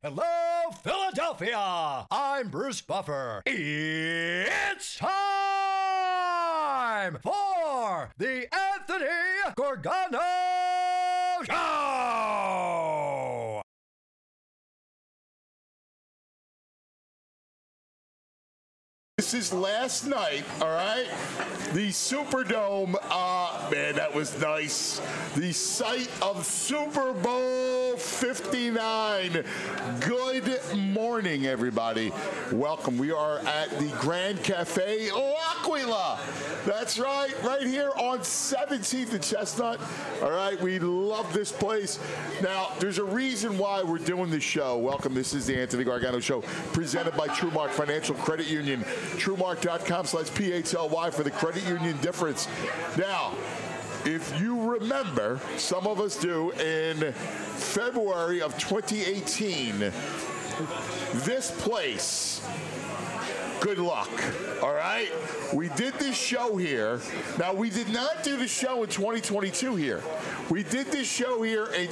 Hello, Philadelphia! I'm Bruce Buffer. It's time for the Anthony Gargano Show! This is last night, all right? The Superdome, man, that was nice. The site of Super Bowl 59. Good morning, everybody. Welcome. We are at the Grand Cafe L'Aquila. That's right here on 17th and Chestnut. All right, we love this place. Now, there's a reason why we're doing this show. Welcome. This is the Anthony Gargano Show, presented by TrueMark Financial Credit Union. TrueMark.com/PHLY for the credit union difference. Now, if you remember, some of us do, in February of 2018, this place, good luck, all right? We did this show here. Now, we did not do the show in 2022 here. We did this show here in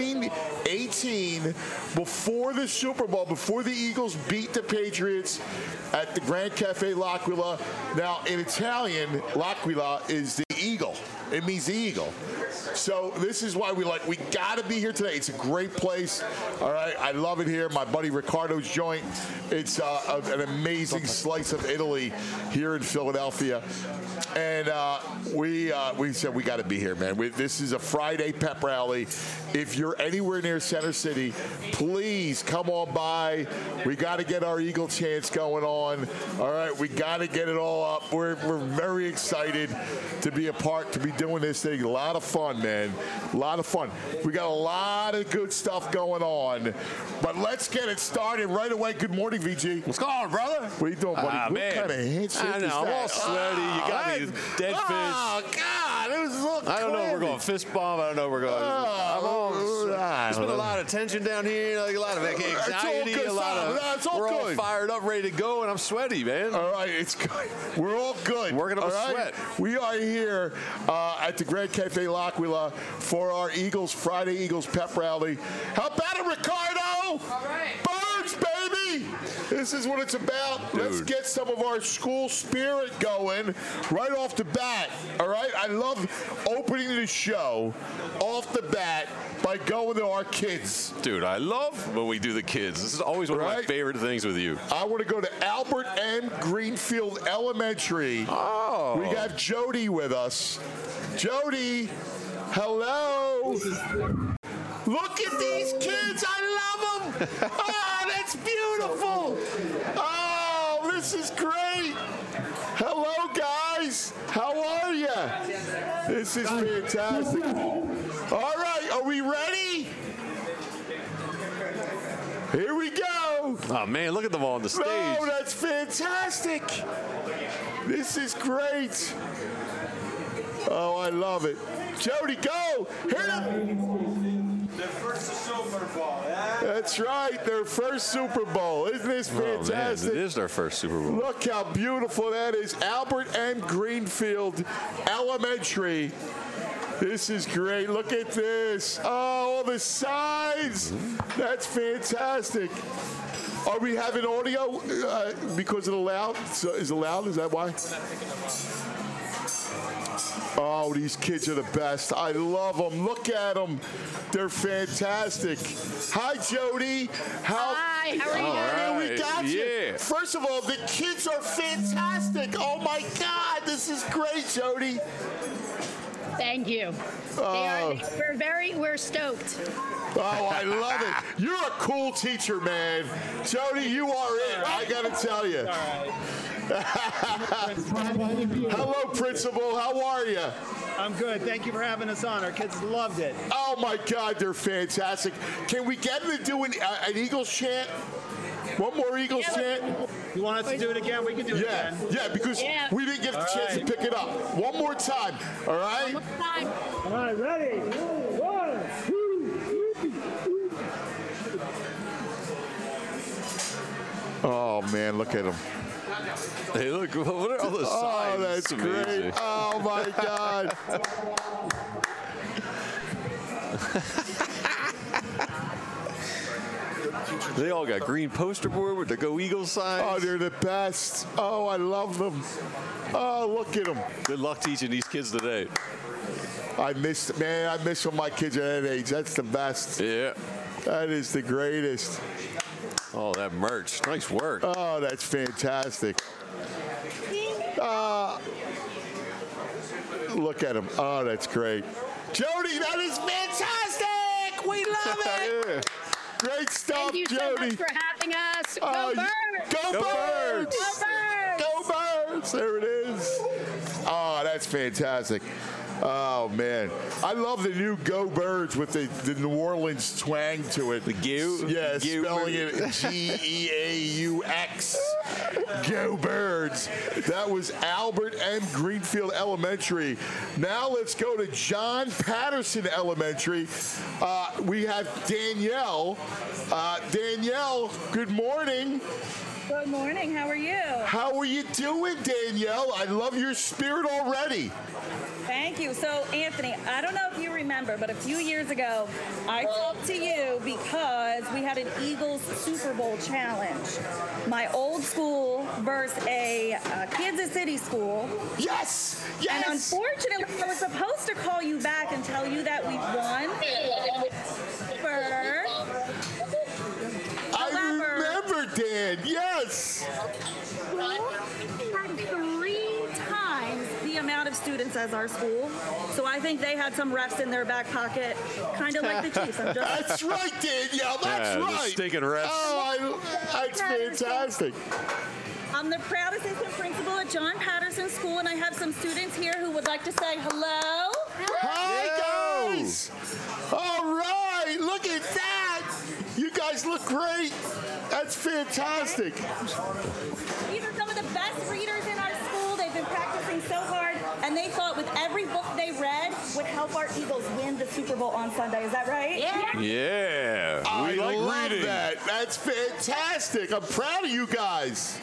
2018 before the Super Bowl, before the Eagles beat the Patriots at the Grand Cafe L'Aquila. Now, in Italian, L'Aquila is the eagle. It means the eagle. So this is why we got to be here today. It's a great place. All right, I love it here. My buddy Riccardo's joint. It's an amazing slice of Italy here in Philadelphia. And we said we got to be here, man. This is a Friday pep rally. If you're anywhere near Center City, please come on by. We got to get our Eagle chants going on. All right, we got to get it all up. We're very excited to be a part, to be doing this thing. A lot of fun, man. A lot of fun. We got a lot of good stuff going on. But let's get it started right away. Good morning, VG. What's going on, brother? What are you doing, buddy? What man. kind of handshake I know, is I'm that? all sweaty. You got me dead fish. Oh, God. It was a little I don't know if we're going fist bump. I don't know if we're going. There's been a lot of tension down here, like a lot of anxiety, good, a lot of. We're all fired up, ready to go, and I'm sweaty, man. All right, it's good. We're all good. Working up a right? sweat. We are here at the Grand Cafe L'Aquila for our Eagles Friday Eagles pep rally. How about it, Ricardo? All right. Birds, baby. This is what it's about. Dude. Let's get some of our school spirit going right off the bat. All right. I love opening the show off the bat by going to our kids. Dude, I love when we do the kids. This is always one of my favorite things with you. I want to go to Albert M. Greenfield Elementary. Oh. We got Jody with us. Jody, hello. Look at these kids. I love them. Oh, that's beautiful. Oh, this is great. Hello, guys. How are you? This is fantastic. All right, are we ready? Here we go. Oh, man, look at them all on the stage. No, that's fantastic. This is great. Oh, I love it. Jody, go. Their first Super Bowl, yeah? That's right, their first Super Bowl. Isn't this fantastic? Oh, man, it is their first Super Bowl. Look how beautiful that is. Albert M. Greenfield Elementary. This is great. Look at this. Oh, all the signs. That's fantastic. Are we having audio because of the loud? So is it loud? Is that why? Oh, these kids are the best. I love them. Look at them. They're fantastic. Hi, Jody. Hi, how are you? Here we got you. Yeah. First of all, the kids are fantastic. Oh, my God. This is great, Jody. Thank you. We're stoked. Oh, I love it. You're a cool teacher, man. Jody, you are it. I got to tell you. Hello, Principal. How are you? I'm good. Thank you for having us on. Our kids loved it. Oh, my God. They're fantastic. Can we get them to do an Eagles chant? One more Eagles chant? You want us to do it again? We can do it again. Yeah, because we didn't get the chance to pick it up. One more time, all right? One more time. All right, ready? 1, 2, 3. Oh, man, look at them. Hey, look, what are all the signs? Oh, that's great. Oh, my God. They all got green poster board with the Go Eagles signs. Oh, they're the best. Oh, I love them. Oh, look at them. Good luck teaching these kids today. I miss when my kids are that age. That's the best. Yeah. That is the greatest. Oh, that merch. Nice work. Oh, that's fantastic. Look at him. Oh, that's great. Jody, that is fantastic. We love it. Yeah. Great stuff, Thank you so Jody. much for having us. Oh, Go Birds! Go Birds! Go Birds! Go Birds! There it is. Oh, that's fantastic. Oh, man. I love the new Go Birds with the New Orleans twang to it. The Geu? Yeah, Geu spelling it Geaux. Go Birds. That was Albert M. Greenfield Elementary. Now let's go to John Patterson Elementary. We have Danielle. Danielle, good morning. Good morning. How are you? How are you doing, Danielle? I love your spirit already. Thank you. So, Anthony, I don't know if you remember, but a few years ago, I talked to you because we had an Eagles Super Bowl challenge. My old school versus a Kansas City school. Yes! And Yes! unfortunately, I was supposed to call you back and tell you that we won. I remember, Dan. Yes! Had 3 times the amount of students as our school. So I think they had some refs in their back pocket, kind of like the Chiefs. That's right, Danielle. That's Yeah, right. the stinking refs. Oh, that's fantastic. I'm the proud assistant principal at John Patterson School, and I have some students here who would like to say hello. Hi, guys. All right. Look at that. You guys look great. That's fantastic. These are some of the best readers in our school. They've been practicing so hard, and they thought with every book they read would help our Eagles win the Super Bowl on Sunday. Is that right? Yeah. Yeah. I We like love reading. that. That's fantastic. I'm proud of you guys.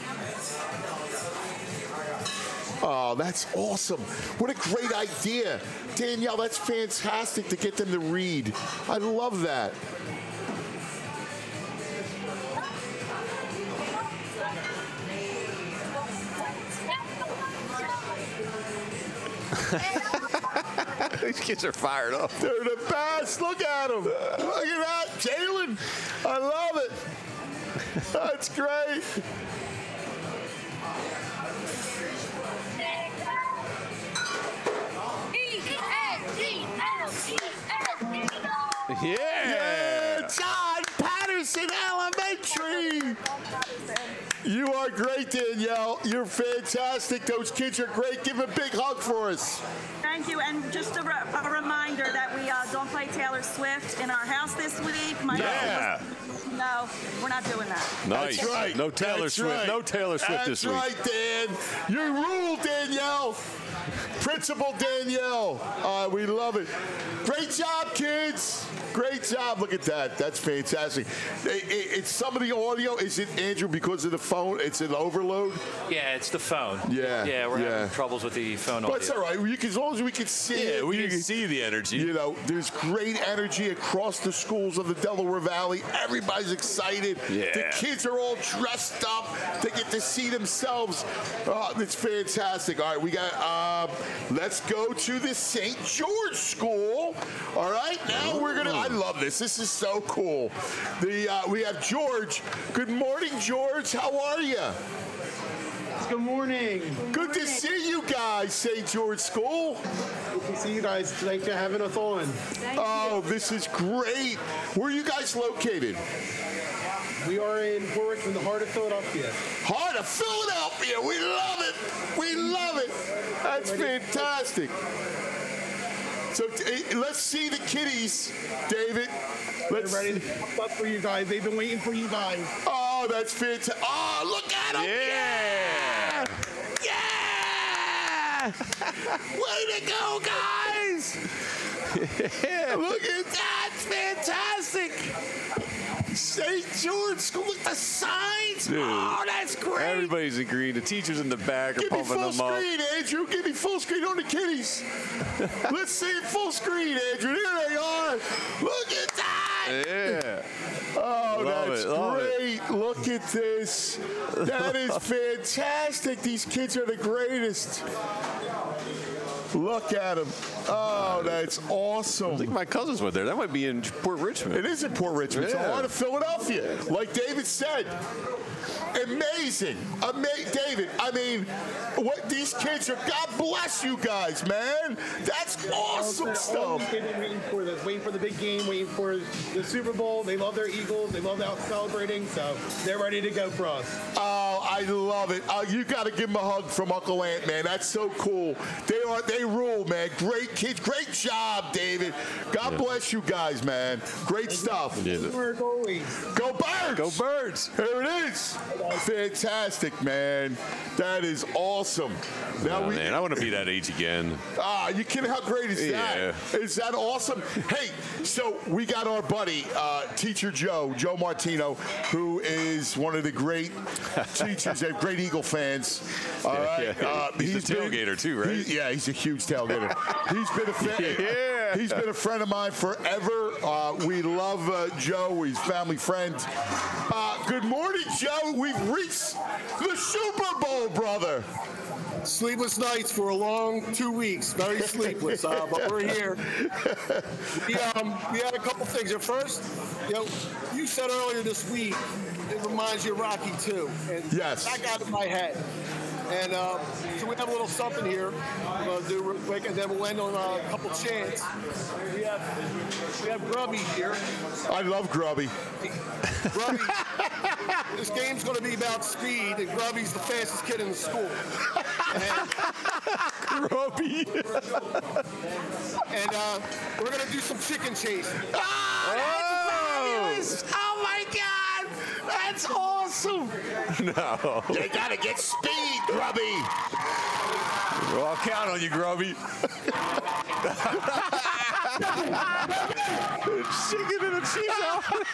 Oh, that's awesome. What a great idea. Danielle, that's fantastic to get them to read. I love that. These kids are fired up. They're the best. Look at them. Look at that. Jalen. I love it. That's great. Yeah. John Patterson Elementary. You are great, Danielle. You're fantastic. Those kids are great. Give a big hug for us. Thank you. And just a reminder that we don't play Taylor Swift in our house this week. Yeah. No, we're not doing that. Nice. That's right. No Taylor That's Swift. right. No Taylor Swift this week. That's right, Dan. You rule, Danielle. Principal Danielle. We love it. Great job, kids. Great job. Look at that. That's fantastic. It's some of the audio. Is it, Andrew, because of the phone? It's an overload? Yeah, it's the phone. Yeah, Yeah, we're yeah. having troubles with the phone But audio. it's all right. As long as we can see it. Yeah, we can see the energy. You know, there's great energy across the schools of the Delaware Valley. Everybody's excited. Yeah. The kids are all dressed up. They get to see themselves. It's fantastic. All right, we got, let's go to the St. George School. All right, now we're going to, I love this. This is so cool. We have George. Good morning, George. How are you? Good morning. Good to see you guys, St. George School. Good to see you guys. Thanks for having us on. Oh, this is great. Where are you guys located? We are in Warwick in the heart of Philadelphia. Heart of Philadelphia. We love it. We love it. That's fantastic. So let's see the kiddies, David. They're ready to pop up for you guys. They've been waiting for you guys. Oh, that's fantastic. Oh, look at them. Yeah. Yeah. Way to go, guys. Look at that. It's fantastic. St. George School with the signs. Dude, oh, that's great. Everybody's agreeing. The teachers in the back are Give me pumping full them up. screen, Andrew. Give me full screen on the kiddies. Let's see it full screen, Andrew. There they are. Look at that. Yeah. Oh, Love that's it, love Look at this. That is fantastic. These kids are the greatest. Look at them. Oh, that's awesome. I think my cousins went there. That might be in Port Richmond. It is in Port Richmond. It's a Yeah. lot of Philadelphia. Like David said. Amazing. David, I mean, what these kids are, God bless you guys, man. That's awesome stuff. They've been waiting for the big game, waiting for the Super Bowl. They love their Eagles. They love out celebrating, so they're ready to go for us. Oh, I love it. You got to give them a hug from Uncle Ant, man. That's so cool. They rule, man. Great kids. Great job, David. God bless you guys, man. Great stuff. We're goalies. Go Birds! Go Birds! Here it is. Fantastic, man. That is awesome. Now Man, I want to be that age again. you kidding? How great is that? Is that awesome? Hey, so we got our buddy, Teacher Joe Martino, who is one of the great teachers, great Eagle fans. All right. He's a tailgater too, right? He's a huge tailgater. He's been a friend of mine forever. We love Joe. He's family friend. Good morning, Joe. We've reached the Super Bowl, brother. Sleepless nights for a long 2 weeks. Very sleepless, but we're here. We had a couple things. At first, you said earlier this week, it reminds you of Rocky II. And yes. That got in my head. And so we have a little something here we're going to do real quick, and then we'll end on a couple chants. We have Grubby here. I love Grubby. Grubby, this game's going to be about speed, and Grubby's the fastest kid in the school. Grubby. And we're going to do some chicken chasing. Oh my God! That's awesome! No. You gotta get speed, Grubby! Well, I'll count on you, Grubby. Chicken and a cheese.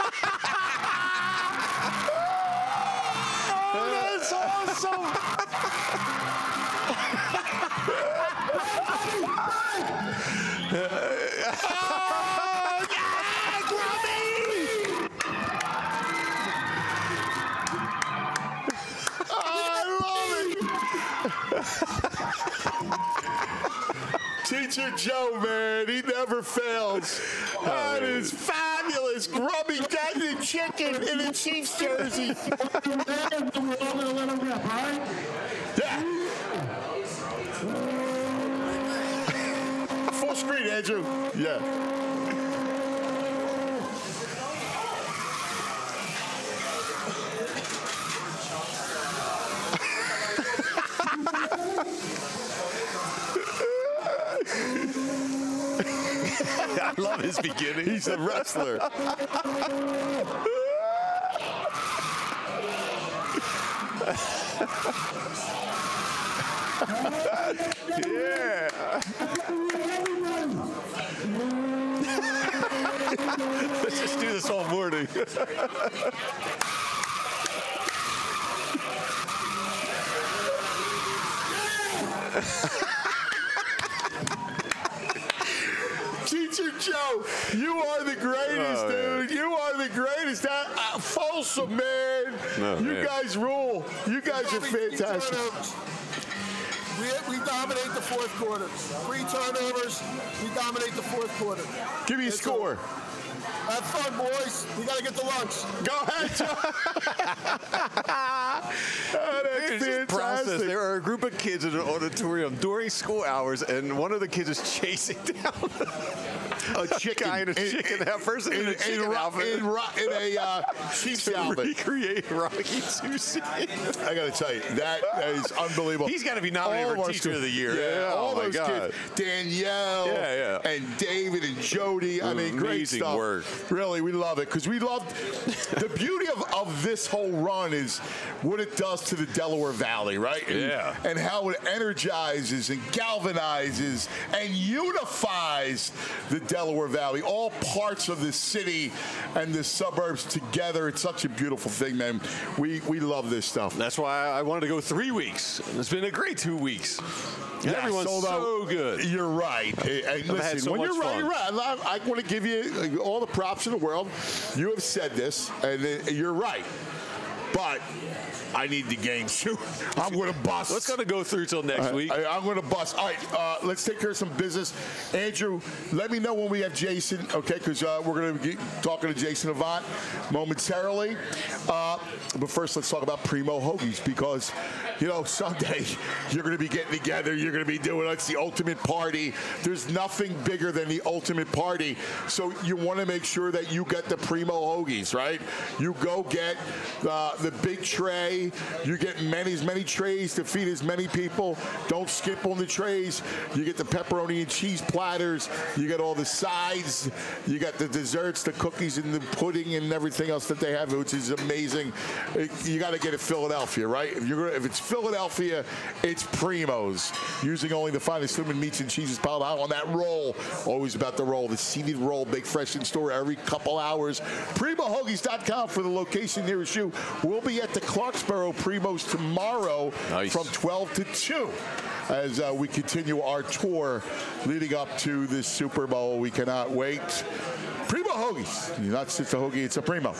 Oh, that's awesome! Oh, yeah, Grubby! Teacher Joe, man, he never fails. That is fabulous. Grubby got the chicken in a Chiefs jersey. Yeah. Full screen, Andrew. Yeah. I love his beginning. He's a wrestler. Yeah. Let's just do this all morning. Teacher Joe, you are the greatest, dude. You are the greatest. Folsom, man. You guys rule. You guys are fantastic. We dominate the fourth quarter. 3 turnovers. We dominate the fourth quarter. Give me a score. Have fun, boys. We got to get to lunch. Go ahead, Joe. That's fantastic. Process. There are a group of kids in an auditorium during school hours, and one of the kids is chasing down a chicken guy in a chicken outfit. In a chicken outfit. In a Chiefs outfit. Recreate Rocky II. I got to tell you, that is unbelievable. He's got to be nominated for Teacher of the Year. Yeah, all my those God. kids. Danielle and David and Jody. I mean, great Amazing stuff. work. Really, we love it because we love the beauty of this whole run is what it does to the Delaware Valley, right? And how it energizes and galvanizes and unifies the Delaware Delaware Valley, all parts of the city and the suburbs together. It's such a beautiful thing, man. We love this stuff. That's why I wanted to go 3 weeks. It's been a great 2 weeks. Yeah, everyone's so good. You're right. Hey, listen, when you're right, you're right. I want to give you all the props in the world. You have said this, and you're right. But I need the game too. I'm going to bust. Let's go through till next week. I'm going to bust. All right, let's take care of some business. Andrew, let me know when we have Jason, okay, because we're going to be talking to Jason Avant momentarily. But first, let's talk about Primo Hoagies because, Sunday you're going to be getting together. You're going to be doing it's the ultimate party. There's nothing bigger than the ultimate party. So you want to make sure that you get the Primo Hoagies, right? You go get the big tray. You get as many trays to feed as many people. Don't skip on the trays. You get the pepperoni and cheese platters. You get all the sides. You got the desserts, the cookies, and the pudding and everything else that they have, which is amazing. You got to get it Philadelphia, right? If it's Philadelphia, it's Primo's. Using only the finest human meats and cheeses piled out on that roll. Always about the roll. The seeded roll, baked fresh in store every couple hours. PrimoHoagies.com for the location nearest you. We'll be at the Clarksboro Primo's tomorrow from 12 to 2 as we continue our tour leading up to the Super Bowl. We cannot wait. Primo Hoagies. Not just a hoagie, it's a Primo.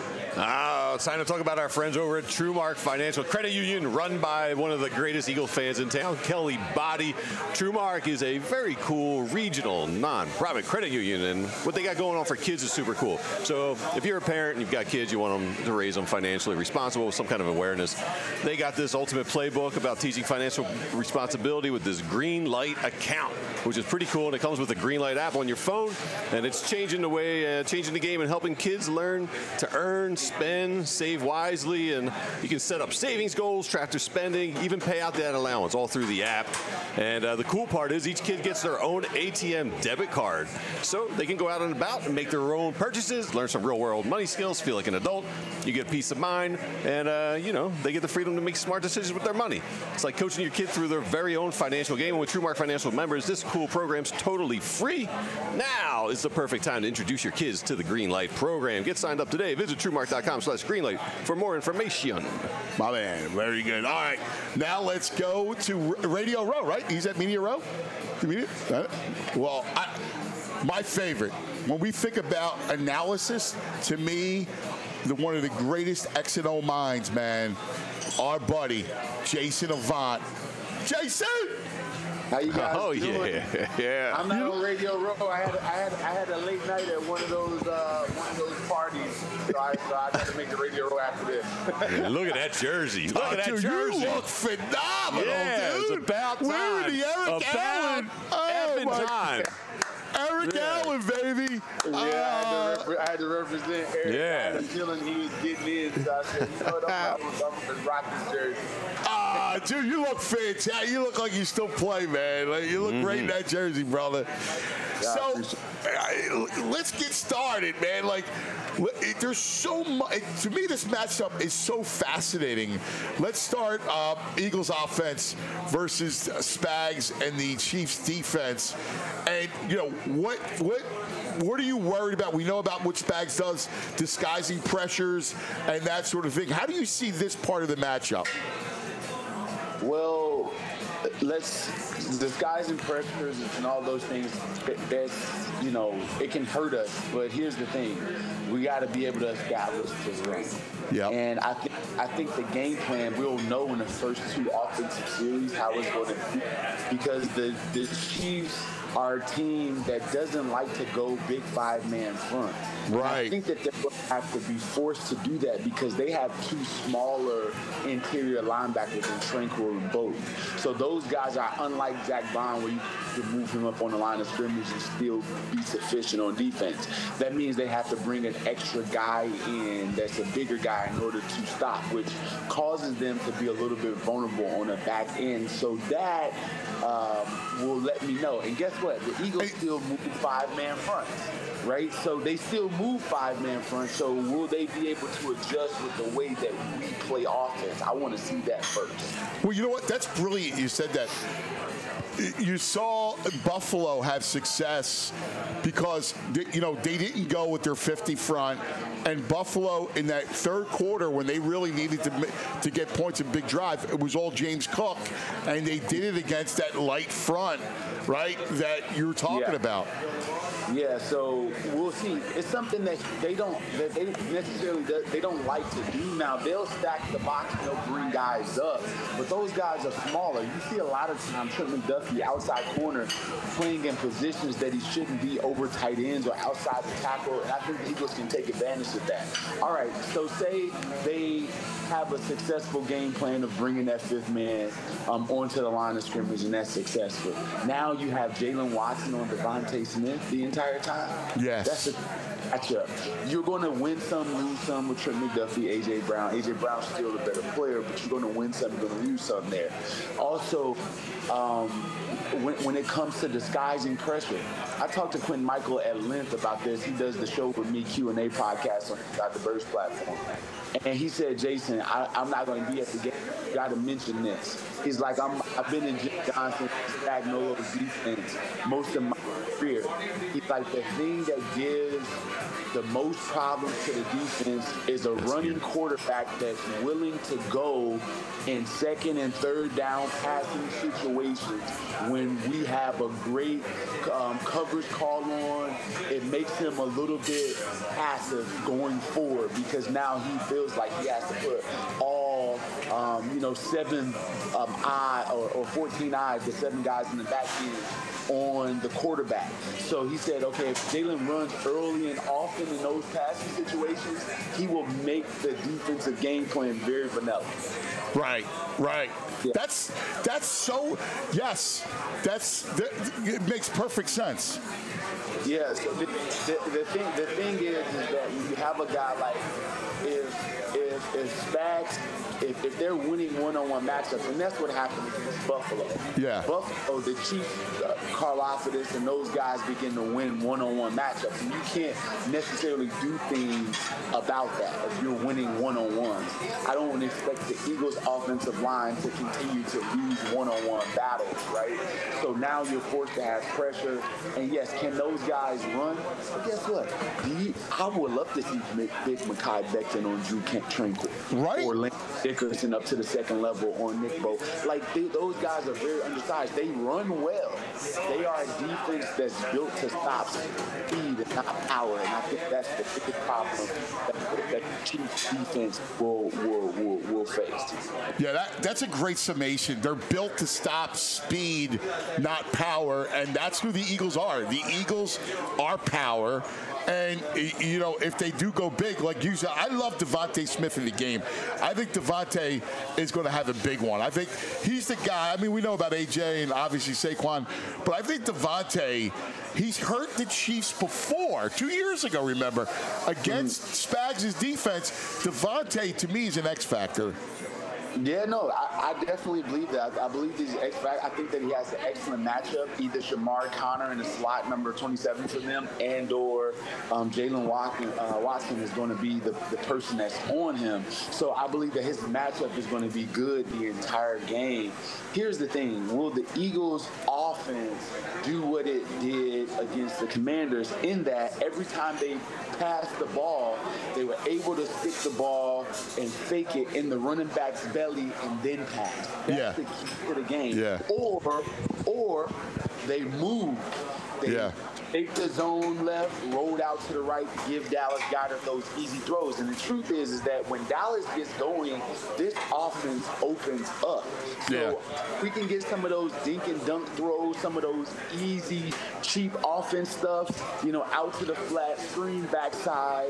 It's time to talk about our friends over at TrueMark Financial Credit Union, run by one of the greatest Eagle fans in town, Kelly Body. TrueMark is a very cool regional non-profit credit union, and what they got going on for kids is super cool. So if you're a parent and you've got kids, you want them to raise them financially responsible with some kind of awareness, they got this ultimate playbook about teaching financial responsibility with this Green Light account, which is pretty cool, and it comes with a Green Light app on your phone, and it's changing the game and helping kids learn to earn, spend, save wisely, and you can set up savings goals, track their spending, even pay out that allowance all through the app. And the cool part is each kid gets their own ATM debit card, so they can go out and about and make their own purchases, learn some real-world money skills, feel like an adult. You get peace of mind, and they get the freedom to make smart decisions with their money. It's like coaching your kid through their very own financial game. And with TrueMark Financial members, this cool program's totally free. Now is the perfect time to introduce your kids to the Green Light program. Get signed up today. Visit TrueMark.com/Greenlight for more information. My man, very good. All right, now let's go to Radio Row, right? He's at Media Row? Well, my favorite, when we think about analysis, to me, one of the greatest X and O minds, man, our buddy, Jason Avant. Jason! How you guys doing? Yeah. I'm not on Radio Row. I had a late night at one of those parties, so I got to make the Radio Row after this. Yeah, look at that jersey. Look at that dude, jersey. You look phenomenal, yeah, dude. It's about time. We're the Eric Allen. Effing time. Eric Allen, baby. Yeah, I had to represent Eric Allen. Feeling he was getting in, so I said, I'm going to rock this jersey. Dude, you look fantastic. You look like you still play, man. Like, you look great in that jersey, brother. So, let's get started, man. Like, there's so much. To me, this matchup is so fascinating. Let's start Eagles offense versus Spags and the Chiefs defense. And, what are you worried about? We know about what Spags does, disguising pressures and that sort of thing. How do you see this part of the matchup? Well, disguising pressures and all those things, it can hurt us. But here's the thing. We got to be able to establish the run. Yep. And I think the game plan, we'll know in the first two offensive series how it's going to be. Because the Chiefs are a team that doesn't like to go big five-man front. Right. I think that they're going to have to be forced to do that because they have two smaller interior linebackers in Tranquil and Bowden. So those guys are unlike Zach Bond, where you can move him up on the line of scrimmage and still be sufficient on defense. That means they have to bring an extra guy in that's a bigger guy in order to stop, which causes them to be a little bit vulnerable on the back end. So that will let me know. And guess what? The Eagles still move five-man fronts. right? So they still move 5-man front. So will they be able to adjust with the way that we play offense? I want to see that first. Well, you know what? That's brilliant. You said that. You saw Buffalo have success because they didn't go with their 50 front, and Buffalo in that third quarter when they really needed to get points in big drive, it was all James Cook, and they did it against that light front, right? That you were talking about. Yeah, so we'll see. It's something that they don't like to do. Now they'll stack the box and they'll bring guys up, but those guys are smaller. You see a lot of times Trent McDuffie outside corner playing in positions that he shouldn't be, over tight ends or outside the tackle, and I think the Eagles can take advantage of that. All right, so say they have a successful game plan of bringing that 5th man onto the line of scrimmage, and that's successful. Now you have Jalen Watson on Devontae Smith the entire time. Yes. That's a matchup. You're going to win some, lose some with Trent McDuffie, A.J. Brown. A.J. Brown's still a better player, but you're going to win some, you're going to lose some there. Also, when it comes to disguising pressure, I talked to Quentin Michael at length about this. He does the Show With Me Q&A podcast on the Burst platform. And he said, Jason, I'm not going to be at the game. You got to mention this. He's like, I've been in Jim Johnson, Spagnuolo's defense most of my career. He's like, the thing that gives the most problems to the defense is a running quarterback that's willing to go in 2nd and 3rd down passing situations when we have a great coverage call on. It makes him a little bit passive going forward because now he feels like he has to put all 7 eye or 14 eyes, the 7 guys in the back end on the quarterback. So he said, okay, if Jalen runs early and often in those passing situations, he will make the defensive game plan very vanilla. Right. Yeah. That's so, yes, it makes perfect sense. Yeah, so the thing is that when you have a guy like, if Spags, if they're winning one-on-one matchups, and that's what happened against Buffalo. Yeah. Buffalo, the Chiefs, Karlaftis, and those guys begin to win one-on-one matchups, and you can't necessarily do things about that if you're winning one-on-ones. I don't expect the Eagles' offensive line to continue to lose one-on-one battles, right? So now you're forced to have pressure, and yes, can those guys run? But guess what? I would love to see Big Mekhi Becton on Drew Tranquil. Right. Or Lane Dickerson up to the 2nd level on Nick Bo. Like, those guys are very undersized. They run well. They are a defense that's built to stop speed and not power. And I think that's the biggest problem that the Chiefs defense will face. Yeah, that's a great summation. They're built to stop speed, not power, and that's who the Eagles are. The Eagles are power. And, if they do go big, like you said, I love Devontae Smith in the game. I think Devontae is going to have a big one. I think he's the guy. I mean, we know about A.J. and obviously Saquon, but I think Devontae, he's hurt the Chiefs before, 2 years ago, remember, against Spags' defense. Devontae, to me, is an X factor. Yeah, no, I definitely believe that. I believe he's I think that he has an excellent matchup, either Shamar Connor in the slot number 27 for them, and or Jalen Watson is going to be the person that's on him. So I believe that his matchup is going to be good the entire game. Here's the thing. Will the Eagles' offense do what it did against the Commanders in that every time they passed the ball, they were able to stick the ball and fake it in the running back's belly and then pass. That's the key to the game. Yeah. Or they move. They take the zone left, rolled out to the right, give Dallas Goedert those easy throws. And the truth is that when Dallas gets going, this offense opens up. So we can get some of those dink and dunk throws, some of those easy, cheap offense stuff, out to the flat, screen backside,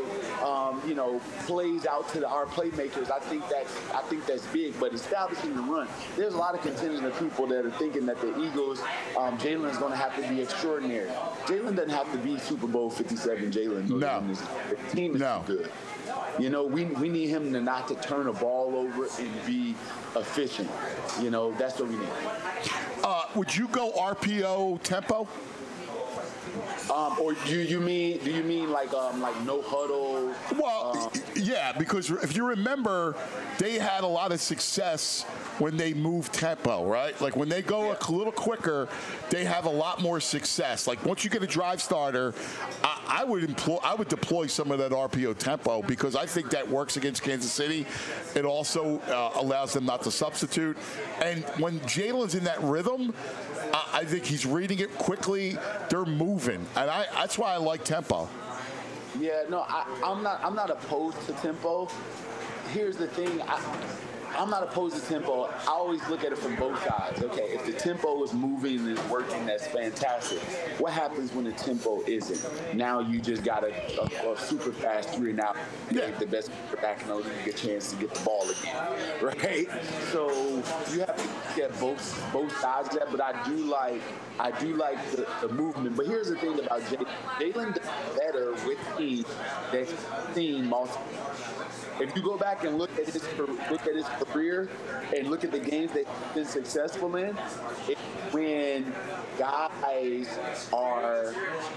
plays out to our playmakers. I think that's big, but establishing the run. There's a lot of contingent of people that are thinking that the Eagles, Jalen is going to have to be extraordinary. Jalen doesn't have to be Super Bowl 57 Jalen. No. The team is good. We need him to not to turn a ball over and be efficient. That's what we need. Would you go RPO tempo? Or do you mean like no huddle? Well, yeah, because if you remember, they had a lot of success when they move tempo, right? Like when they go a little quicker, they have a lot more success. Like once you get a drive starter, I would deploy some of that RPO tempo because I think that works against Kansas City. It also allows them not to substitute. And when Jalen's in that rhythm, I think he's reading it quickly. They're moving, and that's why I like tempo. Yeah, no, I'm not opposed to tempo. Here's the thing. I'm not opposed to tempo. I always look at it from both sides. Okay, if the tempo is moving and is working, that's fantastic. What happens when the tempo isn't? Now you just got a super fast 3-and-out. The best quarterback in the league get a chance to get the ball again, right? So you have to get both sides of that. But I do like the movement. But here's the thing about Jalen. Jalen does better with teams that's seen multiple. If you go back and look at his career and look at the games that he's been successful in, it's when guys are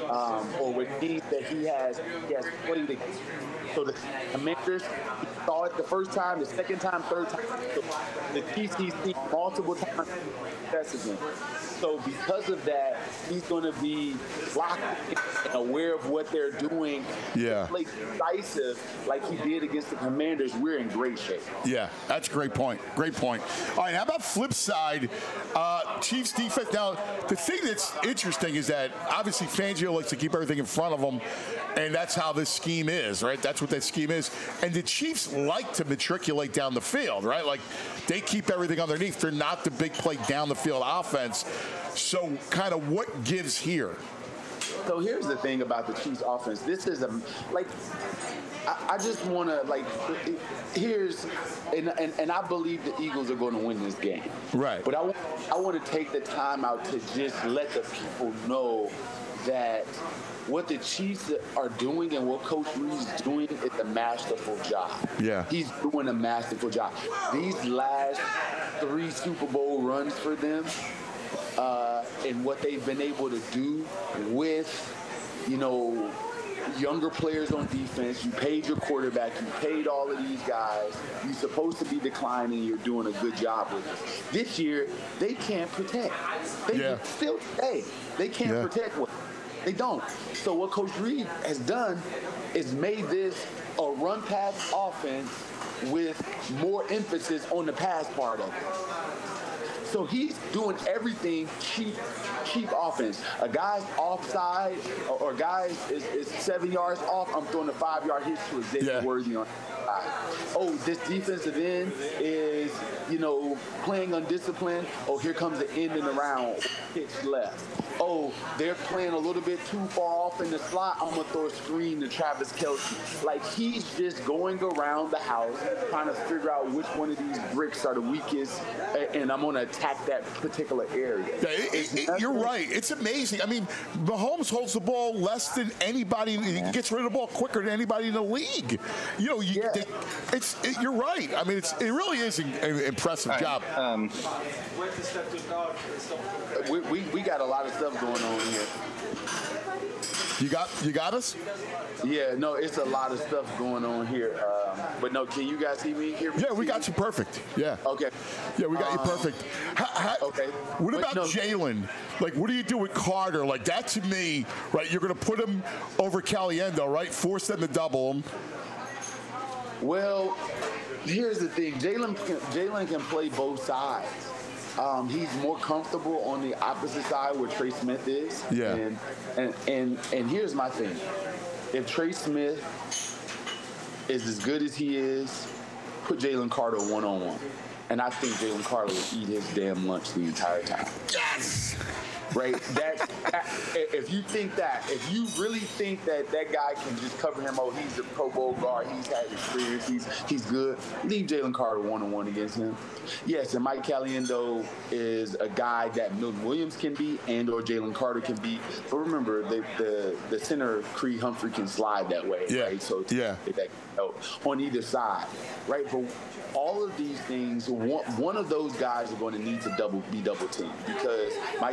or with teams that he has played against. So the Commanders, he saw it the first time, the second time, third time. So the Chiefs he's seen multiple times success again. So because of that, he's going to be locked in and aware of what they're doing. Yeah. Play decisive like he did against the Commanders. We're in great shape. Yeah, that's a great point. Great point. All right, how about flip side? Chiefs defense. Now, the thing that's interesting is that obviously Fangio likes to keep everything in front of him, and that's how this scheme is, right? That's what that scheme is. And the Chiefs like to matriculate down the field, right? Like they keep everything underneath. They're not the big play down the field offense. So kind of what gives here? So here's the thing about the Chiefs offense. This is I just want to and I believe the Eagles are going to win this game. Right. But I want to take the time out to just let the people know that what the Chiefs are doing and what Coach Reid is doing is a masterful job. Yeah. He's doing a masterful job. These last 3 Super Bowl runs for them and what they've been able to do with, younger players on defense. You paid your quarterback. You paid all of these guys. You're supposed to be declining. You're doing a good job with it. This year, they can't protect. They can't protect what they don't. So what Coach Reid has done is made this a run-pass offense with more emphasis on the pass part of it. So he's doing everything cheap offense. A guy's offside or guy is 7 yards off, I'm throwing a 5-yard hitch to Xavier Worthy on side. Oh, this defensive end is, playing undisciplined. Oh, here comes the end and around, pitch left. Oh, they're playing a little bit too far off in the slot. I'm going to throw a screen to Travis Kelce. Like, he's just going around the house trying to figure out which one of these bricks are the weakest, and I'm going to attack that particular area. You're right. It's amazing. I mean, Mahomes holds the ball less than anybody. He gets rid of the ball quicker than anybody in the league. You're right. I mean, it really is an impressive job. We got a lot of stuff going on here. You got us? Yeah, no, it's a lot of stuff going on here. But no, can you guys see me here? Yeah, we got you perfect. Yeah. Okay. Yeah, we got you perfect. Okay. What about Jalen? Like, what do you do with Carter? Like, that to me, right, you're going to put him over Caliendo, right? Force them to double him. Well, here's the thing. Jalen can play both sides. He's more comfortable on the opposite side where Trey Smith is. Yeah. And here's my thing. If Trey Smith is as good as he is, put Jalen Carter one-on-one. And I think Jalen Carter will eat his damn lunch the entire time. Yes! Right? If you think that, if you really think that guy can just cover him, oh, he's a Pro Bowl guard, he's had experience, he's good, leave Jalen Carter one-on-one against him. Yes, and Mike Caliendo is a guy that Milton Williams can be and or Jalen Carter can be. But remember, the center, Creed Humphrey, can slide that way, right? So on either side, right? But all of these things, one of those guys are going to need to be double teamed because Mike Caliendo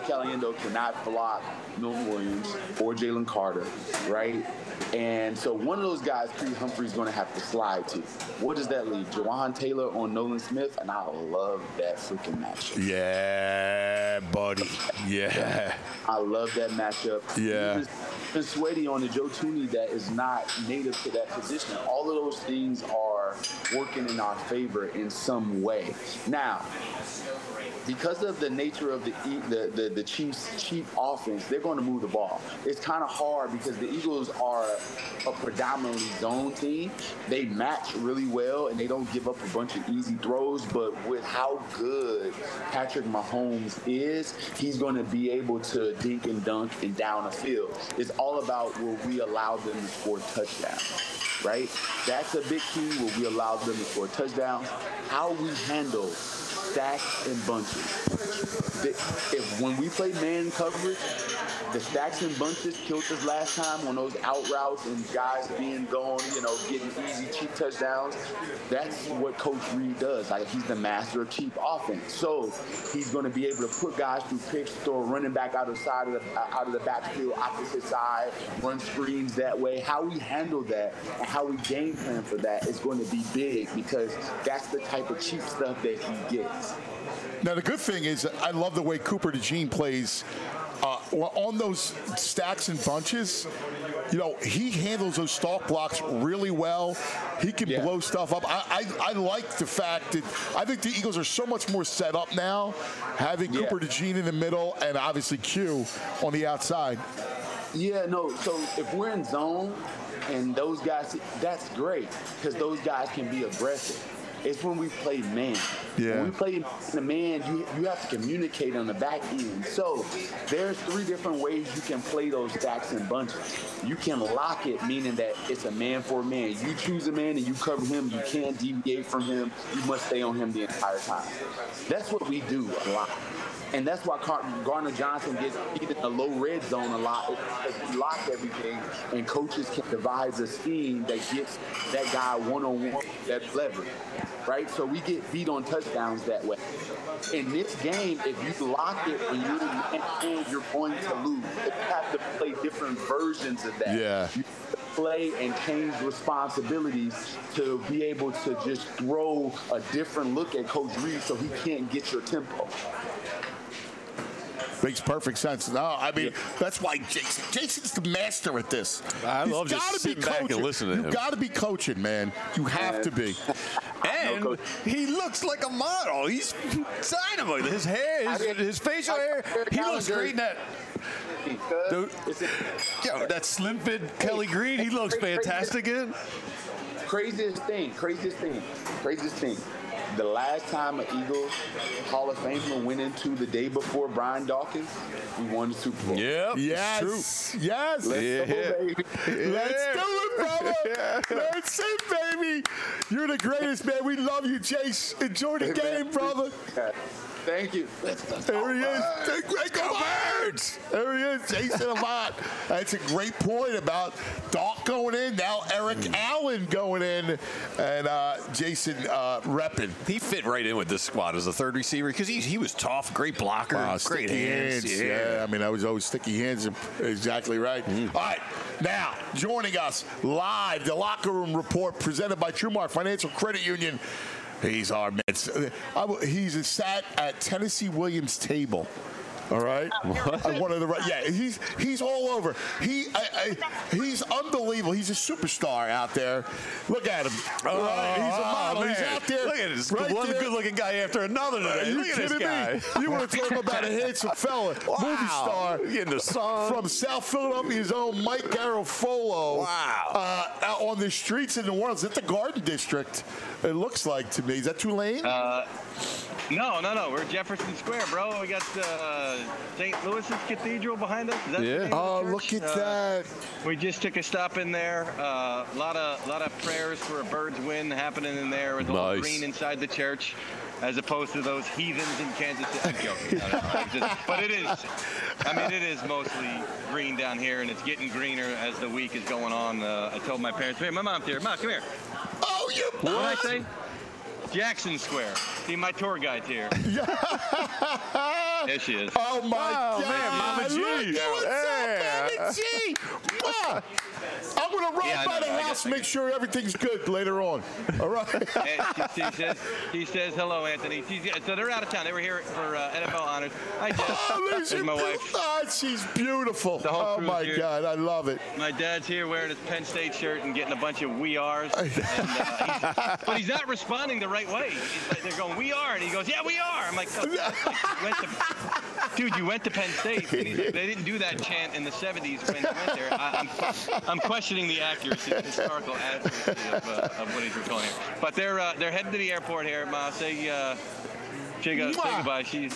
Rondo cannot block Milton Williams or Jalen Carter, right? And so one of those guys, Creed Humphrey's going to have to slide to. What does that leave? Jawan Taylor on Nolan Smith, and I love that freaking matchup. Yeah, buddy. Yeah. I love that matchup. Yeah. Even Sweaty on the Joe Tooney that is not native to that position. All of those things are working in our favor in some way. Now, because of the nature of the Chiefs' cheap offense, they're going to move the ball. It's kind of hard because the Eagles are a predominantly zone team. They match really well, and they don't give up a bunch of easy throws. But with how good Patrick Mahomes is, he's going to be able to dink and dunk and down a field. It's all about will we allow them to score touchdowns, right? That's a big key. Will we allow them to score touchdowns? How we handle stacks and bunches. When we play man coverage, the stacks and bunches killed us last time on those out routes and guys being gone, getting easy, cheap touchdowns. That's what Coach Reed does. Like, he's the master of cheap offense. So he's going to be able to put guys through picks, throw a running back out of the backfield, opposite side, run screens that way. How we handle that and how we game plan for that is going to be big because that's the type of cheap stuff that he gets. Now, the good thing is I love the way Cooper DeJean plays on those stacks and bunches. He handles those stalk blocks really well. He can blow stuff up. I like the fact that I think the Eagles are so much more set up now, having Cooper DeJean in the middle and obviously Q on the outside. Yeah, no, so if we're in zone and those guys, that's great because those guys can be aggressive. It's when we play man. Yeah. When we play the man, you have to communicate on the back end. So there's 3 different ways you can play those stacks and bunches. You can lock it, meaning that it's a man for a man. You choose a man and you cover him. You can't deviate from him. You must stay on him the entire time. That's what we do a lot. And that's why Garner Johnson gets beat in the low red zone a lot because we lock everything, and coaches can devise a scheme that gets that guy one-on-one, that leverage, right? So we get beat on touchdowns that way. In this game, if you lock it and you're going to lose. You have to play different versions of that. Yeah. You play and change responsibilities to be able to just throw a different look at Coach Reed so he can't get your tempo. Makes perfect sense. No, I mean, that's why Jason's the master at this. I love just sitting back and listening to him. You got to be coaching, man. You have to be. And he looks like a model. He's dynamite. His hair, his facial hair, he looks great in that. That slim fit Kelly Green, he looks fantastic in. Craziest thing. The last time an Eagles Hall of Famer went into the day before Brian Dawkins, we won the Super Bowl. Yep, yes, true. Yes. Let's do it, baby. Let's do it, brother. That's it, baby. You're the greatest, man. We love you, Chase. Enjoy the game, brother. Thank you. There he is. Go Birds! There he is, Jason Avant. That's a great point about Doc going in, now Eric Allen going in, and Jason repping. He fit right in with this squad as a third receiver because he was tough, great blocker, great hands. Yeah, I mean, I was always sticky hands. Exactly right. All right, now joining us live, the Locker Room Report presented by TrueMark Financial Credit Union. He's our man. He's sat at Tennessee Williams' table. All right, one of the he's all over. He's unbelievable. He's a superstar out there. Look at him. He's a model. Man. He's out there. Look at this one good-looking guy after another today. Look at this guy. You want to talk about a handsome fella, movie star in the sun from South Philadelphia's own Mike Garafolo. Wow. Out on the streets in New Orleans, it's the Garden District. It looks like to me. Is that Tulane? No. We're Jefferson Square, bro. We got St. Louis's Cathedral behind us. Is that the name of the church? Look at that. We just took a stop in there. A lot of prayers for a Birds win happening in there with all green inside the church, as opposed to those heathens in Kansas City. I'm joking. But it is mostly green down here, and it's getting greener as the week is going on. I told my parents, hey, my mom's here. Mom, come here. Oh, you what did I say? Jackson Square. See, my tour guide's here. There she is. Oh, my God. Man, Mama G. Look at what's up, Mama G. Mwah. I'm going to run by the house and make sure everything's good later on. All right? She says, hello, Anthony. So they're out of town. They were here for NFL honors. Hi, Jeff. There's my wife. Oh, she's beautiful. Oh, my here. God. I love it. My dad's here wearing his Penn State shirt and getting a bunch of "we are's." But he's not responding the right way. They're going, "we are," and he goes, "Yeah, we are." I'm like, dude, you went to Penn State. They didn't do that chant in the 70s when you went there. I'm questioning the accuracy, the historical accuracy of what he's recalling here. But they're heading to the airport here. Ma, say goodbye. She's.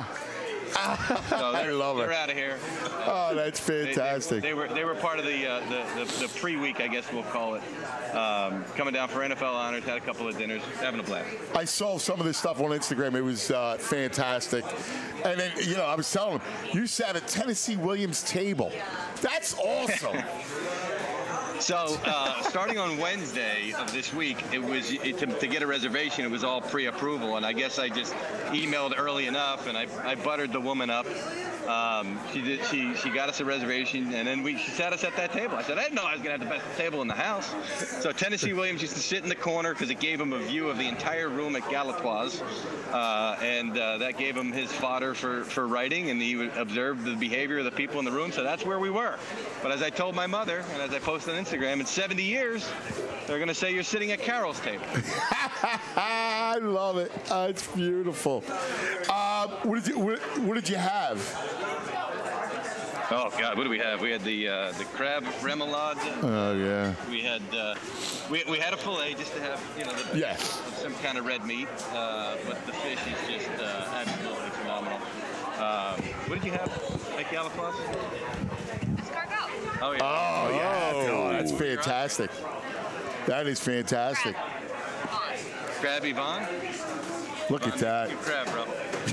I love it. They're out of here. Oh, that's fantastic. They were part of the pre-week, I guess we'll call it. Coming down for NFL honors, had a couple of dinners, having a blast. I saw some of this stuff on Instagram. It was fantastic. And then, I was telling him, you sat at Tennessee Williams' table. That's awesome. So, starting on Wednesday of this week, it was to get a reservation. It was all pre-approval, and I guess I just emailed early enough, and I buttered the woman up. She got us a reservation, and then she sat us at that table. I said, I didn't know I was going to have the best table in the house. So Tennessee Williams used to sit in the corner because it gave him a view of the entire room at Galatoire's, and that gave him his fodder for writing, and he would observe the behavior of the people in the room. So that's where we were. But as I told my mother, and as I posted on Instagram, in 70 years, they're going to say you're sitting at Carol's table. I love it. It's beautiful. What did you have? Oh God, what do we have? We had the crab remoulade. Oh yeah. We had we had a fillet just to have some kind of red meat, but the fish is just absolutely phenomenal. What did you have at Galatoire's? Escargot. Oh yeah. Oh yeah. Oh, that's fantastic. That is fantastic. Crab Yvonne. Look at that. Crab, bro.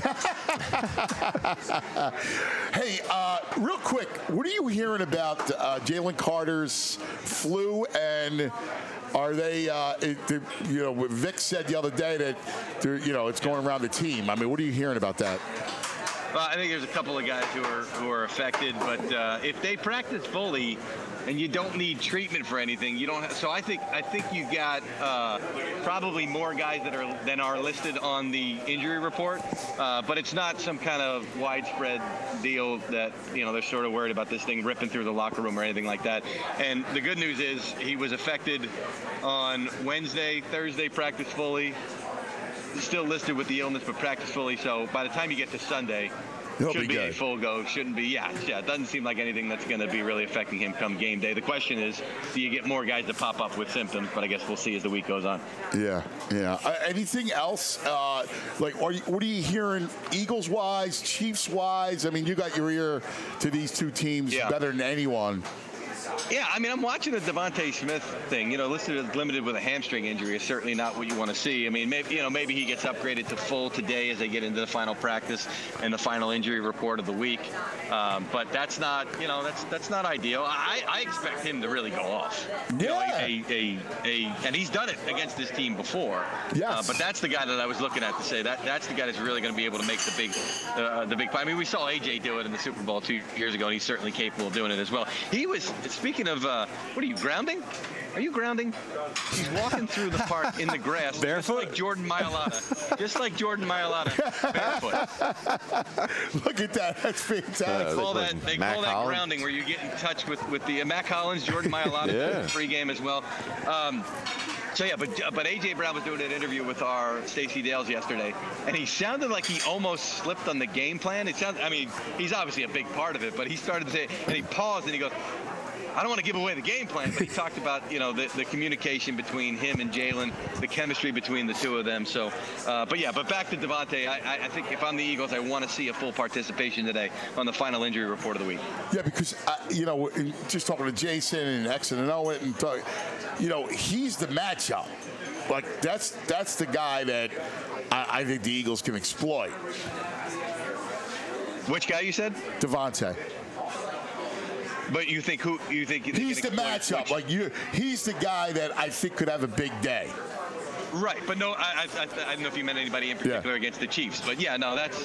Hey, real quick, what are you hearing about Jalen Carter's flu, and are they, Vic said the other day that, it's going around the team. I mean, what are you hearing about that? Well, I think there's a couple of guys who are affected, but if they practice fully and you don't need treatment for anything, you don't. So I think you got probably more guys than are listed on the injury report, but it's not some kind of widespread deal that they're sort of worried about this thing ripping through the locker room or anything like that. And the good news is he was affected on Wednesday, Thursday, practiced fully. Still listed with the illness, but practiced fully. So by the time you get to Sunday, should be a full go. Shouldn't be. Yeah. It doesn't seem like anything that's going to be really affecting him come game day. The question is, do you get more guys to pop up with symptoms? But I guess we'll see as the week goes on. Yeah. Anything else? What are you hearing Eagles wise, Chiefs wise? I mean, you got your ear to these two teams better than anyone. Yeah, I mean, I'm watching the Devontae Smith thing. Listed as limited with a hamstring injury is certainly not what you want to see. I mean, maybe he gets upgraded to full today as they get into the final practice and the final injury report of the week. But that's not, that's not ideal. I expect him to really go off. Yeah. And he's done it against this team before. Yes. But that's the guy that I was looking at to say that's the guy that's really going to be able to make the big play. I mean, we saw AJ do it in the Super Bowl 2 years ago, and he's certainly capable of doing it as well. He was. Speaking of, what are you, grounding? Are you grounding? He's walking through the park in the grass. Barefoot? Just like Jordan Mailata. Barefoot. Look at that. That's fantastic. They call that grounding, where you get in touch with the Mac Hollins, Jordan Mailata, pregame as well. But A.J. Brown was doing an interview with our Stacey Dales yesterday, and he sounded like he almost slipped on the game plan. He's obviously a big part of it, but he started to say, and he paused and he goes, I don't want to give away the game plan, but he talked about, the communication between him and Jalen, the chemistry between the two of them. So, but back to Devontae. I think if I'm the Eagles, I want to see a full participation today on the final injury report of the week. Yeah, because, just talking to Jason and X and Owen, and he's the matchup. Like, that's the guy that I think the Eagles can exploit. Which guy you said? Devontae. But you think he's the matchup? He's the guy that I think could have a big day. Right, but no, I don't know if you meant anybody in particular against the Chiefs, but yeah, no, that's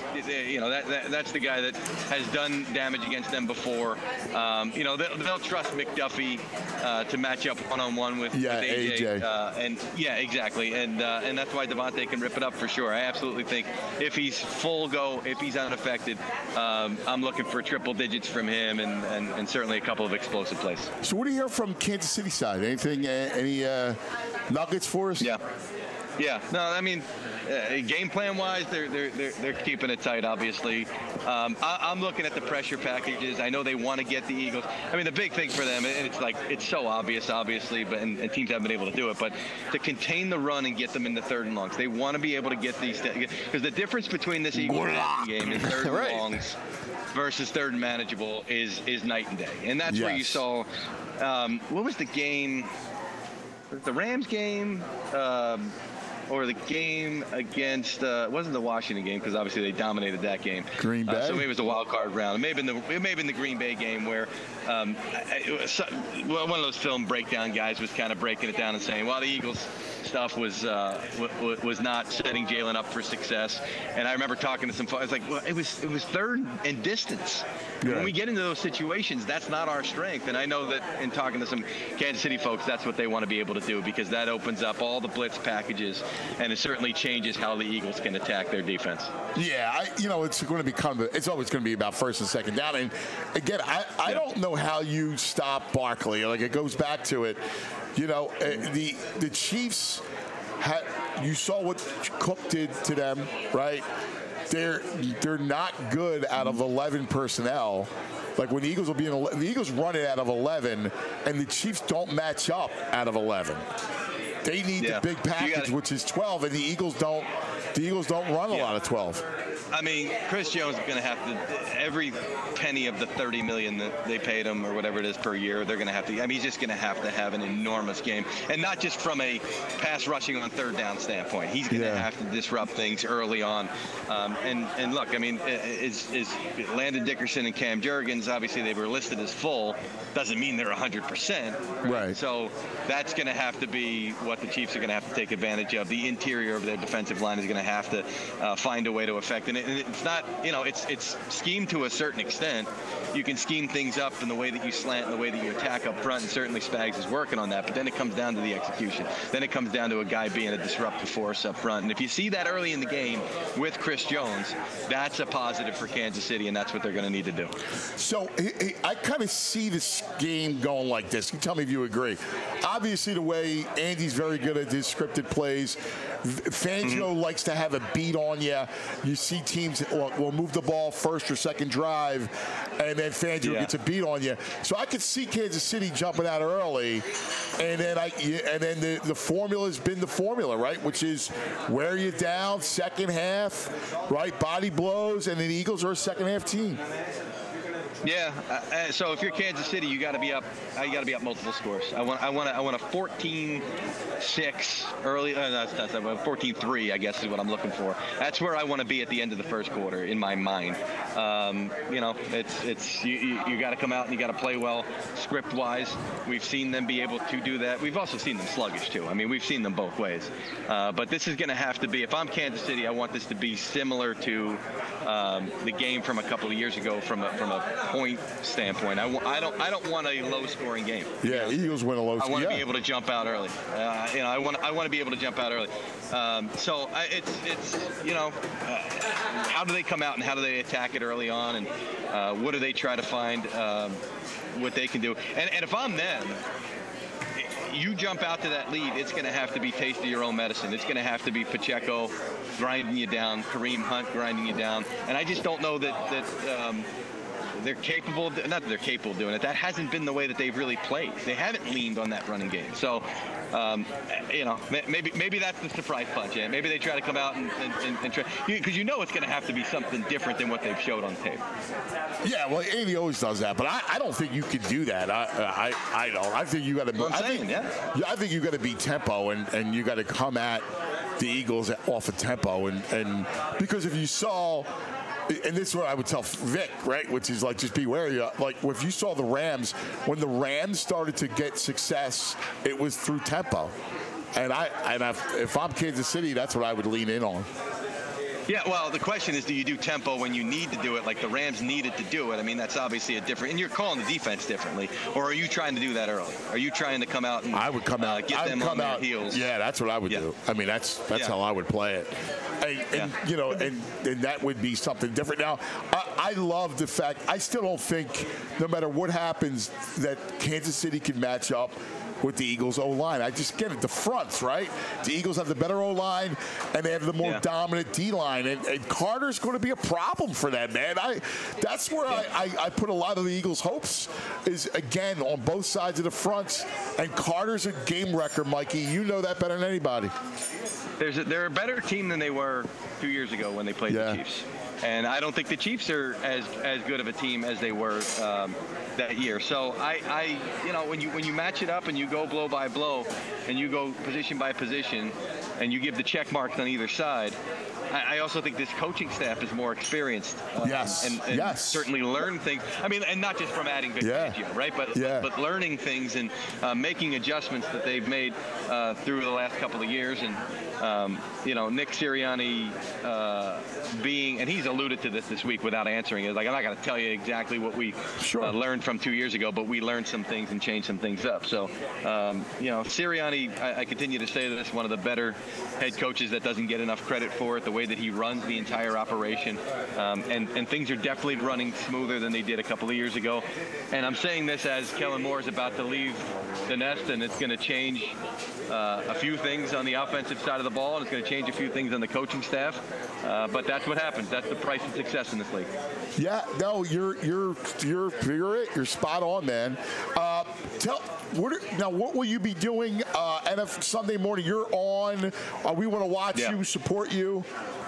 the guy that has done damage against them before. They'll trust McDuffie to match up one-on-one with AJ. And yeah, exactly, and that's why Devontae can rip it up for sure. I absolutely think if he's full go, if he's unaffected, I'm looking for triple digits from him, and certainly a couple of explosive plays. So what do you hear from Kansas City side? Anything? Any nuggets for us? Yeah. No, I mean, game plan wise, they're keeping it tight. Obviously, I'm looking at the pressure packages. I know they want to get the Eagles. I mean, the big thing for them, and it's so obvious, obviously, but and teams haven't been able to do it. But to contain the run and get them in the third and longs, they want to be able to get these, because the difference between this Eagles game and third and longs versus third and manageable is night and day. And that's where you saw. What was the game? The Rams game, or the game against it wasn't the Washington game, because obviously they dominated that game. Green Bay. So maybe it was the wild card round. It may have been the Green Bay game where one of those film breakdown guys was kind of breaking it down and saying, well, the Eagles stuff was not setting Jalen up for success. And I remember talking to some folks. I was like, well, it was third and distance. Yeah. When we get into those situations, that's not our strength. And I know that in talking to some Kansas City folks, that's what they want to be able to do, because that opens up all the blitz packages, and it certainly changes how the Eagles can attack their defense. Yeah, it's going to become. It's always going to be about first and second down. And again, I don't know how you stop Barkley. Like, it goes back to it. The Chiefs you saw what Cook did to them, right? They're not good out of 11 personnel. Like, when the Eagles will be the Eagles run it out of 11, and the Chiefs don't match up out of 11. They need the big package, which is 12, and the Eagles don't run a lot of 12. I mean, Chris Jones is going to have to, every penny of the $30 million that they paid him or whatever it is per year, they're going to have to, he's just going to have an enormous game. And not just from a pass rushing on third down standpoint. He's going to have to disrupt things early on. And look, I mean, is Landon Dickerson and Cam Jurgens, obviously they were listed as full, doesn't mean they're 100%. Right. So that's going to have to be what the Chiefs are going to have to take advantage of. The interior of their defensive line is going to have to find a way to affect it. And it's not, it's schemed to a certain extent. You can scheme things up in the way that you slant and the way that you attack up front, and certainly Spags is working on that. But then it comes down to the execution. Then it comes down to a guy being a disruptive force up front. And if you see that early in the game with Chris Jones, that's a positive for Kansas City, and that's what they're going to need to do. So I kind of see this game going like this. You tell me if you agree. Obviously, the way Andy's very good at his scripted plays, Fangio likes to have a beat on you. You see teams will move the ball first or second drive, and then Fangio gets a beat on you. So I could see Kansas City jumping out early, and then the formula's been the formula, right? Which is wear you down second half, right? Body blows, and then the Eagles are a second half team. Yeah. So if you're Kansas City, you got to be up. You got to be up multiple scores. I want a 14-6 early. 14-3, I guess is what I'm looking for. That's where I want to be at the end of the first quarter in my mind. It's you got to come out and you got to play well script wise. We've seen them be able to do that. We've also seen them sluggish too. I mean, we've seen them both ways. But this is going to have to be. If I'm Kansas City, I want this to be similar to the game from a couple of years ago from a point standpoint. I don't want a low-scoring game. Yeah, Eagles win a low. I want to be able to jump out early. I want to be able to jump out early. So it's how do they come out and how do they attack it early on, and what do they try to find what they can do? And if I'm them, you jump out to that lead, it's going to have to be taste of your own medicine. It's going to have to be Pacheco grinding you down, Kareem Hunt grinding you down, and I just don't know that they're capable of, not that they're capable of doing it. That hasn't been the way that they've really played. They haven't leaned on that running game. So, maybe that's the surprise punch. Yeah? Maybe they try to come out and try, because it's going to have to be something different than what they've showed on tape. Yeah, well, Andy always does that, but I don't think you could do that. I don't. I think you got to. I think you got to be tempo, and you got to come at the Eagles off of tempo, and because if you saw. And this is what I would tell Vic, right? Which is like, just be wary. Like, if you saw the Rams, when the Rams started to get success, it was through tempo. if I'm Kansas City, that's what I would lean in on. Yeah, well, the question is, do you do tempo when you need to do it, like the Rams needed to do it? I mean, that's obviously a different, and you're calling the defense differently. Or are you trying to do that early? Are you trying to come out and I would come out, get them on their heels? Yeah, that's what I would do. I mean, that's how I would play it. And you know, and that would be something different. Now, I love the fact, I still don't think, no matter what happens, that Kansas City can match up with the Eagles' O-line. I just get it. The fronts, right? The Eagles have the better O-line, and they have the more dominant D-line. And Carter's going to be a problem for them, man. That's where I put a lot of the Eagles' hopes is, again, on both sides of the fronts. And Carter's a game wrecker, Mikey. You know that better than anybody. They're a better team than they were 2 years ago when they played the Chiefs. And I don't think the Chiefs are as good of a team as they were that year. So I you know, when you match it up and you go blow by blow and you go position by position and you give the check marks on either side, I also think this coaching staff is more experienced. And certainly learn things. I mean, and not just from adding Vic Fangio, right? But learning things and making adjustments that they've made through the last couple of years. And you know, Nick Sirianni being, and he's alluded to this week without answering it. Like, I'm not going to tell you exactly what we learned from 2 years ago, but we learned some things and changed some things up. So, you know, Sirianni, I continue to say this, one of the better head coaches that doesn't get enough credit for it, the way that he runs the entire operation. And things are definitely running smoother than they did a couple of years ago. And I'm saying this as Kellen Moore is about to leave the nest, and it's going to change a few things on the offensive side of the ball, and it's going to change a few things on the coaching staff. But that's what happens. That's the price of success in this league. Yeah, no, you're spot on, man. What will you be doing Sunday morning? You're on. We want to watch you, support you.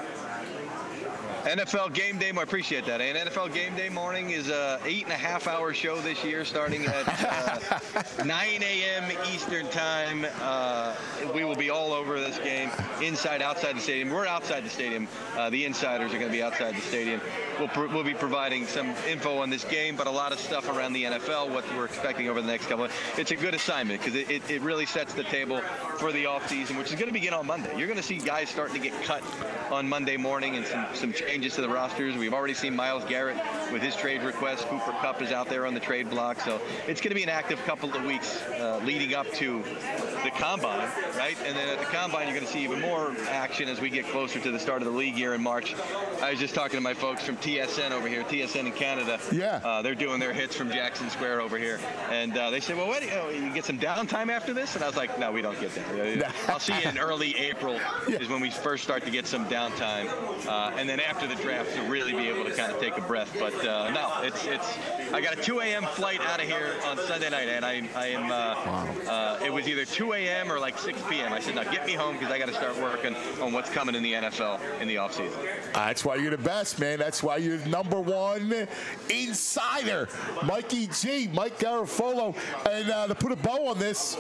NFL Game Day, I appreciate that. And NFL Game Day morning is a 8.5-hour show this year, starting at 9 a.m. Eastern time. We will be all over this game, inside, outside the stadium. We're outside the stadium. The insiders are going to be outside the stadium. We'll be providing some info on this game, but a lot of stuff around the NFL, what we're expecting over the next couple of. It's a good assignment because it really sets the table for the offseason, which is going to begin on Monday. You're going to see guys starting to get cut on Monday morning and some changes to the rosters. We've already seen Myles Garrett with his trade request. Cooper Kupp is out there on the trade block. So it's going to be an active couple of weeks leading up to the Combine, right? And then at the Combine, you're going to see even more action as we get closer to the start of the league year in March. I was just talking to my folks from TSN over here, TSN in Canada. Yeah. They're doing their hits from Jackson Square over here. And they said, well, you get some downtime after this? And I was like, no, we don't get that. I'll see you in early April is when we first start to get some downtime. And then after the draft to really be able to kind of take a breath. But no, I got a 2 a.m. flight out of here on Sunday night, and I am it was either 2 a.m. or like 6 p.m. I said, now get me home because I got to start working on what's coming in the NFL in the offseason. That's why you're the best, man. That's why you're number one insider. Mikey G, Mike Garafolo. And to put a bow on this,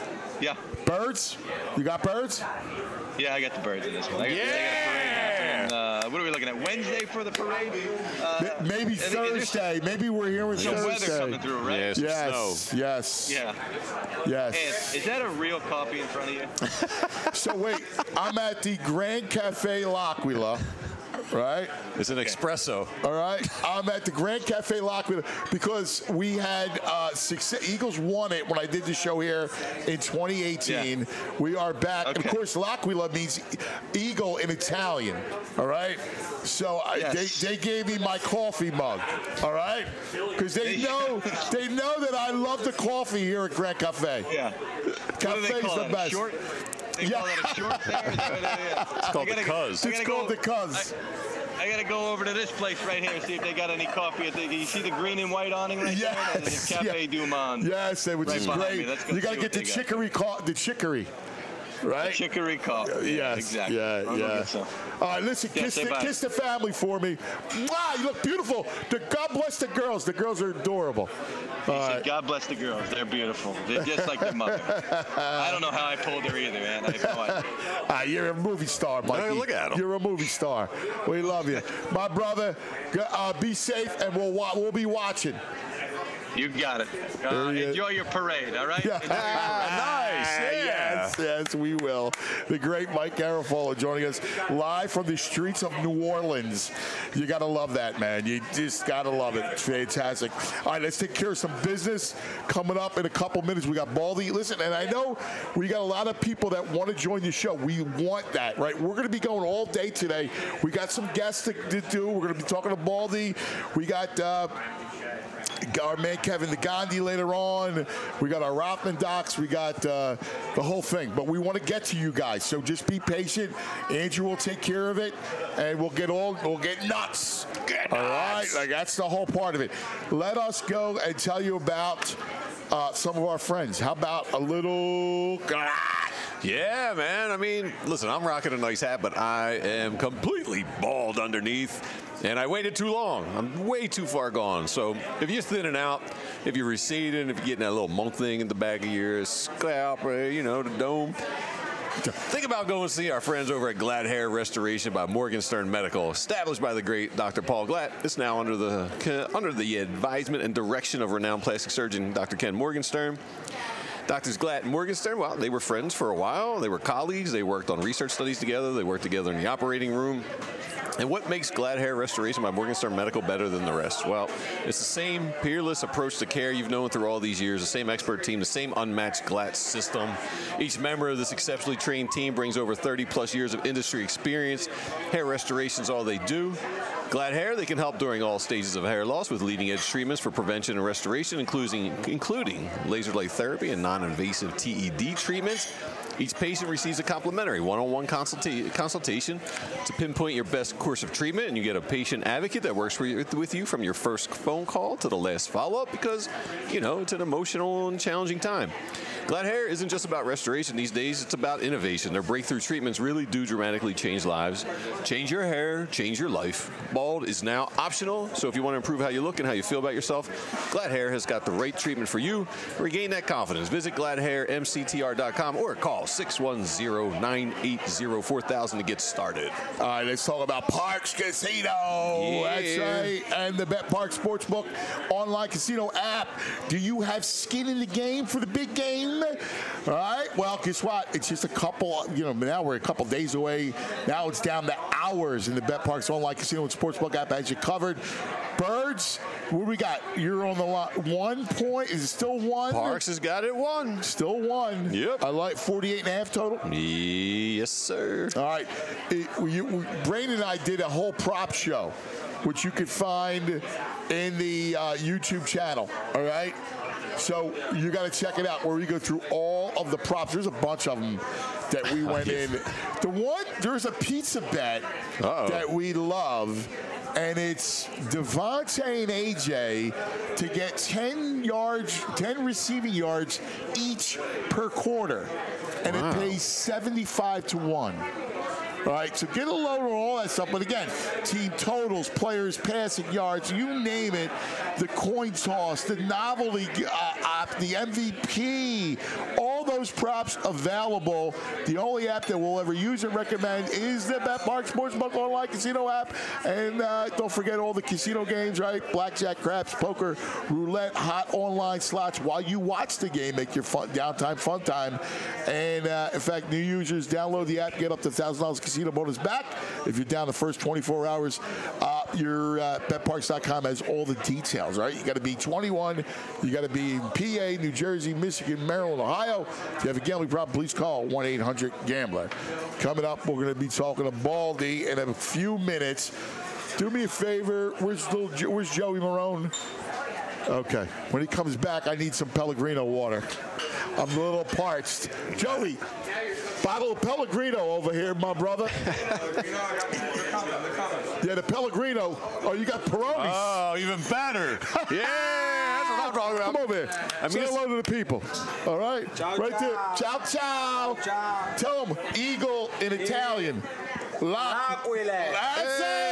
birds? You got birds? Yeah, I got the birds in this one. I got a parade happening. What are we looking at? Wednesday for the parade? Maybe Thursday. Maybe we're here with Thursday. Weather coming through, right? Yes. Yeah. Yes. And is that a real coffee in front of you? So wait, I'm at the Grand Cafe L'Aquila. Right? It's an espresso. All right. I'm at the Grand Cafe L'Aquila because we had Eagles won it when I did the show here in 2018. Yeah. We are back. Okay. And of course, L'Aquila means eagle in Italian. All right. So they gave me my coffee mug. All right. Because they know that I love the coffee here at Grand Cafe. Yeah. Cafe's the best. Short? They call it a short there? It's called the Cuz. It's called the Cuz. I got to go over to this place right here and see if they got any coffee. You see the green and white awning right there? It's Cafe Du Monde. Yes, which is great. You got to get the chicory. Right? The chicory coffee. Yes. Exactly. Yeah. All right, listen, kiss the family for me. Mwah, you look beautiful. God bless the girls. The girls are adorable. He said, God bless the girls. They're beautiful. They're just like their mother. I don't know how I pulled her either, man. I have no idea. You're a movie star, Mikey. No, look at him. You're a movie star. We love you. My brother, be safe, and we'll be watching. You got it. Enjoy your parade, all right? Yeah. Nice. Yeah. Yes, we will. The great Mike Garafolo joining us live from the streets of New Orleans. You got to love that, man. You just got to love it. It's fantastic. All right, let's take care of some business coming up in a couple minutes. We got Baldy. Listen, and I know we got a lot of people that want to join the show. We want that, right? We're going to be going all day today. We got some guests to do. We're going to be talking to Baldy. We got our man Kevin the Gandhi later on. We got our Rothman docs. We got the whole thing. But we want to get to you guys, so just be patient. Andrew will take care of it, and we'll get nuts. All right, like that's the whole part of it. Let us go and tell you about some of our friends. How about a little? Yeah, man. I mean, listen, I'm rocking a nice hat, but I am completely bald underneath. And I waited too long. I'm way too far gone. So if you're thinning out, if you're receding, if you're getting that little monk thing in the back of your scalp, the dome, think about going to see our friends over at Glad Hair Restoration by Morgenstern Medical, established by the great Dr. Paul Glatt. It's now under the advisement and direction of renowned plastic surgeon Dr. Ken Morgenstern. Doctors Glatt and Morgenstern, well, they were friends for a while. They were colleagues. They worked on research studies together. They worked together in the operating room. And what makes Glad Hair Restoration by Morgenstern Medical better than the rest? Well, it's the same peerless approach to care you've known through all these years, the same expert team, the same unmatched Glatt system. Each member of this exceptionally trained team brings over 30-plus years of industry experience. Hair restoration is all they do. Glad Hair, they can help during all stages of hair loss with leading-edge treatments for prevention and restoration, including laser light therapy and non-invasive TED treatments. Each patient receives a complimentary one-on-one consultation to pinpoint your best course of treatment, and you get a patient advocate that works with you from your first phone call to the last follow-up because, it's an emotional and challenging time. Glad Hair isn't just about restoration these days, it's about innovation. Their breakthrough treatments really do dramatically change lives. Change your hair, change your life. Bald is now optional, so if you want to improve how you look and how you feel about yourself, Glad Hair has got the right treatment for you. Regain that confidence. Visit GladHairMCTR.com or call 610-980-4000 to get started. All right, let's talk about Parx Casino. Yeah. That's right. And the BetParx Sportsbook online casino app. Do you have skin in the game for the big game? All right. Well, guess what? It's just a couple, now we're a couple days away. Now it's down to hours, and the BetParx online casino and sportsbook app has you covered. Birds, what do we got? You're on the line. 1 point. Is it still one? Parx has got it one. Still one. Yep. I like 48.5 total. Yes, sir. All right. Brain and I did a whole prop show, which you could find in the YouTube channel. All right. So you got to check it out where we go through all of the props. There's a bunch of them that we went in. There's a pizza bet that we love, and it's Devontae and AJ to get 10 receiving yards each per quarter, and it pays 75-1. All right, so get a load on all that stuff. But again, team totals, players, passing yards, you name it, the coin toss, the novelty app, the MVP, all those props available. The only app that we'll ever use and recommend is the BetParx Sportsbook online casino app. And don't forget all the casino games, right? Blackjack, craps, poker, roulette, hot online slots while you watch the game. Make your fun time. And in fact, new users download the app, get up to $1,000 casino bonus back if you're down the first 24 hours. Your BetParx.com has all the details, right? You got to be 21. You got to be in PA, New Jersey, Michigan, Maryland, Ohio. If you have a gambling problem, please call 1-800-GAMBLER. Coming up, we're going to be talking to Baldy in a few minutes. Do me a favor. Where's Joey Marone? Okay. When he comes back, I need some Pellegrino water. I'm a little parched. Joey, bottle of Pellegrino over here, my brother. Yeah, the Pellegrino. Oh, you got Peronis. Oh, even better. Yeah, that's what I'm talking about. Come over here. Say hello to the people. All right? Ciao, right ciao. there. Ciao, ciao. Ciao. Tell them eagle in Italian. L'Aquila. That's it.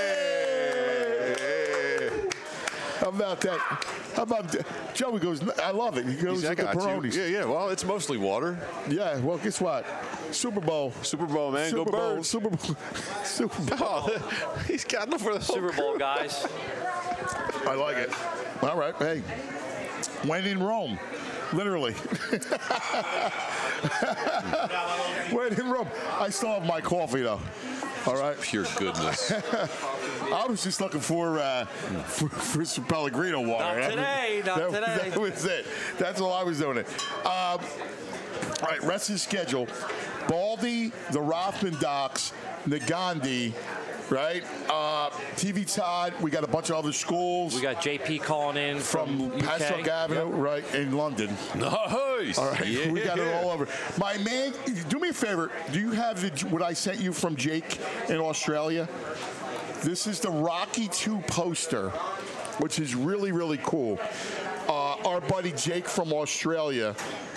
How about that? How about Joey goes, I love it. He goes with the Peronis. Yeah. Well, it's mostly water. Yeah. Well, guess what? Super Bowl, man. Super Go Bowl, Birds. Super Bowl. Oh, he's got enough for the Super Bowl, guys. I like it. All right. Hey, when in Rome. Literally. When in Rome, I still have my coffee though. All right. Pure goodness. I was just looking for some Pellegrino water. Not today. That was it. That's all I was doing. All right, rest of the schedule. Baldy, the Rothman Docks, Nagandi, right? TV Todd, we got a bunch of other schools. We got JP calling in from Pascoag Avenue, right, in London. Nice. All right, yeah. We got it all over. My man, do me a favor. Do you have what I sent you from Jake in Australia? This is the Rocky 2 poster, which is really, really cool. Our buddy Jake from Australia,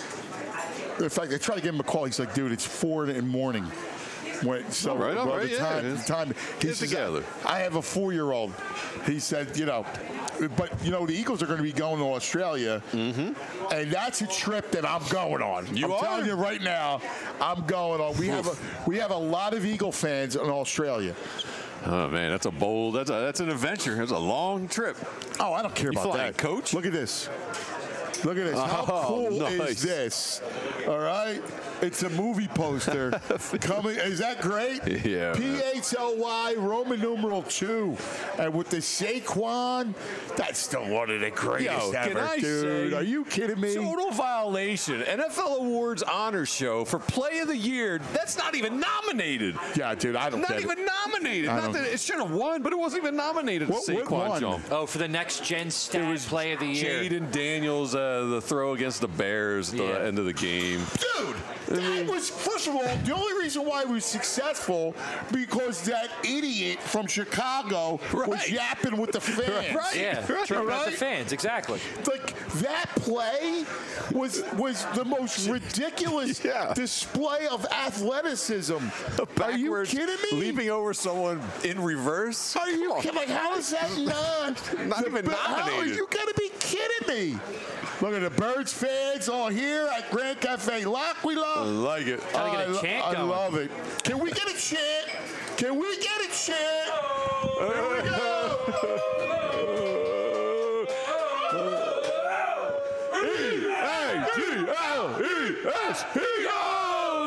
in fact, I tried to give him a call. He's like, dude, it's 4 in the morning. So right, all right, time. He says, together. I have a 4-year-old. He said, but the Eagles are going to be going to Australia, and that's a trip that I'm going on. I'm telling you right now, I'm going on. We have a lot of Eagle fans in Australia. Oh man, that's a bold. That's an adventure. It's a long trip. Oh, I don't care about that, Coach. Look at this. Look at this. How cool is this? All right. It's a movie poster coming. Is that great? Yeah. PHLY Roman numeral 2, and with the Saquon, that's still one of the greatest ever, dude. Are you kidding me? Total violation. NFL Awards honor show for Play of the Year. That's not even nominated. Yeah, dude. I don't. Not even nominated. Not that it should have won, but it wasn't even nominated. What Saquon jump. Oh, for the next gen stat Play of the Year. Jaden Daniels, the throw against the Bears at the end of the game. Dude. That was, first of all, the only reason why it was successful because that idiot from Chicago was yapping with the fans. Right. Yeah, tripping out the fans, exactly. Like, that play was the most ridiculous display of athleticism. Are you kidding me? Leaping over someone in reverse? Are you kidding? Like, how is that not even nominated? You got to be kidding me. Look at the Birds fans all here at Grand Cafe Lock. We love. I like it. Gotta get a chant going. I love it. Can we get a chant? Can we get a chant? Here we go. E-A-G-L-E-S-E-O.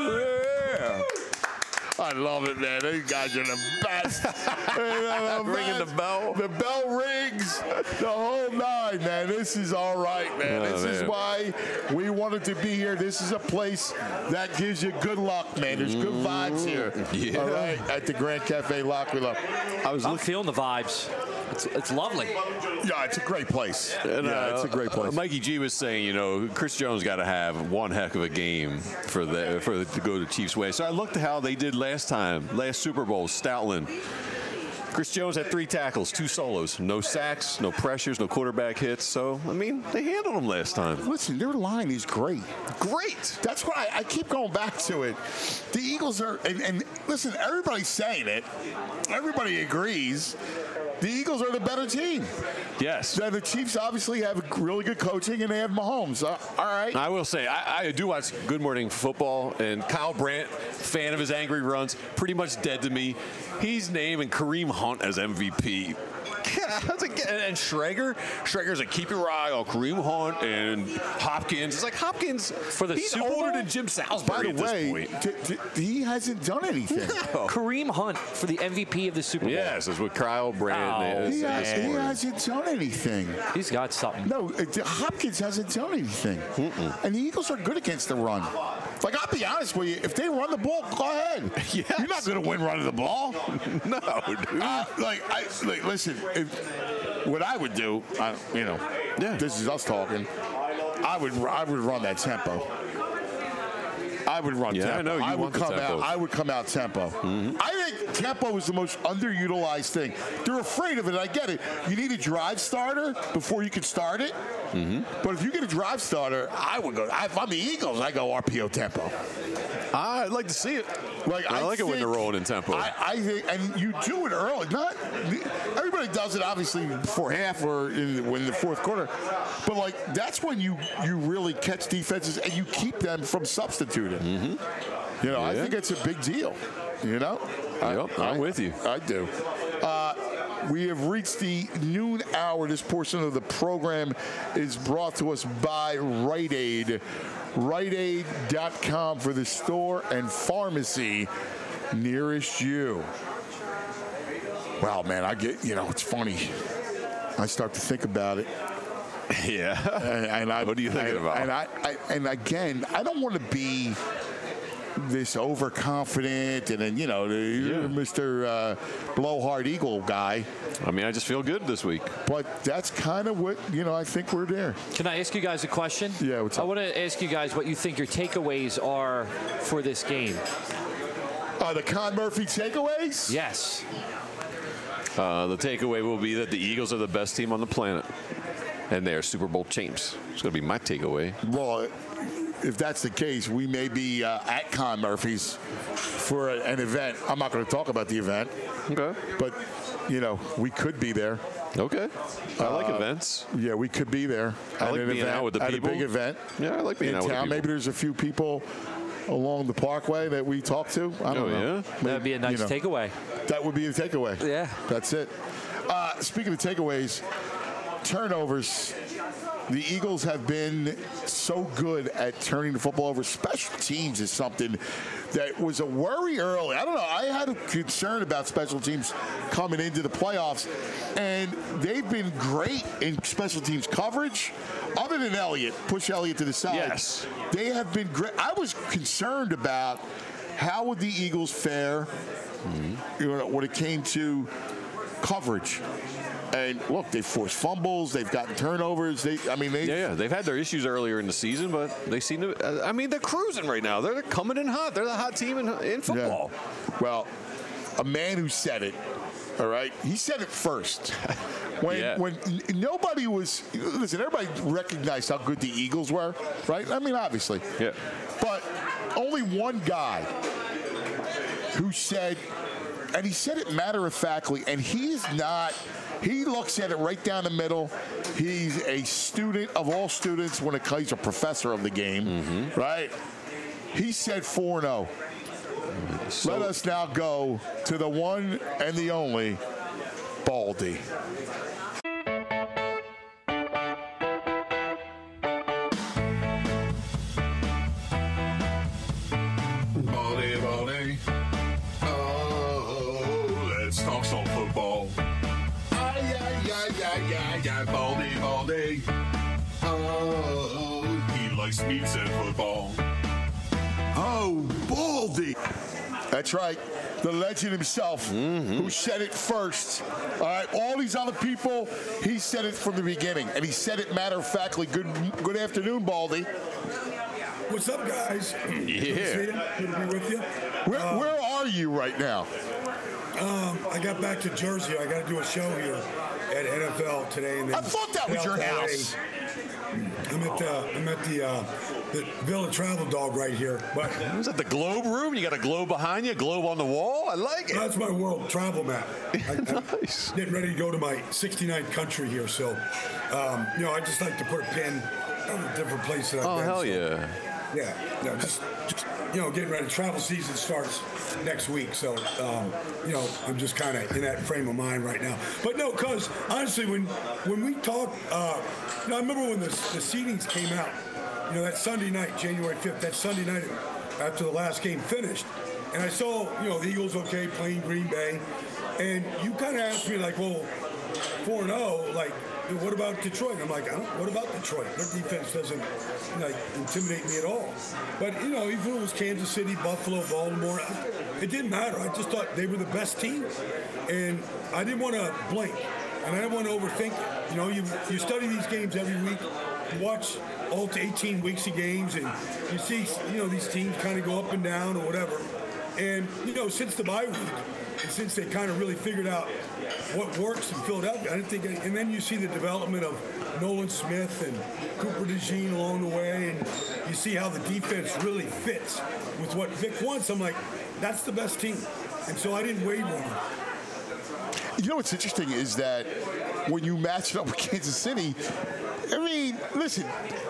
I love it, man. These guys are the best. Ringing the bell. The bell rings. The whole nine, man. This is all right, man. This is why we wanted to be here. This is a place that gives you good luck, man. There's good vibes here. Yeah. All right, at the Grand Cafe Lock. We love. I'm feeling the vibes. It's lovely. Yeah, it's a great place. And, it's a great place. Mikey G was saying, Chris Jones got to have one heck of a game to go to Chiefs way. So I looked at how they did last Super Bowl, Stoutland. Chris Jones had 3 tackles, 2 solos, no sacks, no pressures, no quarterback hits. So, I mean, they handled them last time. Listen, their line is great. Great. That's why I keep going back to it. The Eagles are, and listen, everybody's saying it. Everybody agrees. The Eagles are the better team. Yes. The Chiefs obviously have really good coaching, and they have Mahomes. All right. I will say, I do watch Good Morning Football, and Kyle Brandt, fan of his angry runs, pretty much dead to me. He's naming Kareem Hunt as MVP. And Schrager's like, keep your eye on Kareem Hunt and Hopkins. It's like Hopkins, he's Super older Bowl? than Jim Salisbury By the way, at this point. he hasn't done anything. No. Kareem Hunt for the MVP of the Super Bowl. Yes, that's what Kyle Brandt is. He hasn't done anything. He's got something. No, Hopkins hasn't done anything. And the Eagles are good against the run. Like, I'll be honest with you, if they run the ball, go ahead. Yes. You're not going to win running the ball. No, dude. Listen, what I would do, this is us talking. I would run that tempo. I would run tempo. I know you want the tempo. I would come out tempo. I think tempo is the most underutilized thing. They're afraid of it. I get it. You need a drive starter before you can start it. But if you get a drive starter, I would go. If I'm the Eagles, I go RPO tempo. I'd like to see it. I like it when they're rolling in tempo. I think, and you do it early. Not everybody does it obviously before half or in the fourth quarter, but that's when you really catch defenses and you keep them from substituting. I think it's a big deal. I'm with you. I do. We have reached the noon hour. This portion of the program is brought to us by Rite Aid. RiteAid.com for the store and pharmacy nearest you. Wow, man, it's funny. I start to think about it. Yeah. And what are you thinking about? And again, I don't want to be this overconfident and then, Mr. Blowhard Eagle guy. I mean, I just feel good this week. But that's kind of what, I think we're there. Can I ask you guys a question? Yeah, what's up? I want to ask you guys what you think your takeaways are for this game. The Con Murphy takeaways? Yes. The takeaway will be that the Eagles are the best team on the planet, and they are Super Bowl champs. It's going to be my takeaway. Well, if that's the case, we may be at Con Murphy's for an event. I'm not going to talk about the event. Okay. But, we could be there. Okay. I like events. Yeah, we could be there. I like being out with the people. At a big event. Yeah, I like being out with the people. Maybe there's a few people along the parkway that we talk to. I don't know. Yeah? That'd be a nice takeaway. That would be a takeaway. Yeah. That's it. Speaking of takeaways, turnovers. The Eagles have been so good at turning the football over. Special teams is something that was a worry early. I don't know. I had a concern about special teams coming into the playoffs, and they've been great in special teams coverage. Other than Elliott, push Elliott to the side. Yes. They have been great. I was concerned about how would the Eagles fare when it came to coverage. And look, they've forced fumbles. They've gotten turnovers. They've had their issues earlier in the season, but they seem to. They're cruising right now. They're coming in hot. They're the hot team in football. Yeah. Well, a man who said it. All right, he said it first. When nobody was everybody recognized how good the Eagles were, right? I mean, obviously. Yeah. But only one guy who said, and he said it matter-of-factly, and he's not. He looks at it right down the middle. He's a student of all students he's a professor of the game, right? He said 4-0. Let us now go to the one and the only Baldy. Baldy. Oh, let's talk some football. Baldy. Oh, he likes meats and football. Oh, Baldy. That's right. The legend himself who said it first. All right, all these other people, he said it from the beginning. And he said it matter-of-factly. Good afternoon, Baldy. What's up, guys? Yeah. Good to be with you. Where are you right now? I got back to Jersey. I got to do a show here at NFL today. And then I thought that was your house. I'm at the Villa Travel Dog right here. But is that the Globe room? You got a globe behind you, a globe on the wall? I like it. That's my world travel map. Nice. I'm getting ready to go to my 69th country here. So, I just like to put a pin on a different place that I've been. Oh, hell yeah. Yeah, just getting ready. Travel season starts next week, so I'm just kind of in that frame of mind right now. But no, because honestly, when we talk, I remember when the seedings came out. That Sunday night, January 5th, that Sunday night after the last game finished, and I saw the Eagles playing Green Bay, and you kind of asked me like, well, 4-0, like. What about Detroit? I'm like, what about Detroit? Their defense doesn't intimidate me at all. But even if it was Kansas City, Buffalo, Baltimore, it didn't matter. I just thought they were the best team, and I didn't want to blink, and I didn't want to overthink it. You study these games every week, you watch all 18 weeks of games, and you see these teams kind of go up and down or whatever. And since the bye week, and since they kind of really figured out what works in Philadelphia, I didn't think. And then you see the development of Nolan Smith and Cooper DeJean along the way, and you see how the defense really fits with what Vic wants. I'm like, that's the best team, and so I didn't waver on it. What's interesting is that when you match it up with Kansas City, I mean, listen,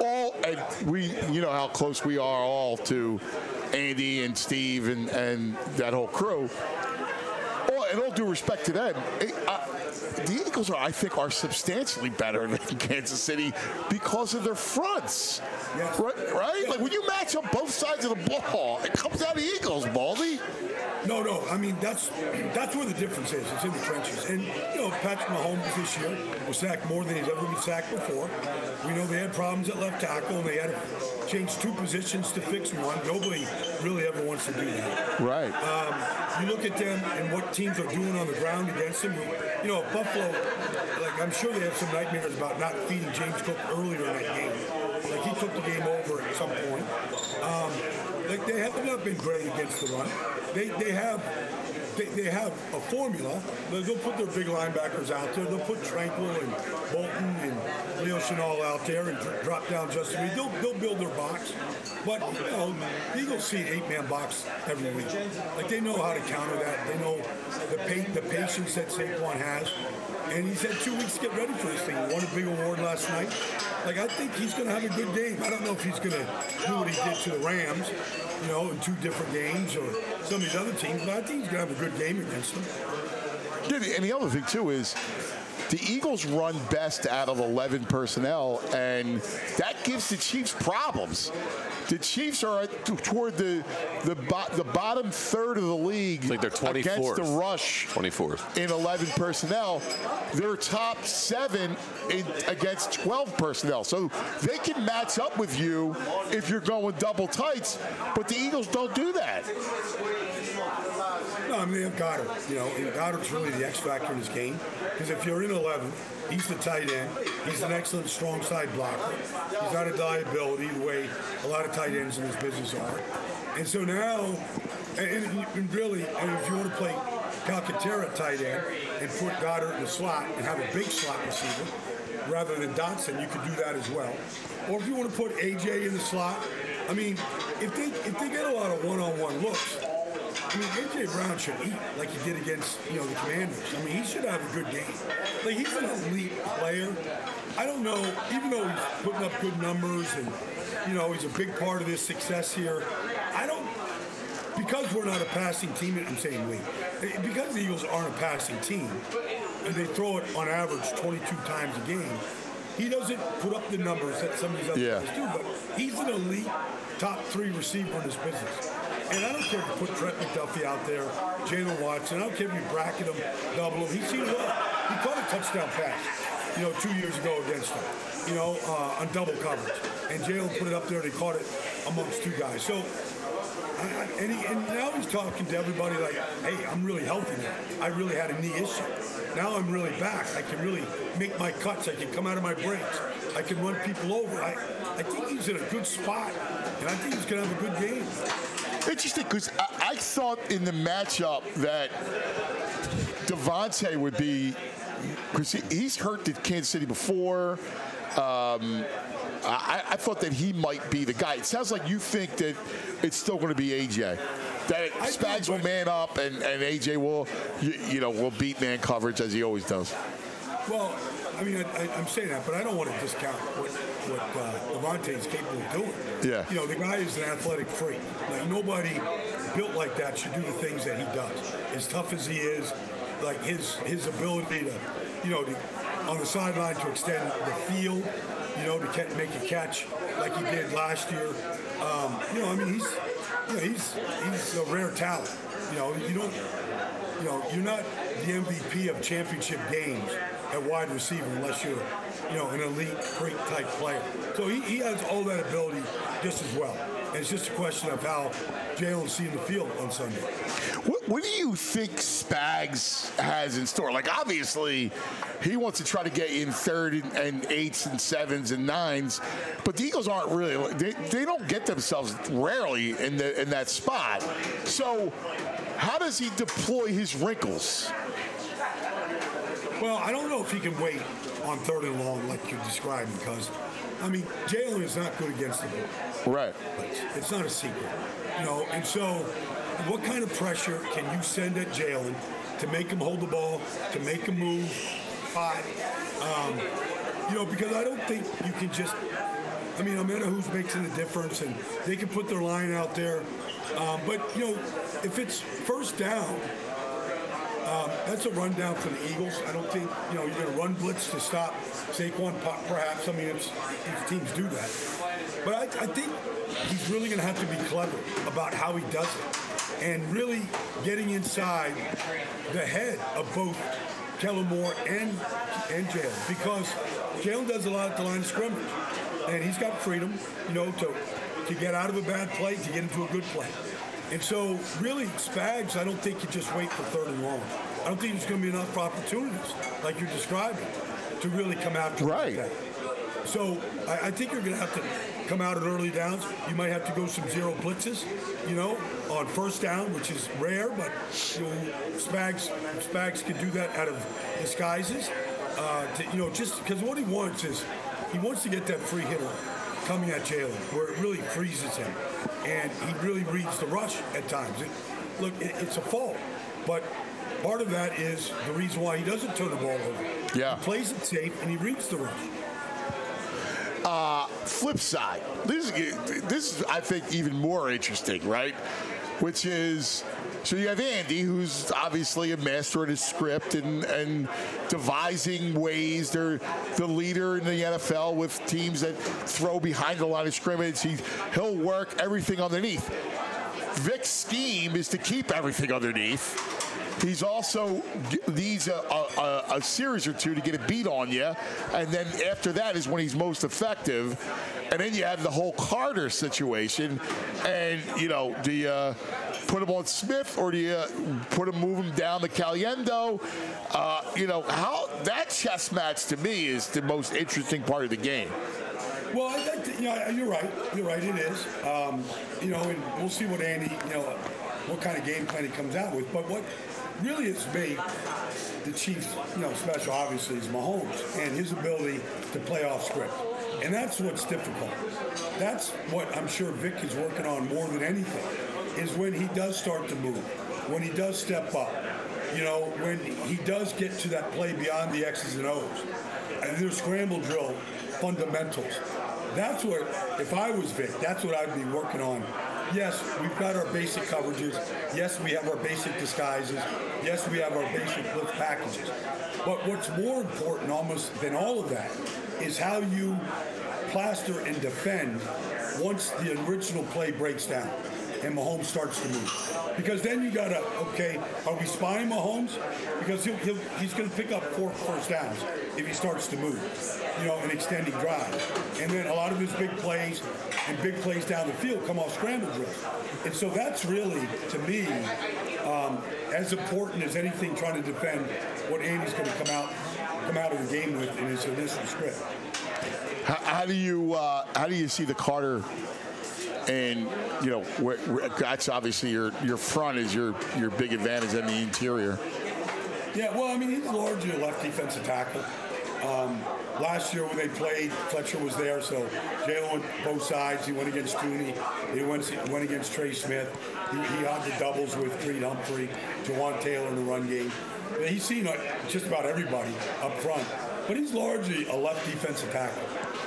we how close we are all to Andy and Steve and that whole crew. and all due respect to them, the Eagles I think, are substantially better than Kansas City because of their fronts. Yes. Right? Like, when you match up both sides of the ball, it comes out of the Eagles, Baldy. No. I mean, that's where the difference is. It's in the trenches. And, Patrick Mahomes this year was sacked more than he's ever been sacked before. We know they had problems at left tackle, and they had to change 2 positions to fix one. Nobody really ever wants to do that. Right. You look at them and what teams are doing on the ground against them. Buffalo, I'm sure they have some nightmares about not feeding James Cook earlier in that game. He took the game over at some point. They have not been great against the run. They have a formula. They'll put their big linebackers out there. They'll put Tranquill and Bolton and Leo Chenal out there and drop down Justin Reed. They'll build their box. But, the Eagles see an 8-man box every week. They know how to counter that. They know the patience that Saquon has. And he's had 2 weeks to get ready for this thing. He won a big award last night. I think he's going to have a good game. I don't know if he's going to do what he did to the Rams, in 2 different games or some of these other teams, but I think he's going to have a good game against them. Yeah, and the other thing, too, is the Eagles run best out of 11 personnel, and that gives the Chiefs problems. The Chiefs are toward the bottom third of the league they're 24th. Against the rush 24th. in 11 personnel. They're top 7 against 12 personnel. So they can match up with you if you're going double tights, but the Eagles don't do that. No, they have Goddard. And Goddard's really the X factor in this game. Because if you're in 11, he's the tight end. He's an excellent strong side blocker. He's not a liability the way a lot of tight ends in this business are. And so now, and really, if you want to play Calcaterra tight end and put Goddard in the slot and have a big slot receiver rather than Dotson, you could do that as well. Or if you want to put AJ in the slot, if they get a lot of one-on-one looks, A.J. Brown should eat like he did against, the Commanders. He should have a good game. He's an elite player. I don't know, even though he's putting up good numbers and, he's a big part of this success here, because we're not a passing team, I'm saying because the Eagles aren't a passing team, and they throw it on average 22 times a game, he doesn't put up the numbers that some of these other guys do, but he's an elite top 3 receiver in this business. And I don't care if you put Trent McDuffie out there, Jalen Watson. I don't care if you bracket him, double him. He's seen it all. He caught a touchdown pass, 2 years ago against him, on double coverage. And Jalen put it up there and he caught it amongst 2 guys. So, and now he's talking to everybody like, hey, I'm really healthy now. I really had a knee issue. Now I'm really back. I can really make my cuts. I can come out of my breaks. I can run people over. I think he's in a good spot. And I think he's going to have a good game. Interesting, because I thought in the matchup that Devontae would be, because he's hurt at Kansas City before. I thought that he might be the guy. It sounds like you think that it's still going to be AJ. That Spags will man up and AJ will, will beat man coverage as he always does. Well, I'm saying that, but I don't want to discount what Devontae is capable of doing. Yeah. The guy is an athletic freak. Nobody built like that should do the things that he does. As tough as he is, his ability to, on the sideline to extend the field, to make a catch like he did last year. He's a rare talent. You're not the MVP of championship games at wide receiver unless you're, an elite, great type player. So he has all that ability just as well. And it's just a question of how Jalen's seeing the field on Sunday. What do you think Spags has in store? Obviously, he wants to try to get in 3rd and 8s and 7s and 9s, but the Eagles aren't really. They don't get themselves rarely in that spot. So, how does he deploy his wrinkles? Well, I don't know if he can wait on 3rd and long like you described because, Jalen is not good against the ball. Right. It's not a secret. And so what kind of pressure can you send at Jalen to make him hold the ball, to make him move, because I don't think you can just, no matter who's making the difference, and they can put their line out there. But, if it's first down, That's a rundown for the Eagles. I don't think, you're going to run blitz to stop Saquon, perhaps. I mean, if teams do that. But I think he's really going to have to be clever about how he does it and really getting inside the head of both Kellen Moore and Jalen, because Jalen does a lot at the line of scrimmage, and he's got freedom, to get out of a bad play, to get into a good play. And so, really, Spags, I don't think you just wait for 3rd and long. I don't think there's going to be enough opportunities, like you're describing, to really come after that. So I think you're going to have to come out at early downs. You might have to go some zero blitzes, on 1st down, which is rare, but Spags can do that out of disguises. Just because what he wants is he wants to get that free hitter coming at Jalen, where it really freezes him, and he really reads the rush at times. It's a fault, but part of that is the reason why he doesn't turn the ball over. Yeah, he plays it safe and he reads the rush. Flip side, this is, I think, even more interesting, right? Which is, so you have Andy, who's obviously a master at his script and devising ways. They're the leader in the NFL with teams that throw behind the line of scrimmage. He'll work everything underneath. Vic's scheme is to keep everything underneath. He's also needs a series or two to get a beat on you, and then after that is when he's most effective. And then you have the whole Carter situation, and do you put him on Smith or do you move him down to Caliendo? How that chess match to me is the most interesting part of the game. Well, you're right. You're right. It is. And we'll see what Andy, what kind of game plan he comes out with. But what really has made the Chiefs, special, obviously, is Mahomes and his ability to play off script. And that's what's difficult. That's what I'm sure Vic is working on more than anything, is when he does start to move, when he does step up, when he does get to that play beyond the X's and O's. And there's scramble drill fundamentals. That's what, if I was Vic, that's what I'd be working on. Yes, we've got our basic coverages. Yes, we have our basic disguises. Yes, we have our basic blitz packages. But what's more important almost than all of that is how you plaster and defend once the original play breaks down and Mahomes starts to move. Because then you got to, are we spying Mahomes? Because he's going to pick up 4 first downs if he starts to move, an extending drive. And then a lot of his big plays and big plays down the field come off scramble drills. And so that's really, to me, as important as anything trying to defend what Andy's going to come out of the game with in his initial script. How do you see the Carter? And that's obviously your front is your big advantage in the interior. Yeah, well, he's largely a left defensive tackle. Last year when they played, Fletcher was there, so Jalen went both sides. He went against Tooney. He went against Trey Smith. He had the doubles with Creed Humphrey, Jawan Taylor in the run game. He's seen just about everybody up front, but he's largely a left defensive tackle.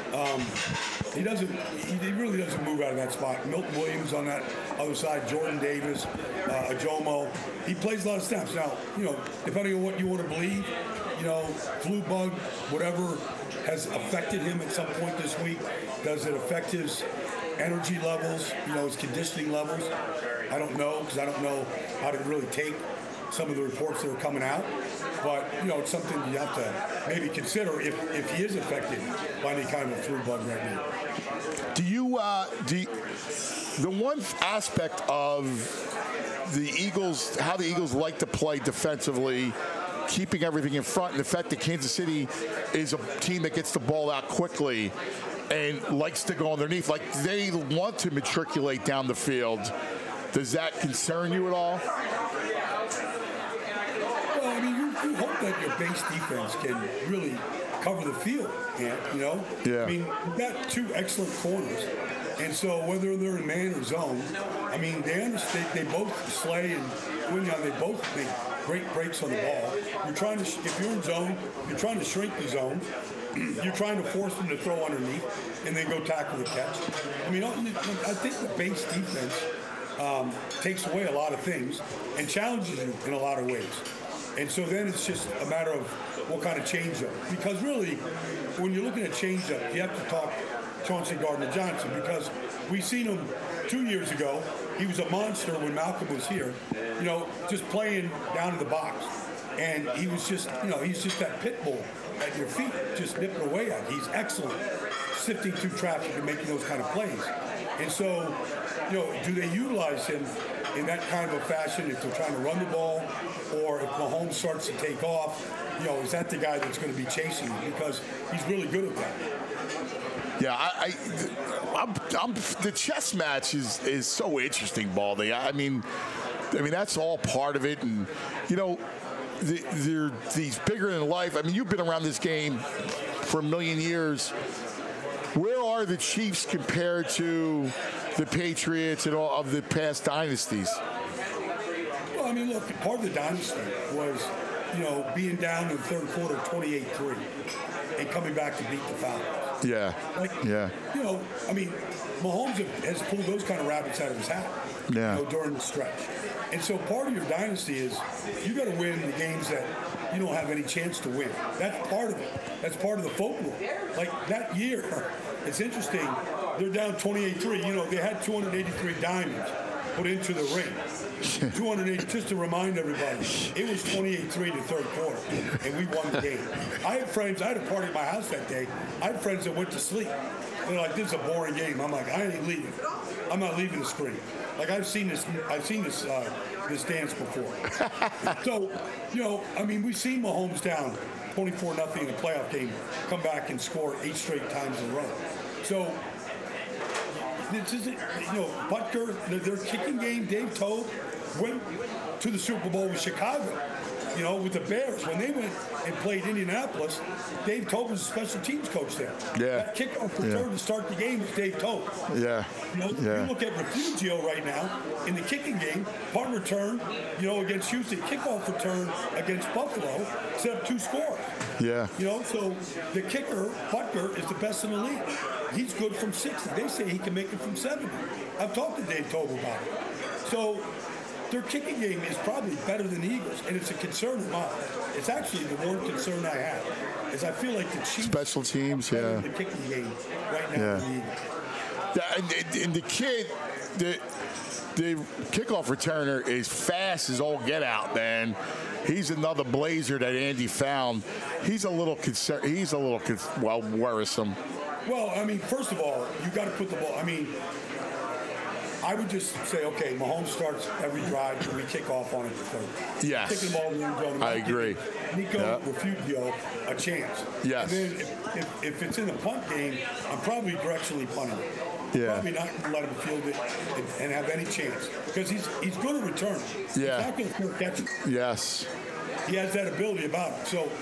He really doesn't move out of that spot. Milton Williams on that other side, Jordan Davis, Ajomo. He plays a lot of snaps. Now, depending on what you want to believe, flu bug, whatever has affected him at some point this week. Does it affect his energy levels, his conditioning levels? I don't know, because I don't know how to really take some of the reports that are coming out. But, it's something you have to maybe consider if he is affected by any kind of a flu bug right now. The one aspect of the Eagles, how the Eagles like to play defensively, keeping everything in front, and the fact that Kansas City is a team that gets the ball out quickly and likes to go underneath, like they want to matriculate down the field. Does that concern you at all? Well, you hope that your base defense can really cover the field, Yeah. You've got 2 excellent corners. And so whether they're in man or zone, they understand, they both Slay and Quinion, they both make great breaks on the ball. If you're in zone, you're trying to shrink the zone. You're trying to force them to throw underneath and then go tackle the catch. I think the base defense takes away a lot of things and challenges you in a lot of ways. And so then it's just a matter of what kind of changeup. Because really, when you're looking at changeup, you have to talk Chauncey Gardner-Johnson, because we seen him 2 years ago. He was a monster when Malcolm was here, just playing down in the box. And he was just, he's just that pit bull at your feet, just nipping away at it. He's excellent sifting through traffic and making those kind of plays. And so, do they utilize him in that kind of a fashion if they're trying to run the ball, or if Mahomes starts to take off, is that the guy that's going to be chasing him? Because he's really good at that. Yeah, the chess match is so interesting, Baldy. I mean, that's all part of it, and they're these bigger than life. I mean, you've been around this game for a million years. Where are the Chiefs compared to the Patriots and all of the past dynasties? Well, I mean, look, part of the dynasty was, being down in the third quarter 28-3 and coming back to beat the Falcons. Yeah. Mahomes has pulled those kind of rabbits out of his hat during the stretch. And so part of your dynasty is you got to win the games that you don't have any chance to win. That's part of it. That's part of the folklore. Like that year, it's interesting, they're down 28-3. They had 283 diamonds put into the ring. 280, just to remind everybody, it was 28-3 the third quarter, and we won the game. I had a party at my house that day. I had friends that went to sleep. They're like, this is a boring game. I'm like, I ain't leaving. I'm not leaving the screen. Like, I've seen this dance before. So, we've seen Mahomes down 24-0 in a playoff game, come back and score 8 straight times in a row. So, this is, Butker, their kicking game, Dave Toub went to the Super Bowl with Chicago, with the Bears. When they went and played Indianapolis, Dave Toub was a special teams coach there. Yeah. That kickoff return to start the game was Dave Toub. Yeah. You look at Refugio right now in the kicking game, punt return, against Houston, kickoff return against Buffalo, set up 2 scores. Yeah. So the kicker, Butker, is the best in the league. He's good from 60. They say he can make it from 70. I've talked to Dave Toub about it. So their kicking game is probably better than the Eagles, and it's a concern of mine. It's actually the one concern I have, is I feel like the Chiefs special teams, are better in the kicking game right now than the Eagles. Yeah, and the kid, the kickoff returner is fast as all get out, man. He's another blazer that Andy found. He's a little concerned. He's a little worrisome. Well, first of all, you got to put the ball. I would just say, okay, Mahomes starts every drive and we kick off on it the third. Yes. Kicking the ball in the end zone. I agree. Nico Refugio a chance. Yes. And then if it's in the punt game, I'm probably directionally punting it. Yeah. Probably not going to let him field it and have any chance, because he's good at return. Yeah. He's not going to catch it. Yes. He has that ability about him. So,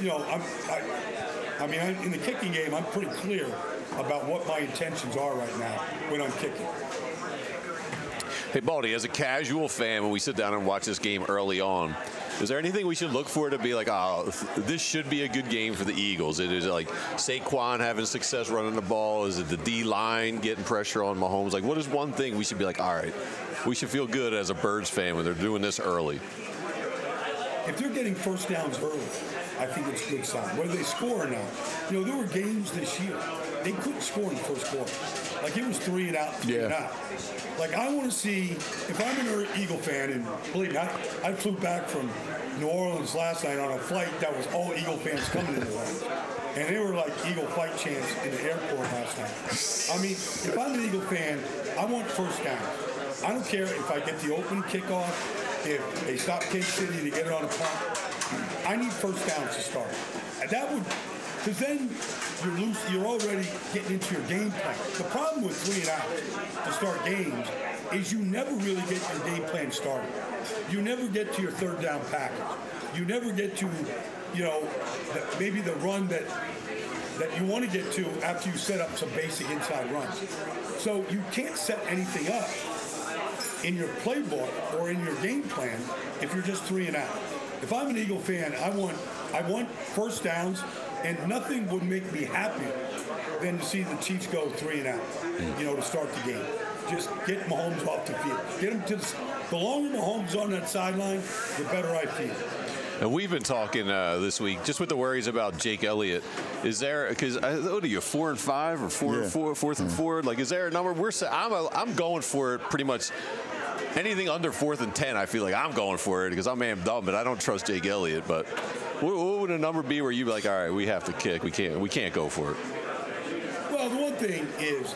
in the kicking game, I'm pretty clear about what my intentions are right now when I'm kicking. Hey, Baldy, as a casual fan, when we sit down and watch this game early on, is there anything we should look for to be like, oh, this should be a good game for the Eagles? Is it like Saquon having success running the ball? Is it the D-line getting pressure on Mahomes? Like, what is one thing we should be like, all right, we should feel good as a Birds fan when they're doing this early? If they're getting first downs early, I think it's a good sign. Whether they score or not. There were games this year, they couldn't score in the first quarter. Like, it was 3 and out, 3 and out. Like, I want to see, if I'm an Eagle fan, and believe me, I flew back from New Orleans last night on a flight that was all Eagle fans coming in the Orleans. And they were like Eagle fight chants in the airport last night. If I'm an Eagle fan, I want first down. I don't care if I get the open kickoff, if they stop Kansas City to get it on a punt. I need first downs to start. And that would, because then you're already getting into your game plan. The problem with 3 and out to start games is you never really get your game plan started. You never get to your third down package. You never get to, maybe the run that you want to get to after you set up some basic inside runs. So you can't set anything up in your playbook or in your game plan if you're just 3 and out. If I'm an Eagle fan, I want first downs, and nothing would make me happier than to see the Chiefs go 3 and out, to start the game. Just get Mahomes off the field. Get him to the longer Mahomes on that sideline, the better I feel. And we've been talking this week just with the worries about Jake Elliott. Is there, because what are you, 4 and 5 or 4 and 4, 4th and 4? Like, is there a number? I'm going for it pretty much. Anything under 4th and 10, I feel like I'm going for it because I'm amped up, but I don't trust Jake Elliott. But what would a number be where you'd be like, all right, we have to kick, we can't go for it? Well, the one thing is,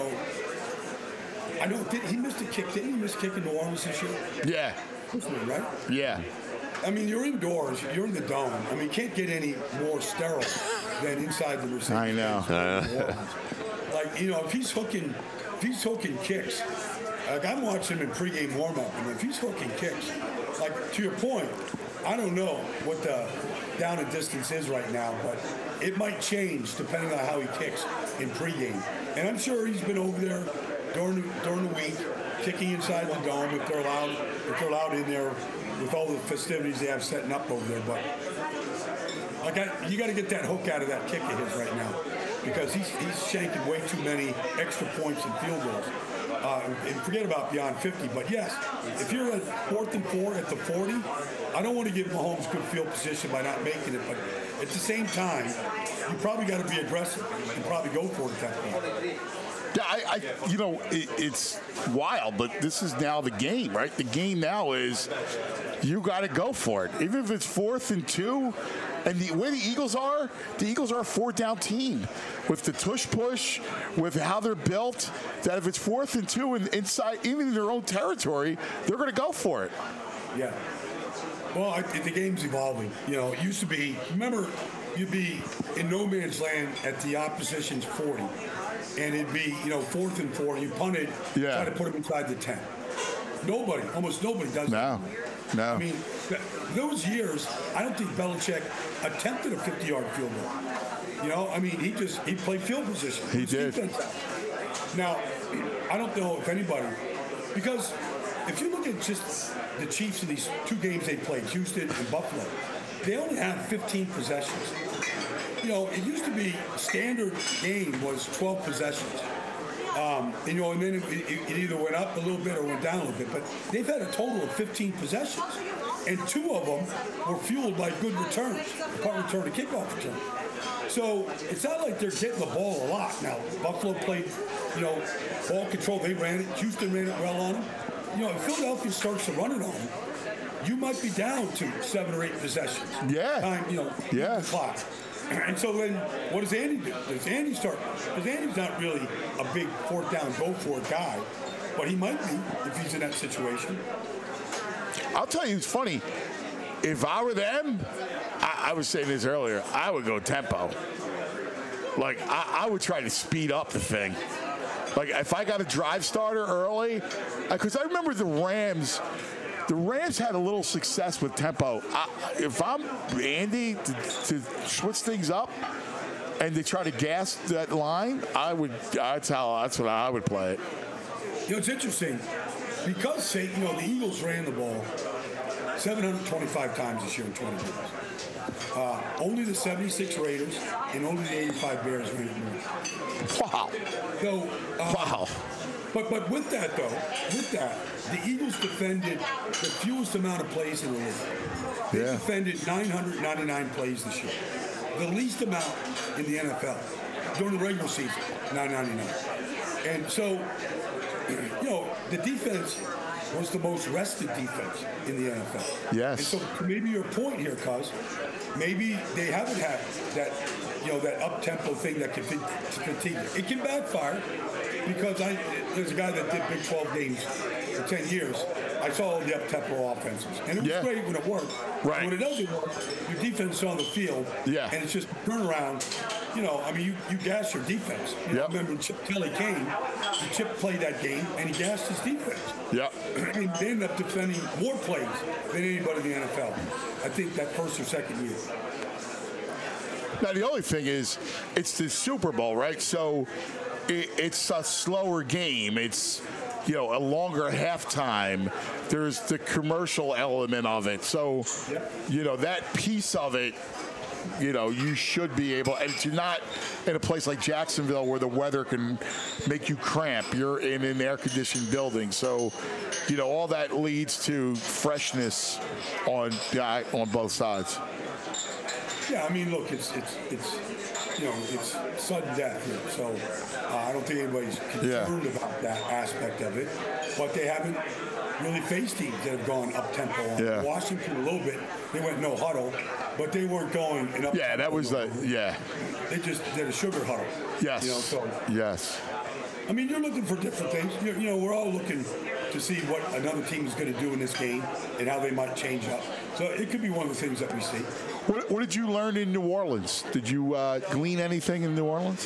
I know he missed a kick. Didn't he miss a kick in New Orleans this year? Yeah. Right? Yeah. I mean, you're indoors. You're in the dome. I mean, you can't get any more sterile than inside the Mercedes. I know. Like, if he's hooking kicks, like I'm watching him in pregame warm-up, and if he's hooking kicks, like to your point, I don't know what the down and distance is right now, but it might change depending on how he kicks in pregame. And I'm sure he's been over there during the week, kicking inside the dome if they're allowed in there with all the festivities they have setting up over there. But you got to get that hook out of that kick of his right now, because he's shanking way too many extra points and field goals. And forget about beyond 50. But yes, if you're at 4th and 4 at the 40, I don't want to give Mahomes good field position by not making it. But at the same time, you probably got to be aggressive and probably go for it at that point. Yeah, it's wild, but this is now the game, right? The game now is you got to go for it. Even if it's 4th and 2, and the way the Eagles are a 4th-down team with the tush push, with how they're built, that if it's 4th and 2 and inside, even in their own territory, they're going to go for it. Yeah. Well, the game's evolving. It used to be, remember, you'd be in no man's land at the opposition's 40. And it'd be, 4th and 4, you punt it, try to put him inside the 10. Almost nobody does that. No. I mean, those years, I don't think Belichick attempted a 50-yard field goal. I mean, he played field position. He did. Now, I don't know if anybody, because if you look at just the Chiefs in these 2 games they played, Houston and Buffalo, they only have 15 possessions. It used to be standard game was 12 possessions. And then it either went up a little bit or went down a little bit. But they've had a total of 15 possessions. And 2 of them were fueled by good returns, punt return and kickoff return. So it's not like they're getting the ball a lot. Now, Buffalo played, ball control. They ran it. Houston ran it well on them. If Philadelphia starts to run it on them, you might be down to 7 or 8 possessions. Yeah. The clock. And so then what does Andy do? Does Andy start? Because Andy's not really a big 4th down, go for it guy, but he might be if he's in that situation. I'll tell you, it's funny. If I were them, I was saying this earlier, I would go tempo. Like, I would try to speed up the thing. Like, if I got a drive starter early, because I remember the Rams had a little success with tempo. If I'm Andy to switch things up and they try to gas that line, that's what I would play it. It's interesting because the Eagles ran the ball 725 times this year in 20 years. Only the 76 Raiders and only the 85 Bears ran it more. Wow. So, wow. But with that, the Eagles defended the fewest amount of plays in the league. They defended 999 plays this year. The least amount in the NFL during the regular season, 999. And so, the defense was the most rested defense in the NFL. Yes. And so maybe your point here, Cuz, maybe they haven't had that, that up-tempo thing that can fatigue you. It can backfire. Because there's a guy that did Big 12 games for 10 years. I saw all the up-tempo offenses. And it was great when it worked. Right. When it doesn't work, your defense is on the field. Yeah. And it's just turnaround. You gas your defense. I remember when Chip Kelly came, Chip played that game, and he gassed his defense. Yep. And they ended up defending more plays than anybody in the NFL. I think that first or second year. Now, the only thing is, it's the Super Bowl, right? So it's a slower game. It's, a longer halftime. There's the commercial element of it. So, that piece of it you should be able, and you're not in a place like Jacksonville where the weather can make you cramp. You're in an air-conditioned building, so all that leads to freshness on both sides. Yeah, I mean, look, it's sudden death here, so I don't think anybody's concerned about that aspect of it. But they haven't really faced teams that have gone up tempo. Yeah. Washington a little bit, they went no huddle, but they weren't going an up. Yeah, that was They just did a sugar huddle. Yes. Yes. I mean, you're looking for different things. We're all looking to see what another team is going to do in this game and how they might change up. So it could be one of the things that we see. What did you learn in New Orleans? Did you glean anything in New Orleans?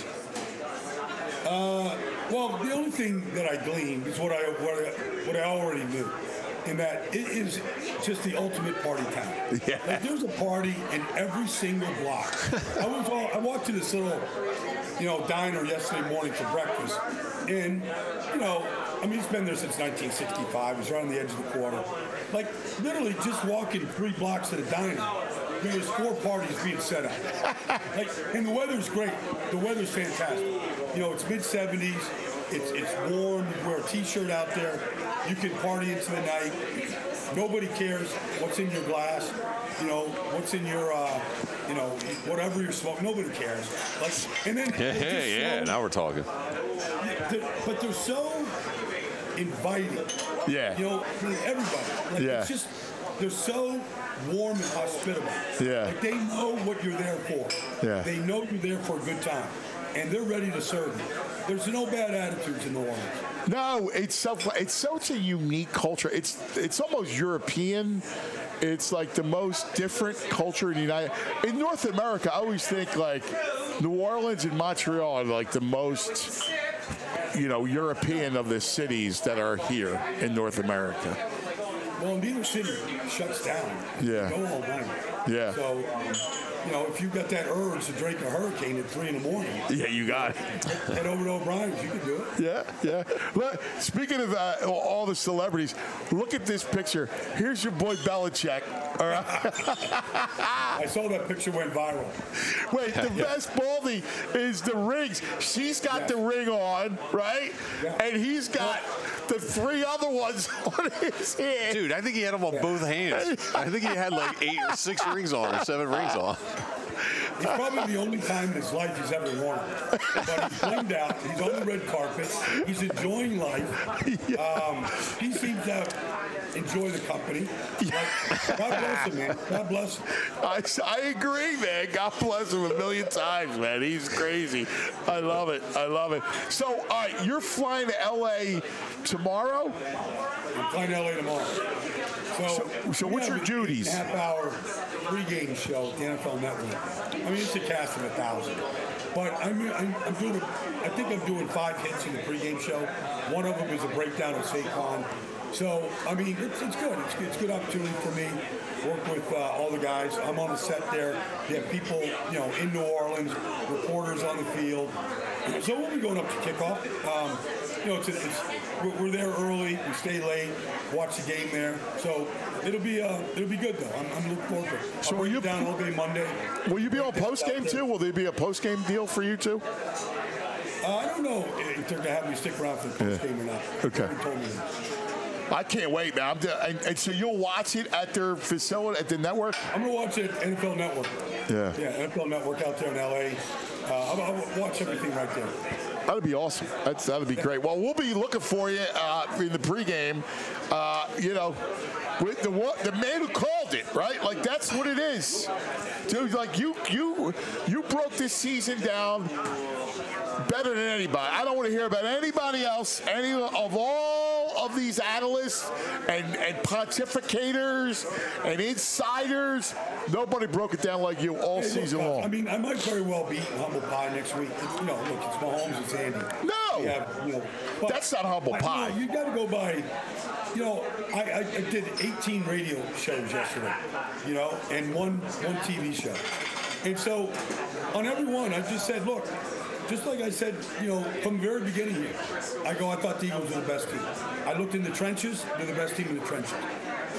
Well, the only thing that I gleaned is what I already knew, in that it is just the ultimate party town. Yeah. Like, there's a party in every single block. I walked to this little, diner yesterday morning for breakfast, and it's been there since 1965. It's right on the edge of the quarter. Like, literally just walking 3 blocks to the diner, there's 4 parties being set up. And the weather's great. The weather's fantastic. It's mid-70s. It's warm. You wear a T-shirt out there. You can party into the night. Nobody cares what's in your glass. What's in your, whatever you're smoking. Nobody cares. And then now we're talking. But they're so inviting. Yeah. Everybody. It's just, they're so warm and hospitable. Yeah. They know what you're there for. Yeah. They know you're there for a good time, and they're ready to serve you. There's no bad attitudes in New Orleans. No, it's such a unique culture. It's almost European. It's like the most different culture in North America. I always think like New Orleans and Montreal are like the most European of the cities that are here in North America. Well, neither city shuts down. Yeah. Go all night. Yeah. So, if you've got that urge to drink a hurricane at 3 a.m. Yeah, you got it. Head over to O'Brien's. You can do it. Yeah. Look, speaking of all the celebrities, look at this picture. Here's your boy Belichick. All right. I saw that picture went viral. Wait, the best Baldy is the rings. She's got the ring on, right? Yeah. And he's got the 3 other ones on his hand. Dude, I think he had them on both hands. I think he had like 8 or 6 rings on or 7 rings on. It's probably the only time in his life he's ever worn it. But he's blamed out. He's on the red carpet. He's enjoying life. He seems to enjoy the company. God bless him, man. God bless him. I agree, man. God bless him a million times, man. He's crazy. I love it. So, all right, you're flying to L.A. tomorrow? I'm flying to L.A. tomorrow. So what's your duties? Half-hour pregame show at the NFL Network. I mean, it's a cast of 1,000. But I think I'm doing 5 hits in the pregame show. One of them is a breakdown of Saquon. So, I mean, it's good. It's a good opportunity for me. Work with all the guys. I'm on the set there. You have people, in New Orleans, reporters on the field. So we'll be going up to kickoff. We're there early. We stay late. Watch the game there. So it'll be good though. I'm looking forward to it. So will you down all day Monday? Will you be on post game too? Will there be a post game deal for you too? I don't know if they're gonna have me stick around for the post game or not. Okay. They told me that. I can't wait, man. And so you'll watch it at their facility, at the network? I'm going to watch it at NFL Network. Yeah. Yeah, NFL Network out there in L.A. I'll watch everything right there. That'd be awesome. That'd be great. Well, we'll be looking for you in the pregame. With the man who called it, right? Like, that's what it is. Dude, like, you broke this season down better than anybody. I don't want to hear about anybody else, any of all of these analysts and pontificators and insiders. Nobody broke it down like you all season long. I mean, I might very well beat humble pie next week. It's Mahomes, it's Andy. No, that's not humble pie. You got to go by. I did 18 radio shows yesterday, and one TV show. And so on every one, I just said, look, just like I said, from the very beginning here, I thought the Eagles were the best team. I looked in the trenches, they're the best team in the trenches.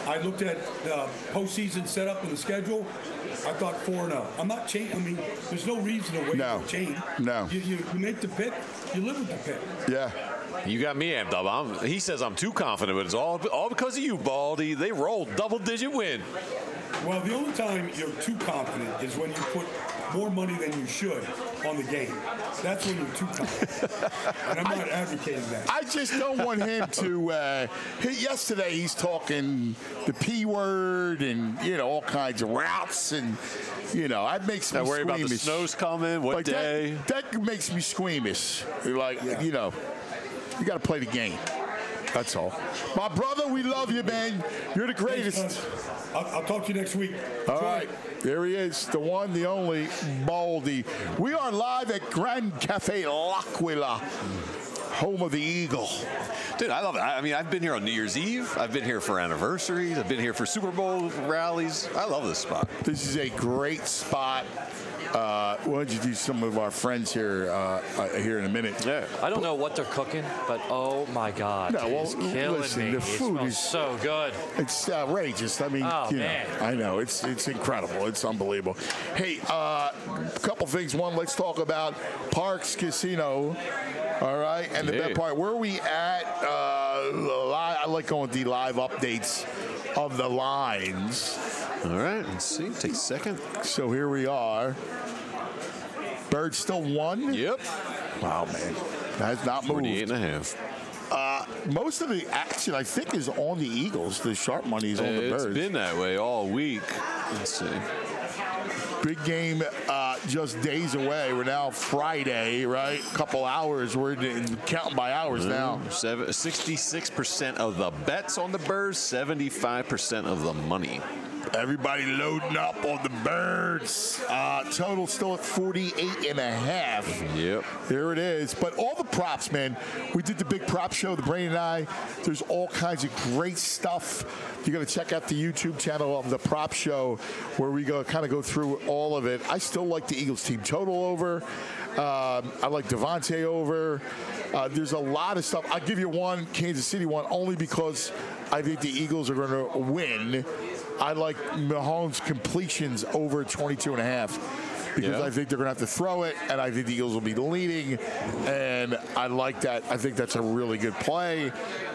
I looked at the postseason setup and the schedule. I thought 4-0. I'm not changing. I mean, there's no reason to wait for a change. No. You make the pick. You live with the pick. Yeah. You got me amped up. He says I'm too confident, but it's all because of you, Baldy. They rolled double-digit win. Well, the only time you're too confident is when you put more money than you should on the game. That's when you're too confident. And I'm not advocating that. I just don't want him to. Yesterday, he's talking the P word and, all kinds of routes. And, that makes me squeamish. Worry about the snow's coming. What day? That makes me squeamish. Like, you got to play the game. That's all. My brother, we love you, man. You're the greatest. I'll talk to you next week. All right. There he is, the one, the only, Baldy. We are live at Grand Cafe L'Aquila, home of the Eagle. Dude, I love it. I mean, I've been here on New Year's Eve. I've been here for anniversaries. I've been here for Super Bowl rallies. I love this spot. This is a great spot. We'll introduce some of our friends here here in a minute. Yeah. I don't know what they're cooking, but oh my God, it's killing me. The food is so good. It's outrageous. I mean, man. I know it's incredible. It's unbelievable. Hey, a couple things. One, let's talk about Parx Casino. All right, and the bet part. Where are we at? I like going with the live updates of the lines. All right, let's see. Take a second. So here we are. Bird still won? Yep. Wow, man. That has not moved. 48.5. Most of the action, I think, is on the Eagles. The sharp money is on the Birds. It's been that way all week. Let's see. Big game just days away. We're now Friday, right? Couple hours. We're counting by hours now. 66% of the bets on the Birds, 75% of the money. Everybody loading up on the Birds. Total still at 48.5. Yep. There it is. But all the props, man. We did the big prop show, the Brain and I. There's all kinds of great stuff. You got to check out the YouTube channel of the prop show where we go through all of it. I still like the Eagles team total over. I like Devontae over. There's a lot of stuff. I'll give you one, Kansas City one, only because I think the Eagles are going to win. I like Mahomes' completions over 22.5 because I think they're going to have to throw it, and I think the Eagles will be leading, and I like that. I think that's a really good play.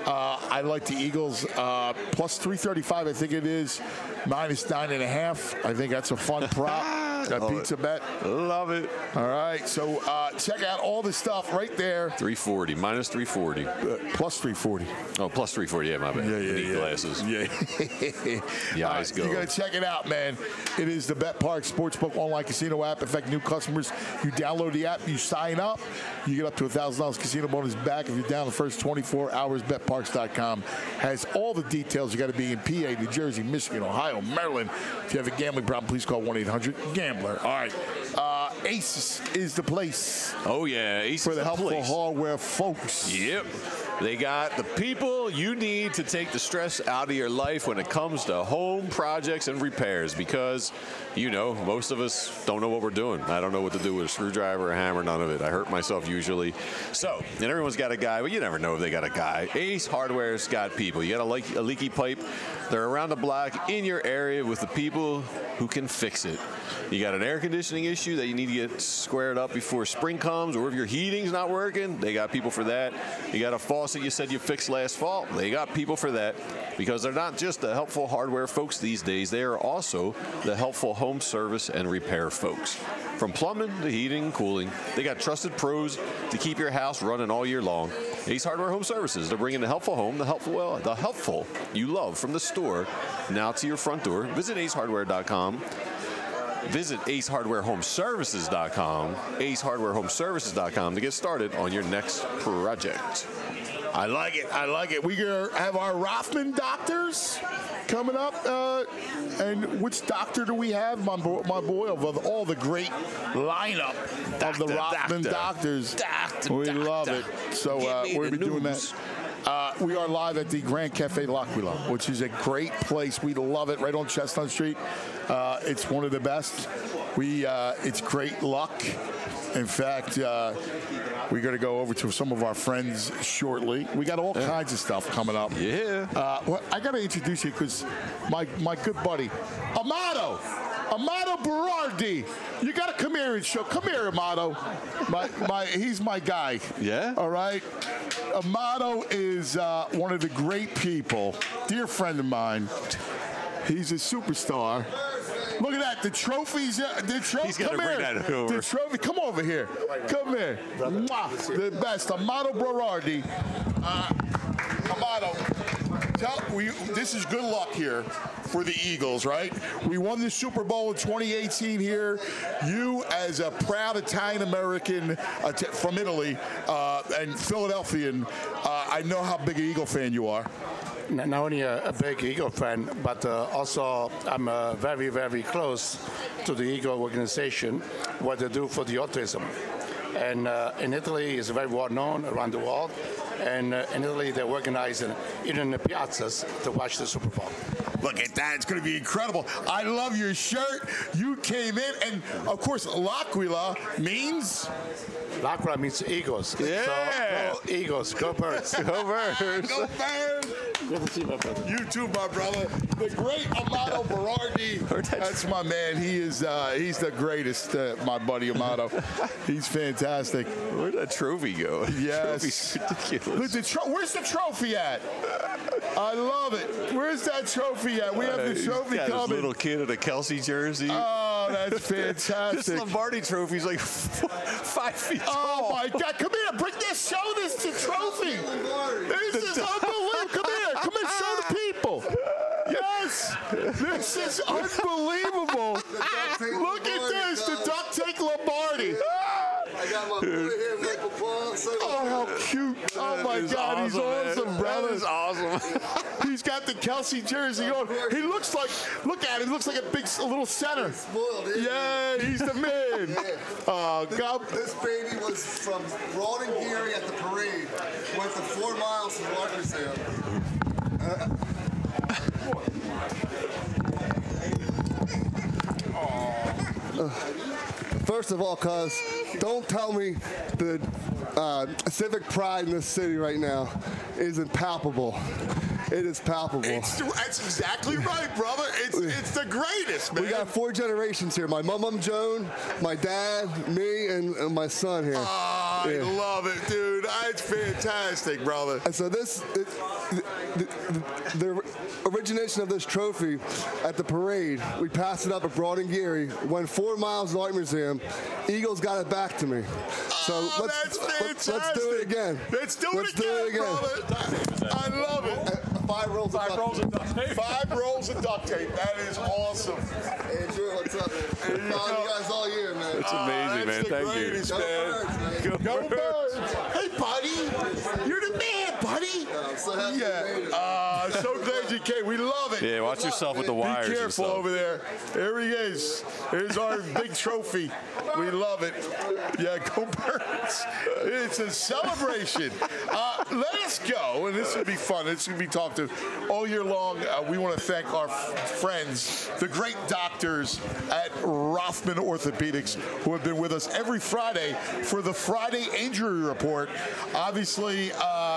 I like the Eagles plus 335. I think it is minus 9.5. I think that's a fun prop. That pizza bet. Love it. All right. So check out all the stuff right there. 340. Minus 340. Plus 340. Oh, plus 340. Yeah, my bad. Yeah. Glasses. Yeah. The eyes go. You got to check it out, man. It is the BetParx Sportsbook online casino app. In fact, new customers, you download the app, you sign up, you get up to $1,000 casino bonus back if you're down the first 24 hours. BetParx.com has all the details. You got to be in PA, New Jersey, Michigan, Ohio, Maryland. If you have a gambling problem, please call 1-800-GAMBLER. All right. Aces is the place. Oh, yeah. Aces for the helpful hardware folks. Yep. They got the people you need to take the stress out of your life when it comes to home projects and repairs because, most of us don't know what we're doing. I don't know what to do with a screwdriver, a hammer, none of it. I hurt myself usually. So, and everyone's got a guy, but you never know if they got a guy. Ace Hardware's got people. You got a leaky pipe. They're around the block in your area with the people who can fix it. You got an air conditioning issue that you need to get squared up before spring comes, or if your heating's not working, they got people for that. You got a faucet you said you fixed last fall, they got people for that because they're not just the helpful hardware folks these days, they are also the helpful home service and repair folks. From plumbing to heating and cooling, they got trusted pros to keep your house running all year long. Ace Hardware Home Services, they're bringing the helpful home, the helpful you love from the store now to your front door. Visit acehardware.com. Visit acehardwarehomeservices.com, acehardwarehomeservices.com to get started on your next project. I like it. We have our Rothman doctors coming up. And which doctor do we have? My boy, of all the great lineup of the Rothman doctors. We love it. So we're going to be doing that. We are live at the Grand Cafe L'Aquila, which is a great place. We love it, right on Chestnut Street. It's one of the best. it's great luck. In fact, we're going to go over to some of our friends shortly. We got all kinds of stuff coming up. Yeah. Well, I got to introduce you because my good buddy, Amato Berardi. You got to come here and show. Come here, Amato. He's my guy. Yeah. All right. Amato is one of the great people, dear friend of mine. He's a superstar. Look at that. The trophies. He's got to bring that over. The trophy. Come over here. Come here. Mwah. The best. Amato Berardi. Amato, this is good luck here for the Eagles, right? We won the Super Bowl in 2018 here. You, as a proud Italian-American from Italy and Philadelphian, I know how big an Eagle fan you are. Not only a big Eagle fan, but also I'm very, very close to the Eagle organization, what they do for the autism. And in Italy, it's very well known around the world. And in Italy, they organize even in the piazzas to watch the Super Bowl. Look at that. It's going to be incredible. I love your shirt. You came in. And, of course, L'Aquila means? L'Aquila means Eagles. Yeah. So, go Eagles. Go Birds. Go Birds. Go Birds. Good to see you, my brother. You too, my brother. The great Amato Berardi. That's my man. He's the greatest, my buddy Amato. He's fantastic. Where'd that trophy go? Yes. Trophy's ridiculous. Look, where's the trophy at? I love it. Where's that trophy at? We have the trophy got coming. His little kid in a Kelsey jersey. Oh, that's fantastic. This Lombardi trophy's like 5 feet tall. Oh, my God. Come here. Bring this. Show this the trophy. This is unbelievable. Come here. Come and show the people. Yes. This is unbelievable. Look at this. The duct tape Lombardi. I got my boy here, Michael Paul. Oh, how cute. Oh, my God. Awesome, he's awesome, man. brother. That is awesome. He's got the Kelsey jersey on. He looks like, look at him. He looks like a little center. Spoiled, yeah, he's the man. Yeah. Oh, God. This baby was from Rawdon Geary at the parade. Went the 4 miles to Rockersdale. First of all, cuz, don't tell me the civic pride in this city right now isn't palpable. It is palpable. That's exactly right, brother. It's the greatest, man. We got 4 generations here. My mom, Joan, my dad, me, and my son here. Oh, I love it, dude. It's fantastic, brother. And so the origination of this trophy at the parade, we passed it up at Rawdon Geary, went 4 miles to the Art Museum. Eagles got it back to me. So let's do it again. Let's do it again, brother. I love it. 5 rolls of duct tape. 5 rolls of duct tape. That is awesome. Andrew, what's up, man? Been following you guys all year, man. It's amazing, man. Thank you. Go Birds. Hey, buddy. You're the man, buddy. I'm so happy you made it. So glad you came. We love it. Yeah, watch yourself with the wires. Be and careful stuff. over there. There he is. Here's our big trophy. We love it. Yeah, go Birds. It's a celebration. Let us go, and this will be fun. It's going to be talked to all year long. We want to thank our friends, the great doctors at Rothman Orthopedics, who have been with us every Friday for the Friday Injury Report. Obviously,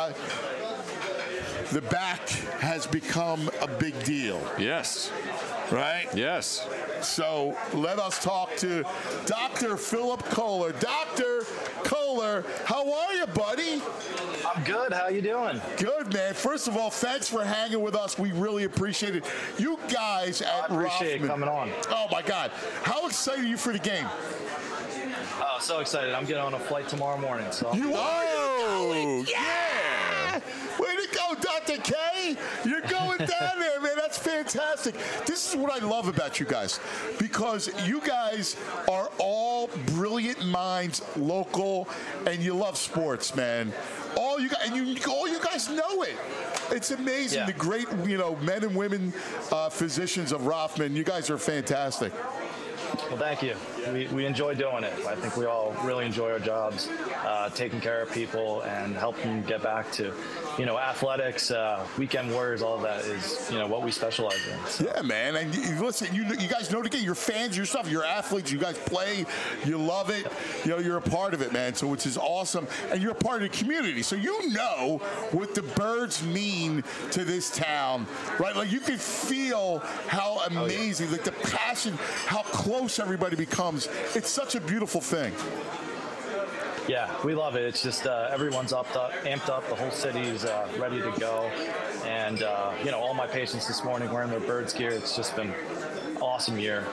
the back has become a big deal. Yes. Right? Yes. So let us talk to Dr. Philip Kohler. Dr. Kohler, how are you, buddy? I'm good. How you doing? Good, man. First of all, thanks for hanging with us. We really appreciate it. You guys at I appreciate Rothman, it coming on. Oh, my God. How excited are you for the game? Oh, so excited. I'm getting on a flight tomorrow morning. So You are? Yeah! Way to go, Dr. K! You're going down there, man. That's fantastic. This is what I love about you guys, because you guys are all brilliant minds, local, and you love sports, man. All you guys know it. It's amazing. Yeah. The great, men and women physicians of Rothman. You guys are fantastic. Well, thank you. We enjoy doing it. I think we all really enjoy our jobs, taking care of people and helping them get back to, athletics, weekend warriors, all of that is, what we specialize in. So. Yeah, man. And listen, you guys know the game. You're fans yourself. You're athletes. You guys play. You love it. You're a part of it, man. So which is awesome. And you're a part of the community. So you know what the Birds mean to this town, right? Like you can feel how amazing, like the passion, how close everybody becomes. It's such a beautiful thing. Yeah, we love it. It's just everyone's amped up. The whole city's ready to go. And, all my patients this morning wearing their Birds gear. It's just been an awesome year.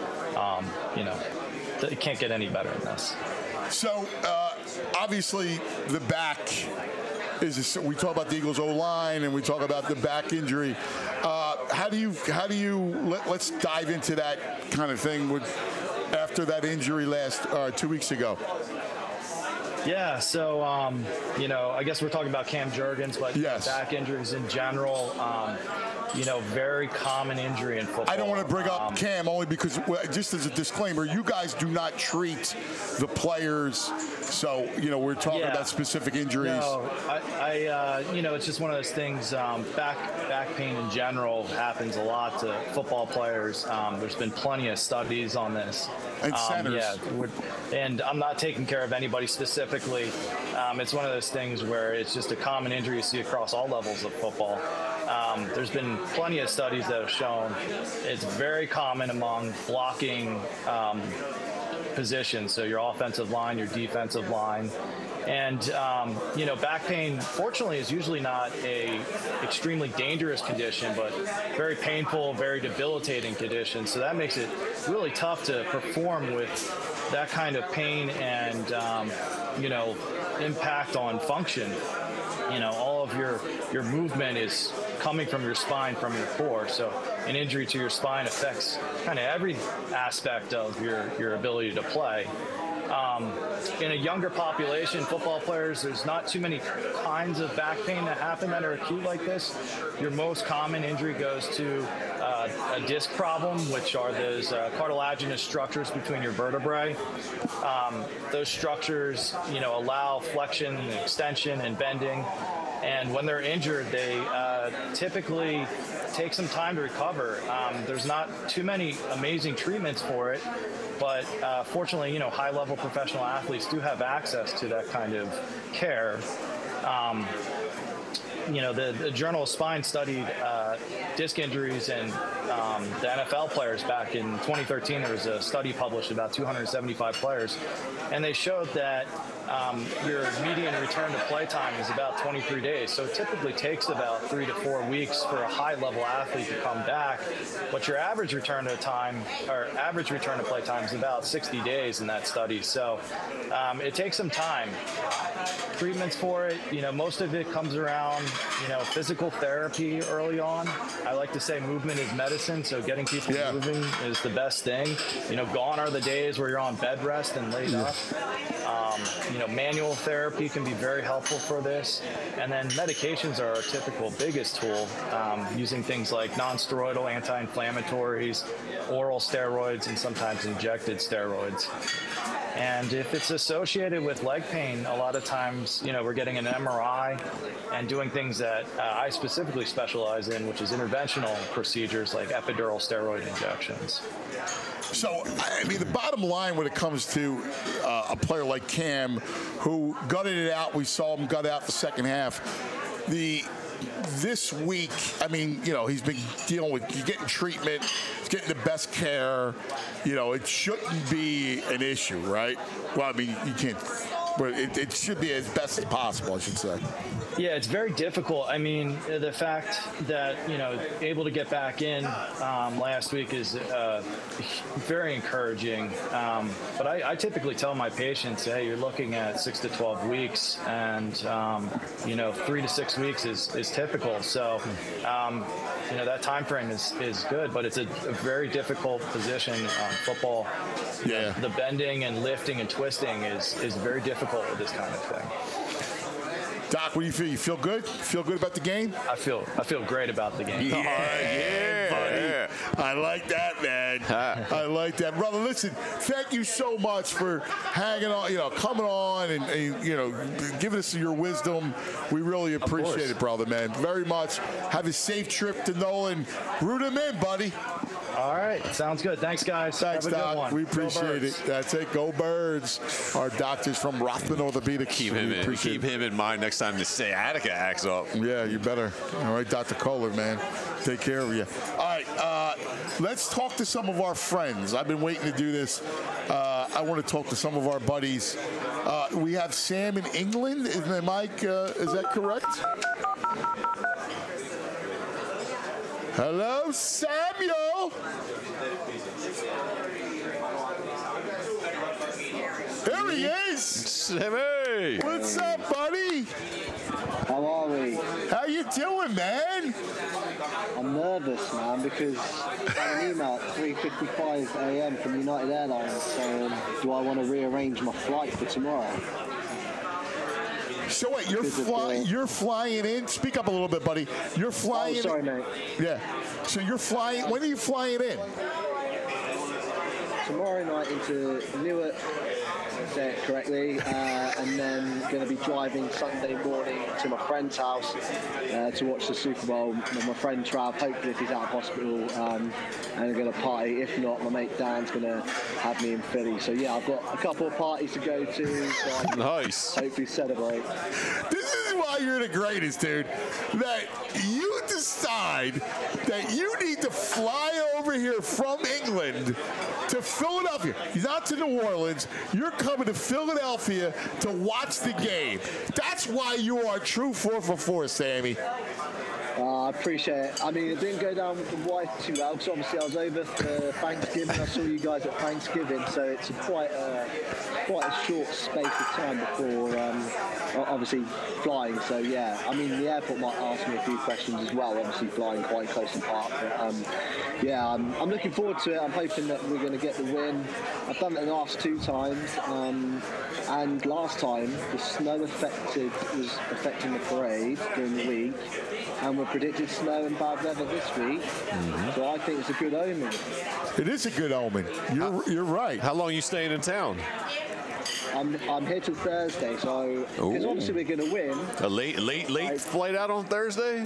It can't get any better than this. So, obviously, the back we talk about the Eagles O-line and we talk about the back injury. Let's dive into that kind of thing after that injury 2 weeks ago. Yeah, so, I guess we're talking about Cam Jurgens, but yes. Back injuries in general, very common injury in football. I don't want to bring up Cam only because, just as a disclaimer, you guys do not treat the players. So, we're talking about specific injuries. No, it's just one of those things. Back pain in general happens a lot to football players. There's been plenty of studies on this. And centers. And I'm not taking care of anybody specifically. It's one of those things where it's just a common injury you see across all levels of football. There's been plenty of studies that have shown it's very common among blocking positions, so your offensive line, your defensive line. And, back pain, fortunately, is usually not a extremely dangerous condition, but very painful, very debilitating condition. So that makes it really tough to perform with that kind of pain and, impact on function. All of your movement is coming from your spine, from your core. So an injury to your spine affects kind of every aspect of your ability to play. In a younger population, football players, there's not too many kinds of back pain that happen that are acute like this. Your most common injury goes to a disc problem, which are those cartilaginous structures between your vertebrae. Those structures, allow flexion and extension and bending. And when they're injured, they typically take some time to recover. There's not too many amazing treatments for it, but fortunately, high-level professional athletes do have access to that kind of care. The Journal of Spine studied disc injuries in the NFL players back in 2013. There was a study published about 275 players, and they showed that your median return to play time is about 23 days. So it typically takes about 3 to 4 weeks for a high-level athlete to come back, but your average return to play time is about 60 days in that study. So it takes some time. Treatments for it, most of it comes around, physical therapy early on. I like to say movement is medicine, so getting people moving is the best thing. Gone are the days where you're on bed rest and laid up. Manual therapy can be very helpful for this. And then medications are our typical biggest tool, using things like non-steroidal anti-inflammatories, oral steroids, and sometimes injected steroids. And if it's associated with leg pain, a lot of times, we're getting an MRI and doing things that I specifically specialize in, which is interventional procedures like epidural steroid injections. So, the bottom line when it comes to a player like Cam, who gutted it out, we saw him gut out the second half. This week, he's been dealing with getting treatment, he's getting the best care. It shouldn't be an issue, right? Well, you can't. But it should be as best as possible, I should say. Yeah, it's very difficult. The fact that, able to get back in last week is very encouraging. But I typically tell my patients, hey, you're looking at 6 to 12 weeks, and, 3 to 6 weeks is typical. So, that time frame is good, but it's a very difficult position. Football, the bending and lifting and twisting is very difficult with this kind of thing. Doc, what do you feel? You feel good? Feel good about the game? I feel great about the game. Yeah, buddy. I like that, man. I like that. Brother, listen, thank you so much for hanging on, coming on and giving us your wisdom. We really appreciate it, brother, man. Very much. Have a safe trip to Nolan. Root him in, buddy. All right. Sounds good. Thanks, guys. Thanks, Have a Doc. good one. We appreciate it. That's it. Go Birds. Our doctors from Rothman Orthopedics. Keep him in mind next time the sciatica acts up. Yeah, you better. All right, Dr. Kohler, man. Take care of you. All right, let's talk to some of our friends. I've been waiting to do this. I want to talk to some of our buddies. We have Sam in England. Is that correct? Hello, Samuel. There he is. Sammy. What's up, buddy? How are we? How you doing, man? I'm nervous, man, because I had an email at 3:55 a.m. from United Airlines saying, do I want to rearrange my flight for tomorrow? So wait, you're flying in? Speak up a little bit, buddy. You're flying in? Oh, sorry, mate. Yeah. So you're flying, when are you flying in? Tomorrow night into Newark, say it correctly, and then going to be driving Sunday morning to my friend's house to watch the Super Bowl with my friend Trav, hopefully if he's out of hospital, and I'm going to party. If not, my mate Dan's going to have me in Philly. So yeah, I've got a couple of parties to go to, so I can hopefully celebrate. This is why you're the greatest, dude. That you decide that you need to fly over here from England to Philadelphia. Not to New Orleans. You're coming to Philadelphia to watch the game. That's why you are a true 4 for 4, Sammy. I appreciate it. I mean, it didn't go down with the wife too well, because obviously I was over for Thanksgiving. I saw you guys at Thanksgiving, so it's quite a short space of time before obviously flying. So yeah, I mean, the airport might ask me a few questions as well, obviously flying quite close apart. But yeah, I'm looking forward to it. I'm hoping that we're going to get the win. I've done it the last 2 times, and last time the snow was affecting the parade during the week, and we're predicted snow and bad weather this week. So I think it's a good omen. It is a good omen. You're right. How long are you staying in town? I'm here till Thursday, so because obviously we're going to win. A late flight out on Thursday?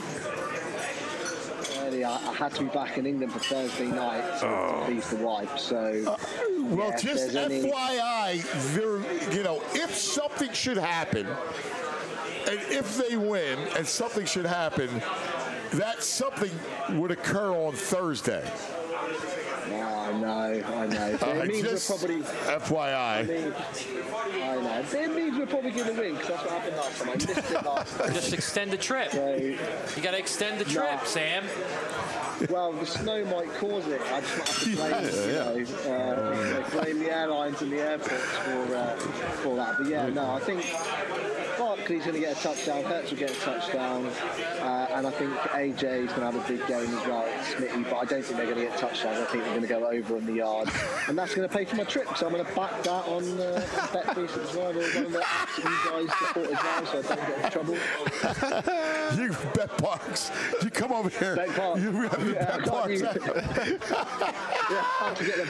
I had to be back in England for Thursday night to please the wife. So, well, yeah, just FYI, if something should happen, and if they win, and something should happen, that something would occur on Thursday. I know. So it means just we're probably FYI. I know. It means we're probably going to win, because that's what happened last time. I missed it last time. Just extend the trip. So, you got to extend the trip, Sam. Well, the snow might cause it. I just might have to blame, blame the airlines and the airports for that. But yeah, no, I think Barkley's going to get a touchdown. Hurts will get a touchdown, and I think AJ is going to have a big game as well, Smitty. But I don't think they're going to get touchdowns. I think they're going to go over on the yard, and that's going to pay for my trip. So I'm going to back that on BetBeast as well. One of the apps that you guys support as well, so I don't get in trouble. You BetParks. You come over here. BetParks. You have the BetParks. Yeah, I have to get the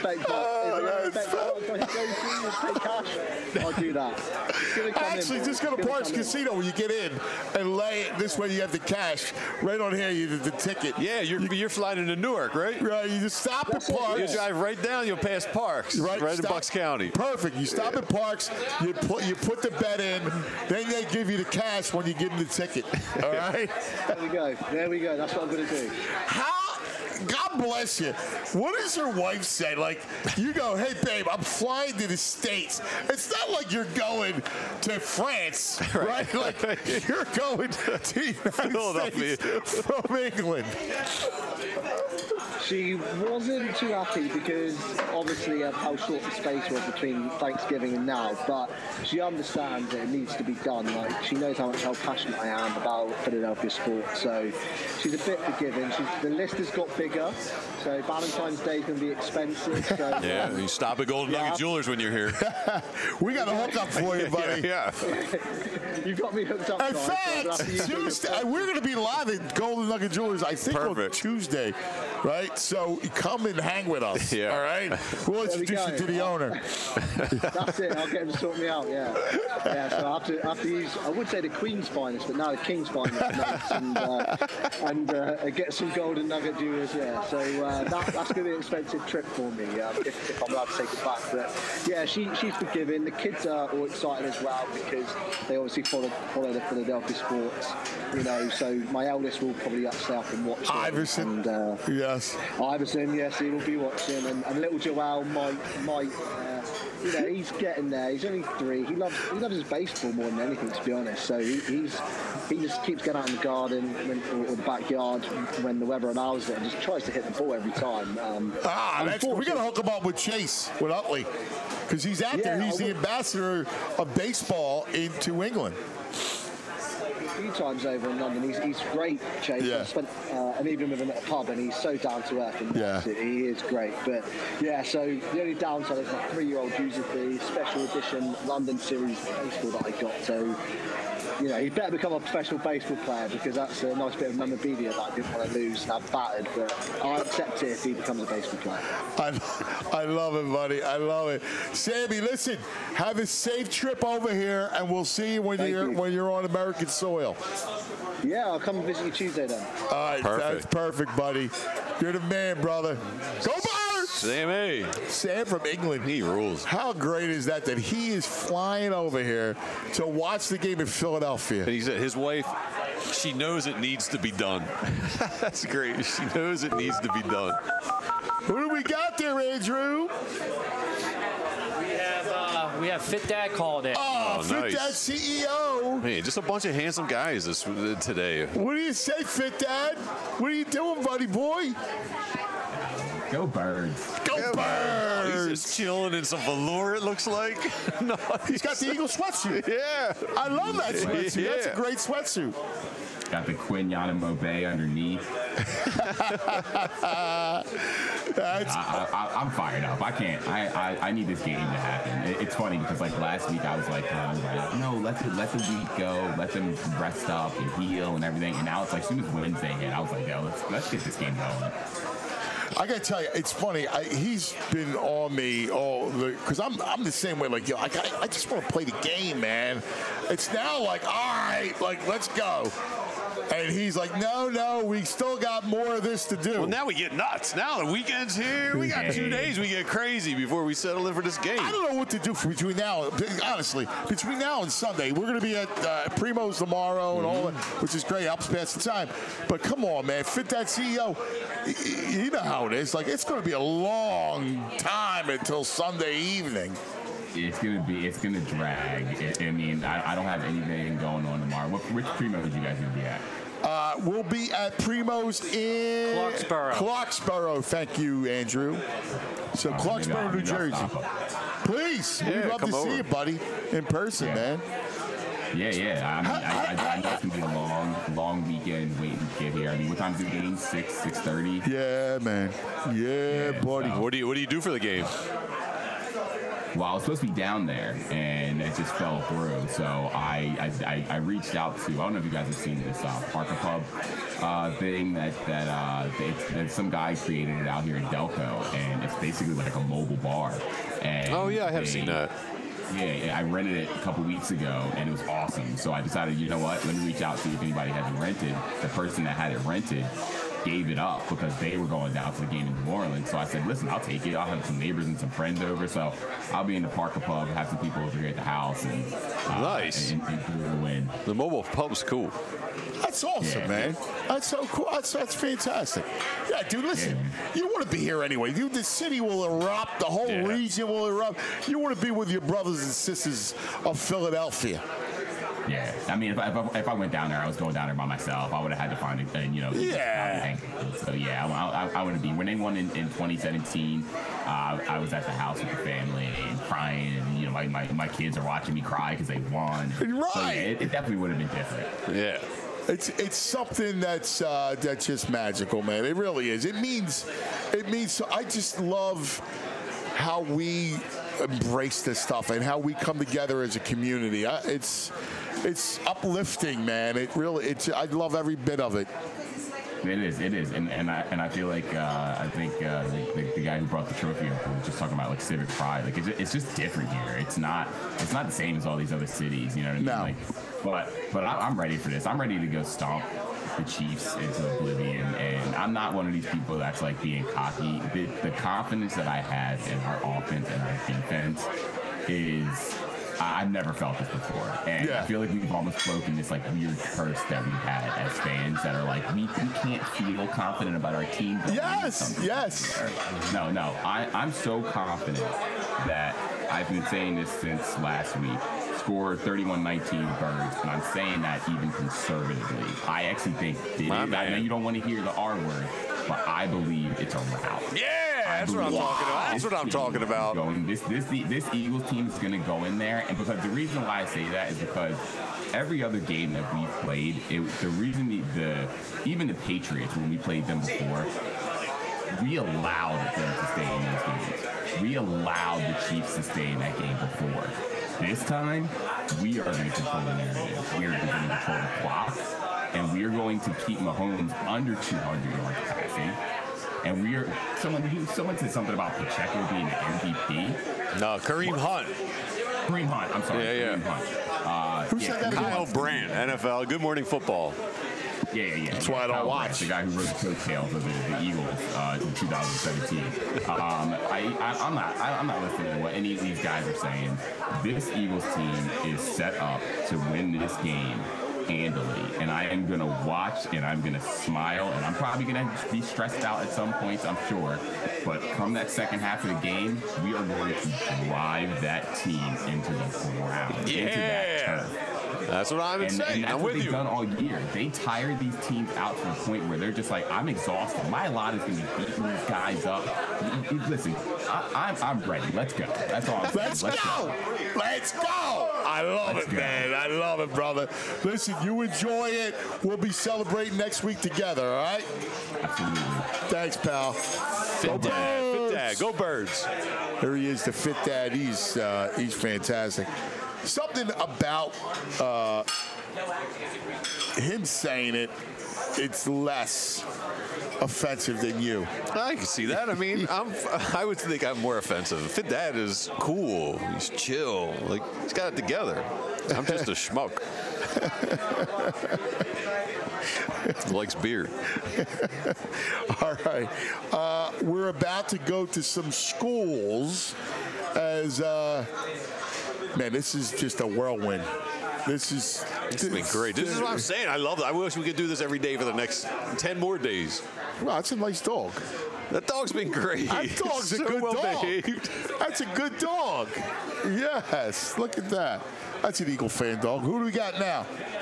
BetParks. I'll do that. Actually, just go to Parks Casino when you get in and lay it. This way you have the cash. Right on here, you the ticket. Yeah, you're flying into Newark, right? Right, you just stop at Parks. You drive right down, you'll pass Parks. Right in Bucks County. Perfect. You stop at Parks, you put the bet in, then they give you the cash when you give them the ticket. All right? There we go. That's what I'm going to do. God bless you. What does your wife say? Like, you go, hey, babe, I'm flying to the States. It's not like you're going to France, right? Like, you're going to the United States from England. She wasn't too happy because, obviously, of how short the space was between Thanksgiving and now, but she understands that it needs to be done. Like, she knows how passionate I am about Philadelphia sports, so she's a bit forgiving. The list has got bigger, so Valentine's Day is going to be expensive. So, yeah, you stop at Golden Nugget Jewelers when you're here. We got a hookup for you, buddy. Yeah. You've got me hooked up. In fact, Tuesday, we're going to be live at Golden Nugget Jewelers, I think, on Tuesday. right? So come and hang with us, all right? We'll introduce you to the owner. That's it. I'll get him to sort me out. Yeah. So I have to use. I would say the Queen's finest, but now the King's finest, and get some golden nugget jewelers. Yeah. So that's going to be an expensive trip for me if I'm allowed to take it back. But yeah, she's forgiving. The kids are all excited as well because they obviously follow the Philadelphia sports. So my eldest will probably stay up and watch Iverson. Yes. Iverson, yes, he will be watching, and little Joel might. He's getting there. He's only 3. He loves his baseball more than anything, to be honest. So he just keeps getting out in the garden or the backyard when the weather allows it, and just tries to hit the ball every time. We're gonna hook him up with Chase with Utley because he's out there. He's the ambassador of baseball into England. A few times over in London. He's great, Chase. Yeah. I've spent an evening with him at a pub, and he's so down to earth. And he is great. But yeah, so the only downside is my 3-year-old uses the special edition London Series baseball that I got. So he better become a professional baseball player because that's a nice bit of memorabilia that I didn't want to lose and have battered. But I'll accept it if he becomes a baseball player. I love it, buddy. I love it. Sammy, listen, have a safe trip over here, and we'll see you when you're on American soil. Yeah, I'll come and visit you Tuesday then. All right, that's perfect, buddy. You're the man, brother. Go Birds! Sammy. Sam from England. He rules. How great is that he is flying over here to watch the game in Philadelphia? And he said his wife, she knows it needs to be done. That's great. She knows it needs to be done. Who do we got there, Andrew? We have Fit Dad called in. Oh, Fit nice. Dad CEO. Man, just a bunch of handsome guys today. What do you say, Fit Dad? What are you doing, buddy boy? Go Birds. Go Birds. He's just chilling in some velour, it looks like. No, he's got the Eagle sweatsuit. Yeah. I love that sweatsuit. Yeah. That's a great sweatsuit. Got the Quinn Yanamobe underneath. I'm fired up. I can't. I need this game to happen. It's funny because last week I was like, no, let the week go. Let them rest up and heal and everything. And now it's as soon as Wednesday hit, I was like, yo, let's get this game going. I gotta tell you, it's funny. He's been on me because I'm the same way. I just want to play the game, man. It's now all right, let's go. And he's like, no, we still got more of this to do. Well, now we get nuts. Now the weekend's here. We got 2 days. We get crazy before we settle in for this game. I don't know what to do between now and Sunday. We're going to be at Primo's tomorrow and all that, which is great. Helps pass the time. But come on, man. Fit That CEO. You know how it is. It's going to be a long time until Sunday evening. It's gonna drag. I don't have anything going on tomorrow. Which Primo's you guys gonna be at? We'll be at Primo's in Clarksboro. Thank you, Andrew. So Clarksboro, New Jersey. Please, we'd love to see you, buddy, in person, man. Yeah. I know it's gonna be a long weekend waiting to get here. What time's the game? 6:30. Yeah, man. Yeah, buddy. So. What do you do for the game? Well, I was supposed to be down there, and it just fell through. So I reached out to, I don't know if you guys have seen this Parker Pub thing that some guy created it out here in Delco, and it's basically like a mobile bar. And I have seen that. Yeah, I rented it a couple weeks ago, and it was awesome. So I decided, you know what, let me reach out, see if anybody has it rented. The person that had it rented gave it up because they were going down to the game in New Orleans. So I said, listen, I'll take it. I'll have some neighbors and some friends over. So I'll be in the Parker Pub, have some people over here at the house. And, nice. And win. The mobile pub's cool. That's awesome, man. That's so cool. That's fantastic. Yeah, dude, listen, you want to be here anyway. Dude, the city will erupt. The whole region will erupt. You want to be with your brothers and sisters of Philadelphia. Yeah, if I went down there, I was going down there by myself. I would have had to find I want to be. When they won in 2017, I was at the house with the family and crying, and my kids are watching me cry because they won. Right. So, it definitely would have been different. Yeah. It's something that's just magical, man. It really is. It means. I just love how we embrace this stuff and how we come together as a community. It's uplifting, man. I love every bit of it. It is, and I feel like I think the guy who brought the trophy up was just talking about like civic pride. Like it's just different here. It's not the same as all these other cities. You know what I mean? But I'm ready for this. I'm ready to go stomp the Chiefs into oblivion, and I'm not one of these people that's like being cocky. The confidence that I have in our offense and our defense is. I've never felt this before, and I feel like we've almost broken this like weird curse that we've had as fans that are like we can't feel confident about our team. Yes. No, I'm so confident that I've been saying this since last week. Scored 31-19 Birds, and I'm saying that even conservatively. I actually think I know you don't want to hear the R word, but I believe it's a rout. That's what I'm talking about. That's what I'm talking about. This Eagles team is going to go in there, and because the reason why I say that is because every other game that we've played, the reason even the Patriots, when we played them before, we allowed them to stay in those games. We allowed the Chiefs to stay in that game before. This time, we are going to control the narrative. We are going to control the clock, and we are going to keep Mahomes under 200 yards passing. And we are someone said something about Pacheco being an MVP. No, Kareem Hunt. I'm sorry. Kareem Hunt. Who said that? Kyle Brandt, NFL. Good Morning Football. Yeah. That's why I don't watch. The guy who wrote the coattails of the Eagles in 2017. I'm not listening to what any of these guys are saying. This Eagles team is set up to win this game handily, and I am going to watch, and I'm going to smile, and I'm probably going to be stressed out at some points, I'm sure, but come that second half of the game, we are going to drive that team into the ground, into that turf. That's what I'm saying. And that's what they've done all year. They tire these teams out to the point where they're just like, I'm exhausted. My lot is going to be beating these guys up. Listen, I'm ready. Let's go. That's all I'm saying. Let's go. I love it, man. I love it, brother. Listen, you enjoy it. We'll be celebrating next week together, all right? Absolutely. Thanks, pal. Fit Dad. Go Birds. Here he is, the Fit Dad. He's fantastic. Something about him saying it, it's less offensive than you. I can see that. I mean, I would think I'm more offensive. Fit Dad is cool. He's chill. Like, he's got it together. I'm just a schmuck. Likes beer. All right. We're about to go to some schools as man, this is just a whirlwind. It's been great. This is what I'm saying. I love it. I wish we could do this every day for the next 10 more days. Wow, that's a nice dog. That dog's been great. That dog's a good dog. That's a good dog. Yes, look at that. That's an Eagle fan dog. Who do we got now?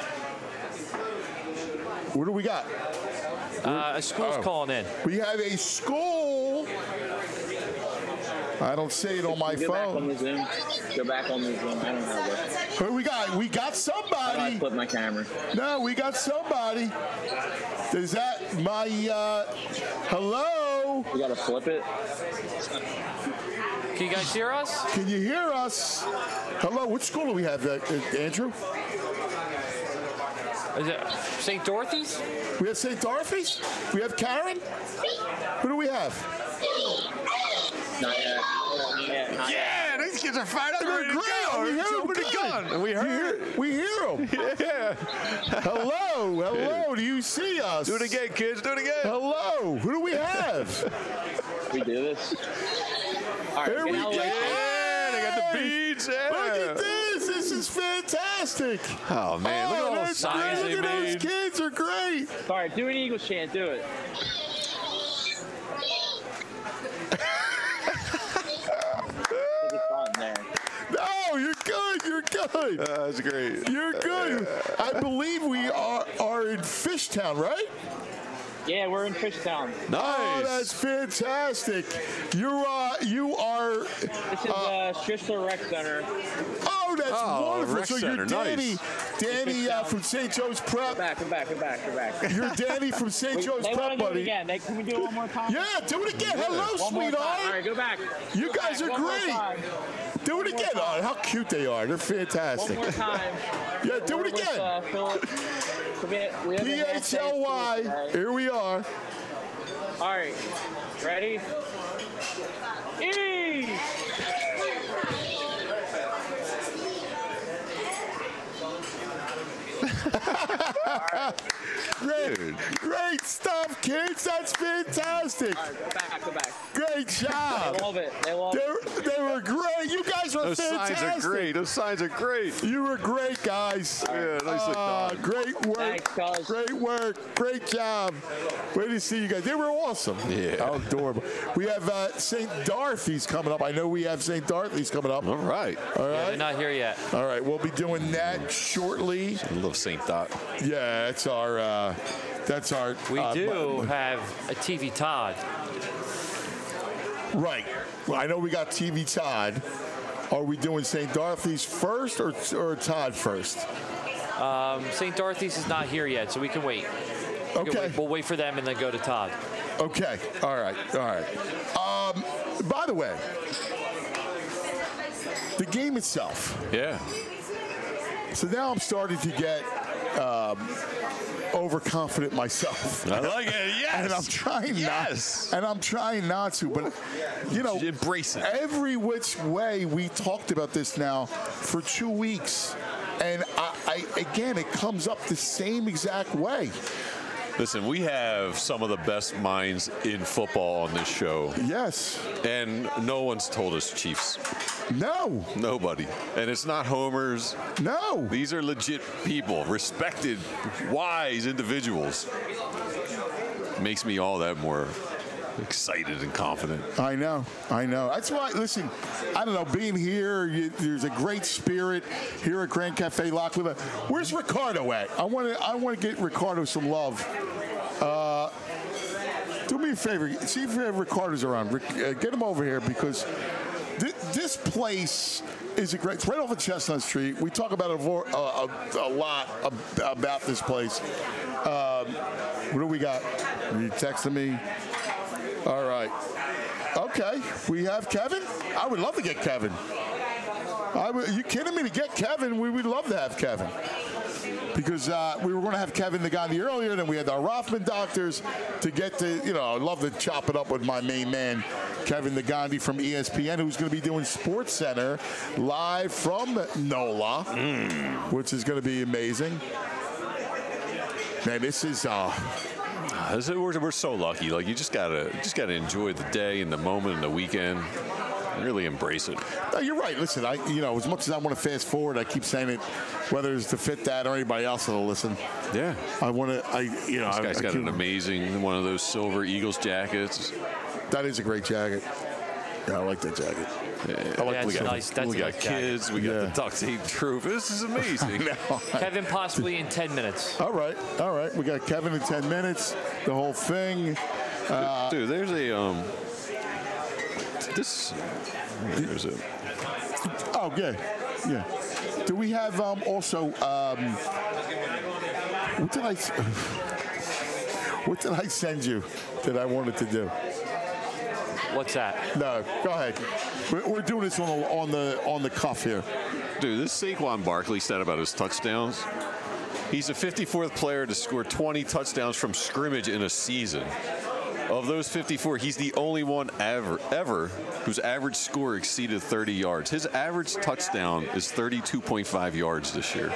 What do we got? A school's calling in. We have a school. I don't see it on my phone. Go back on the Zoom. Go back on the Zoom. I don't have it. Who we got? We got somebody. I flip my camera. No, we got somebody. Is that my, hello? We got to flip it. Can you guys hear us? Can you hear us? Hello, which school do we have, Andrew? Is it St. Dorothy's? We have St. Dorothy's? We have Karen? Who do we have? Not yet. Yeah, these kids are fired up. They're great. We hear them good. And we heard. We hear them. Yeah. Hello. Do you see us? Do it again, kids. Do it again. Hello. Who do we have? We do this. All right, Here we go. Yeah, they got the beads. Yeah. Look at this. This is fantastic. Oh, man. Look at all the signs they Look at made. those kids are great. All right, do an Eagles chant. Do it. No, you're good. You're good. That's great. You're good. I believe we are in Fishtown, right? Yeah, we're in Fishtown. Nice. Oh, that's fantastic. You are. This is Schistler Rec Center. Oh, that's wonderful. Rec So Center. you're Danny. Nice. Danny from St. Joe's Prep. Go back. You're Danny from St. Joe's Prep, buddy. Again. Can we do it one more time? Yeah, do it again. Hello, sweetheart. All right, go back. You guys are great. Do it again. Oh, how cute they are. They're fantastic. One more time. Yeah, do it again. Philip. PHLY. Here we are. All right. Ready? E! Great stuff, kids. That's fantastic. All right, go back. Great job. They love it. They were great. You guys were fantastic. Those signs are great. You were great, guys. Yeah, nicely done. Great work. Thanks, great work. Great job. Way to see you guys. They were awesome. Yeah. How adorable. We have St. Dorothy's coming up. I know we have St. Dorothy's coming up. All right. All right. Yeah, they're not here yet. All right. We'll be doing that shortly. I love St. Dot. Yeah, that's our. We do have a TV Todd. Right. Well, I know we got TV Todd. Are we doing St. Dorothy's first or Todd first? St. Dorothy's is not here yet, so we can wait. Okay. We'll wait for them and then go to Todd. Okay. All right. By the way, the game itself. Yeah. So now I'm starting to get overconfident myself. I like it. Yes. And I'm trying not to. But embrace it. Every which way we talked about this now for 2 weeks, and I again it comes up the same exact way. Listen, we have some of the best minds in football on this show. Yes. And no one's told us Chiefs. No. Nobody. And it's not homers. No. These are legit people, respected, wise individuals. Makes me all that more excited and confident. I know. That's why, listen, I don't know, being here, there's a great spirit here at Grand Cafe Lockwood. Where's Ricardo at? I want to get Ricardo some love. Do me a favor. See if Ricardo's around. Get him over here because this place is it's right off of Chestnut Street. We talk about it a lot about this place. What do we got? Are you texting me? All right. Okay. We have Kevin? I would love to get Kevin. Are you kidding me? To get Kevin, we would love to have Kevin. Because we were going to have Kevin the Gandhi earlier, then we had our Rothman doctors to get to, I'd love to chop it up with my main man, Kevin the Gandhi from ESPN, who's going to be doing Sports Center live from NOLA, which is going to be amazing. Man, this is... We're so lucky. Like you just gotta enjoy the day and the moment and the weekend. Really embrace it. No, you're right. Listen, as much as I want to fast forward, I keep saying it, whether it's to fit that or anybody else that'll listen. Yeah. I want to. This guy's got an amazing one of those silver Eagles jackets. That is a great jacket. Yeah, I like that jacket. Yeah, we got kids. We got the duct tape trophy. This is amazing. Kevin possibly in 10 minutes. All right. We got Kevin in 10 minutes. The whole thing. Dude, there's a There's a. Oh, good. Yeah. Do we have also? What did I send you that I wanted to do? What's that? No, go ahead. We're doing this on the cuff here. Dude, this Saquon Barkley stat about his touchdowns. He's the 54th player to score 20 touchdowns from scrimmage in a season. Of those 54, he's the only one ever whose average score exceeded 30 yards. His average touchdown is 32.5 yards this year.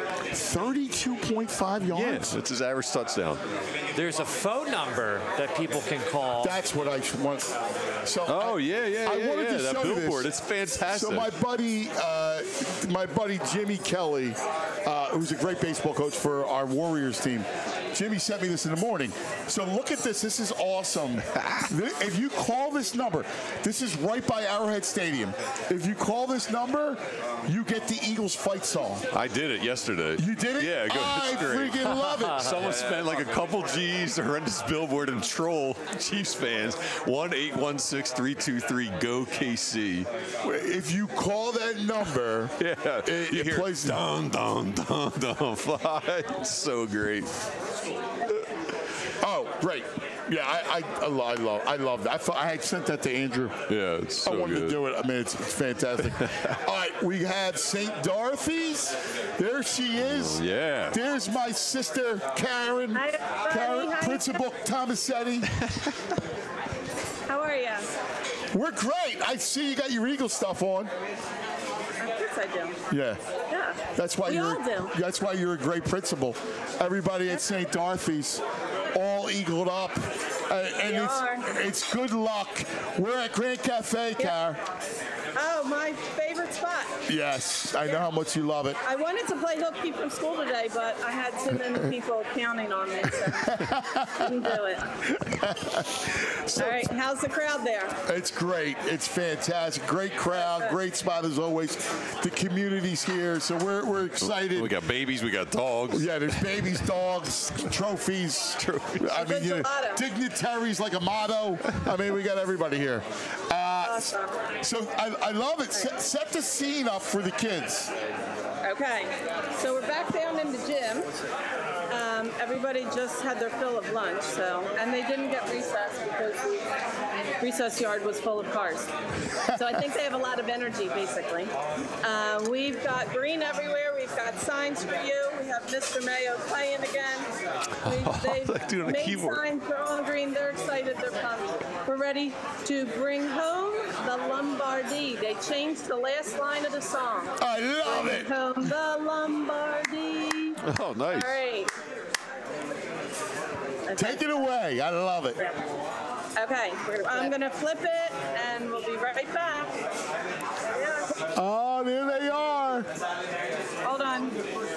32.5 yards? Yes, that's his average touchdown. There's a phone number that people can call. That's what I want. So I wanted to show that you billboard. this. It's fantastic. So my buddy Jimmy Kelly, who's a great baseball coach for our Warriors team, Jimmy sent me this in the morning. So look at this. This is awesome. If you call this number, this is right by Arrowhead Stadium. If you call this number, you get the Eagles fight song. I did it yesterday. You did it? Yeah, I freaking love it. Someone spent like a couple G's to rent this billboard and troll Chiefs fans. 1-816-323-GO-KC. If you call that number, it plays dun dun dun dun. It's so great. Oh, great. Yeah, I love that. I had sent that to Andrew. Yeah, it's so I wanted good. to do it. I mean, it's fantastic. All right, we have St. Dorothy's. There she is. Oh, yeah. There's my sister, Karen. Hi, Karen, hi. Principal Tomasetti. How are you? We're great. I see you got your Eagle stuff on. Of course I do. Yeah. Yeah. That's why We you're. all do. That's why you're a great principal. Everybody at St. Dorothy's, all eagled up, and it's good luck. We're at Grand Cafe, Karen. Oh, my favorite spot. Yes, I know how much you love it. I wanted to play hooky from school today, but I had too many people counting on me, so didn't do it. All right, how's the crowd there? It's great. It's fantastic. Great crowd. Great spot as always. The community's here, so we're excited. We got babies. We got dogs. Yeah, there's babies, dogs, trophies. I mean, you know, dignitaries like Amato. I mean, we got everybody here. Awesome. So I love it. Set the scene up for the kids. Okay, so we're back down in the gym. Everybody just had their fill of lunch, and they didn't get recess because the recess yard was full of cars. So I think they have a lot of energy, basically. We've got green everywhere. We've got signs for you. We have Mr. Mayo playing again. They've made keyboard. signs. They're all green. They're excited. They're pumped. We're ready to bring home the Lombardi. They changed the last line of the song. I love it. Bring home the Lombardi. Oh, nice. All right. Take it away. I love it. Okay, I'm going to flip it, and we'll be right back. Oh, there they are. Hold on.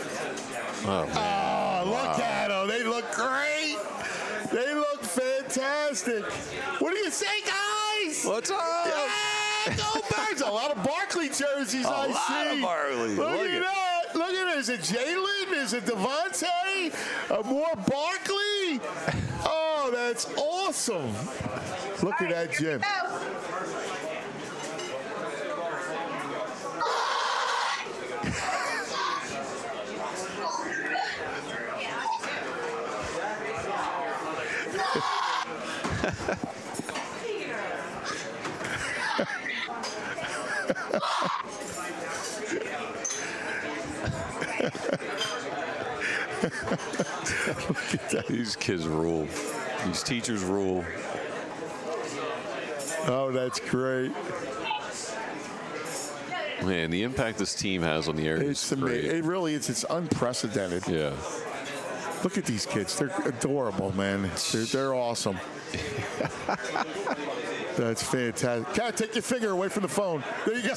Oh, look at them. They look great. They look fantastic. What do you say, guys? What's up? Yeah, go Birds. A lot of Barkley jerseys I see. A lot of Barkley. Look at that. Look at it. Is it Jalen? Is it Devontae? More Barkley? Oh, that's awesome. Look at that, Jim. Look at that. These kids rule. These teachers rule. Oh, that's great. Man, the impact this team has on the area is great. It really is. It's unprecedented. Yeah. Look at these kids. They're adorable, man. They're awesome. That's fantastic. Kat, take your finger away from the phone. There you go.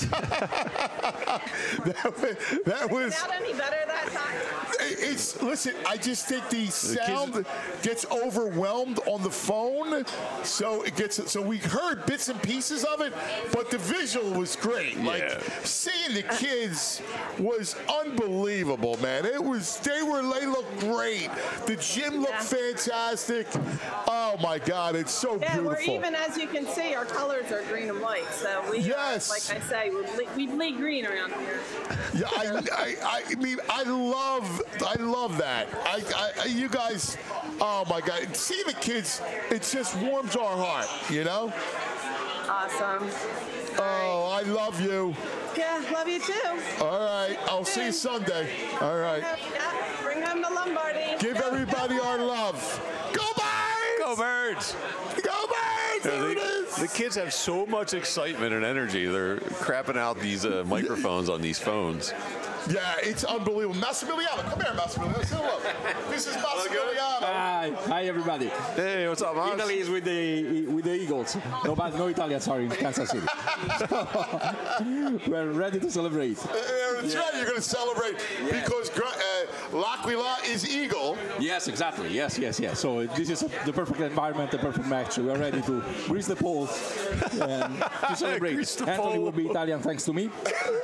that was. Not any better that time. Listen. I just think the sound gets overwhelmed on the phone, so it gets. So we heard bits and pieces of it, but the visual was great. Yeah. Like seeing the kids was unbelievable, man. They looked great. The gym looked fantastic. Oh my God, it's so beautiful. We're even, as you can see, our colors are green and white. So we, like I say, we bleed green around here. Yeah, I mean, I love that. You guys, oh my God, see the kids, it just warms our heart, you know? Awesome. Oh, I love you. Yeah, love you too. All right, I'll see you Sunday. All right. Yeah, bring home the Lombardi. Give everybody our love. Go Birds! Go Birds! Go Birds! There it is. The kids have so much excitement and energy. They're crapping out these microphones on these phones. Yeah, it's unbelievable. Massimiliano, come here, Massimiliano. Say hello. This is Massimiliano. Hi, everybody. Hey, what's up, Mas? Italy is with the Eagles. No Italians are in Kansas City. So, we're ready to celebrate. That's right. You're going to celebrate because L'Aquila is Eagle. Yes, exactly. Yes. So this is the perfect environment, the perfect match. We are ready to grease the pole and to celebrate. Anthony will be Italian thanks to me.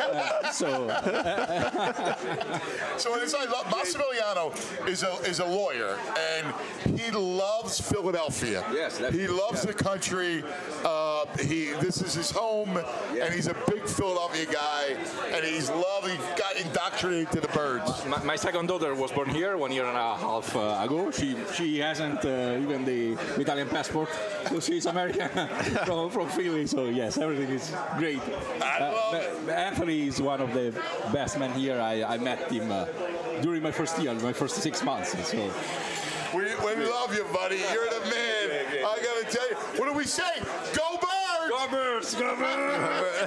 So Massimiliano is a lawyer, and he loves Philadelphia. Yes, he loves the country. this is his home, and he's a big Philadelphia guy, and he got indoctrinated to the Birds. My second daughter was born here 1 year and a half ago. She hasn't even the Italian passport, so she's American from Philly. So yes, everything is great. Anthony is one of the best men here. I met him during my first year, my first 6 months. So. We love you, buddy. You're the man. I got to tell you. What do we say? Go Birds! Go Birds! Go Birds!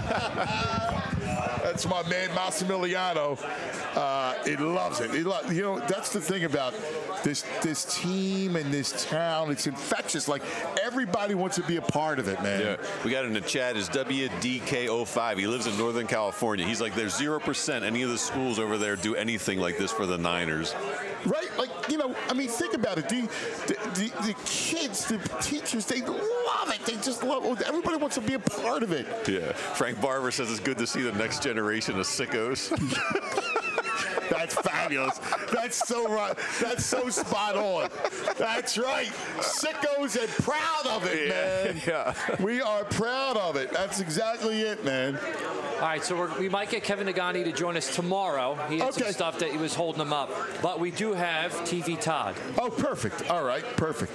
That's my man, Massimiliano. He loves it. That's the thing about this team and this town. It's infectious. Like, everybody wants to be a part of it, man. Yeah. We got in the chat is WDK05. He lives in Northern California. He's like, there's 0% any of the schools over there do anything like this for the Niners. Right? Like, think about it. The kids, the teachers, they love it. They just love it. Everybody wants to be a part of it. Yeah. Frank Barber says it's good to see the next generation of sickos. That's fabulous. That's so right. That's so spot on. That's right. Sickos and proud of it, man. Yeah. We are proud of it. That's exactly it, man. All right, so we might get Kevin Nagani to join us tomorrow. He had some stuff that he was holding him up. But we do have TV Todd. Oh, perfect. All right, perfect.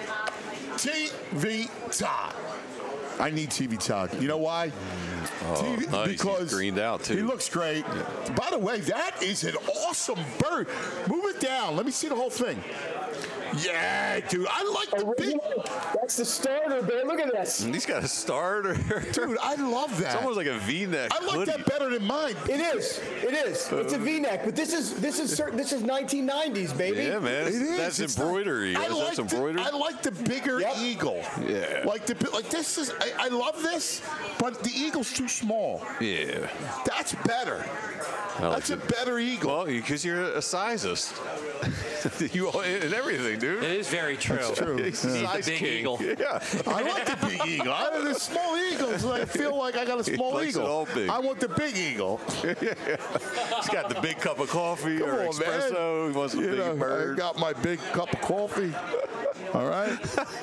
TV Todd. I need TV Todd. You know why? TV, nice. Because he's greened out too. He looks great. Yeah. By the way, that is an awesome bird. Move it down. Let me see the whole thing. Yeah, dude. I like the big. That's the starter, man. Look at this. He's got a starter. Dude, I love that. It's almost like a V-neck. I like that better than mine. It is. It's a V-neck, but this is 1990s, baby. Yeah, man. It is. That's embroidery. That's embroidery. I like the bigger eagle. Yeah. Like this is. I love this, but the eagle's too small. Yeah. That's better. That's a better eagle. Well, because you're a sizist. You in everything, dude. It is very true. That's true. He's the big eagle. Yeah. I like the big eagle. The small eagles, I feel like I got a small He likes eagle. it all big. I want the big eagle. He's got the big cup of coffee or espresso. Man. He wants a big bird. I got my big cup of coffee. All right.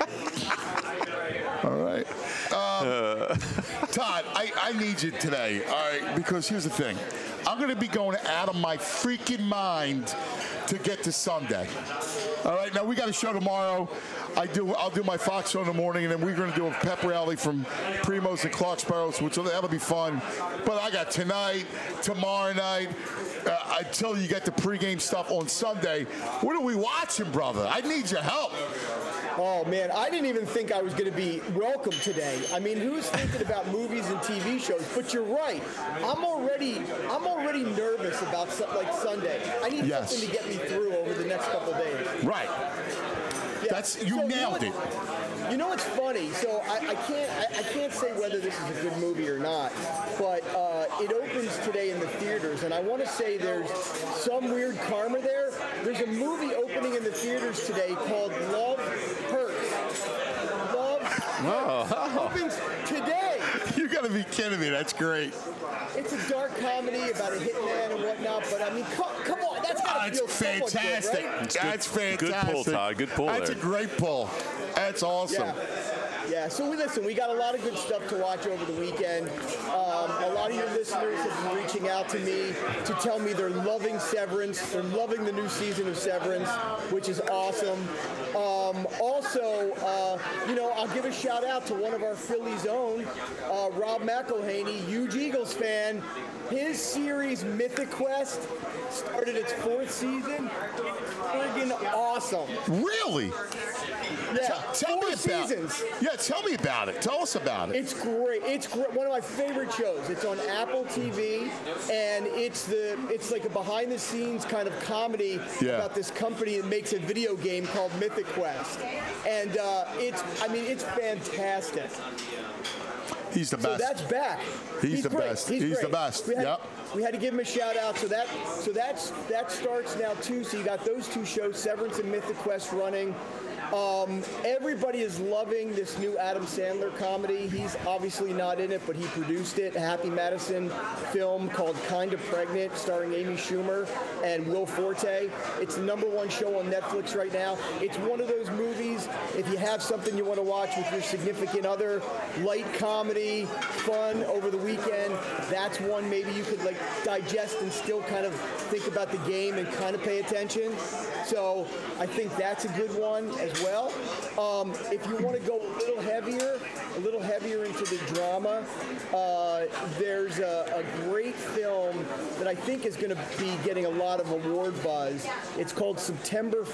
All right. Todd, I need you today, all right, because here's the thing. I'm going to be going out of my freaking mind to get to Sunday. All right, now we got a show tomorrow. I'll do my Fox show in the morning, and then we're going to do a pep rally from Primo's and Clarksboro, which that'll be fun. But I got tonight, tomorrow night, until you get the pregame stuff on Sunday. What are we watching, brother? I need your help. Oh, man, I didn't even think I was going to be welcome today. I mean, who's thinking about movies and TV shows? But you're right. I'm already nervous about like Sunday. I need something to get me through over the next couple days. Right. Yeah. You nailed it. You know what's funny? So I can't say whether this is a good movie or not, but it opens today in the theaters, and I want to say there's some weird karma there. There's a movie opening in the theaters today called Love Hurts. Love Hurts. Opens today. You got to be kidding me. That's great. It's a dark comedy about a hitman and whatnot, but I mean, come on, that's got to feel fantastic. Good, right? That's fantastic. Good pull, Todd. Good pull. That's a great pull. That's awesome. Yeah, so we got a lot of good stuff to watch over the weekend. A lot of your listeners have been reaching out to me to tell me they're loving Severance. They're loving the new season of Severance, which is awesome. Also, I'll give a shout out to one of our Philly's own, Rob McElhaney, huge Eagles fan. His series Mythic Quest started its 4th season. Friggin' awesome. Really? Yeah, tell me about seasons. Yeah, tell me about it. Tell us about it. It's great. It's great. One of my favorite shows. It's on Apple TV, and it's like a behind-the-scenes kind of comedy about this company that makes a video game called Mythic Quest, and it's fantastic. He's the best. So that's back. He's the best. He's the best. We had to give him a shout out. So that starts now too. So you got those two shows, Severance and Mythic Quest, running. Everybody is loving this new Adam Sandler comedy. He's obviously not in it, but he produced it. A Happy Madison film called Kinda Pregnant, starring Amy Schumer and Will Forte. It's the #1 show on Netflix right now. It's one of those movies, if you have something you want to watch with your significant other, light comedy, fun over the weekend, that's one maybe you could like digest and still kind of think about the game and kind of pay attention. So I think that's a good one as well. If you want to go a little heavier into the drama, there's a great film that I think is going to be getting a lot of award buzz. It's called September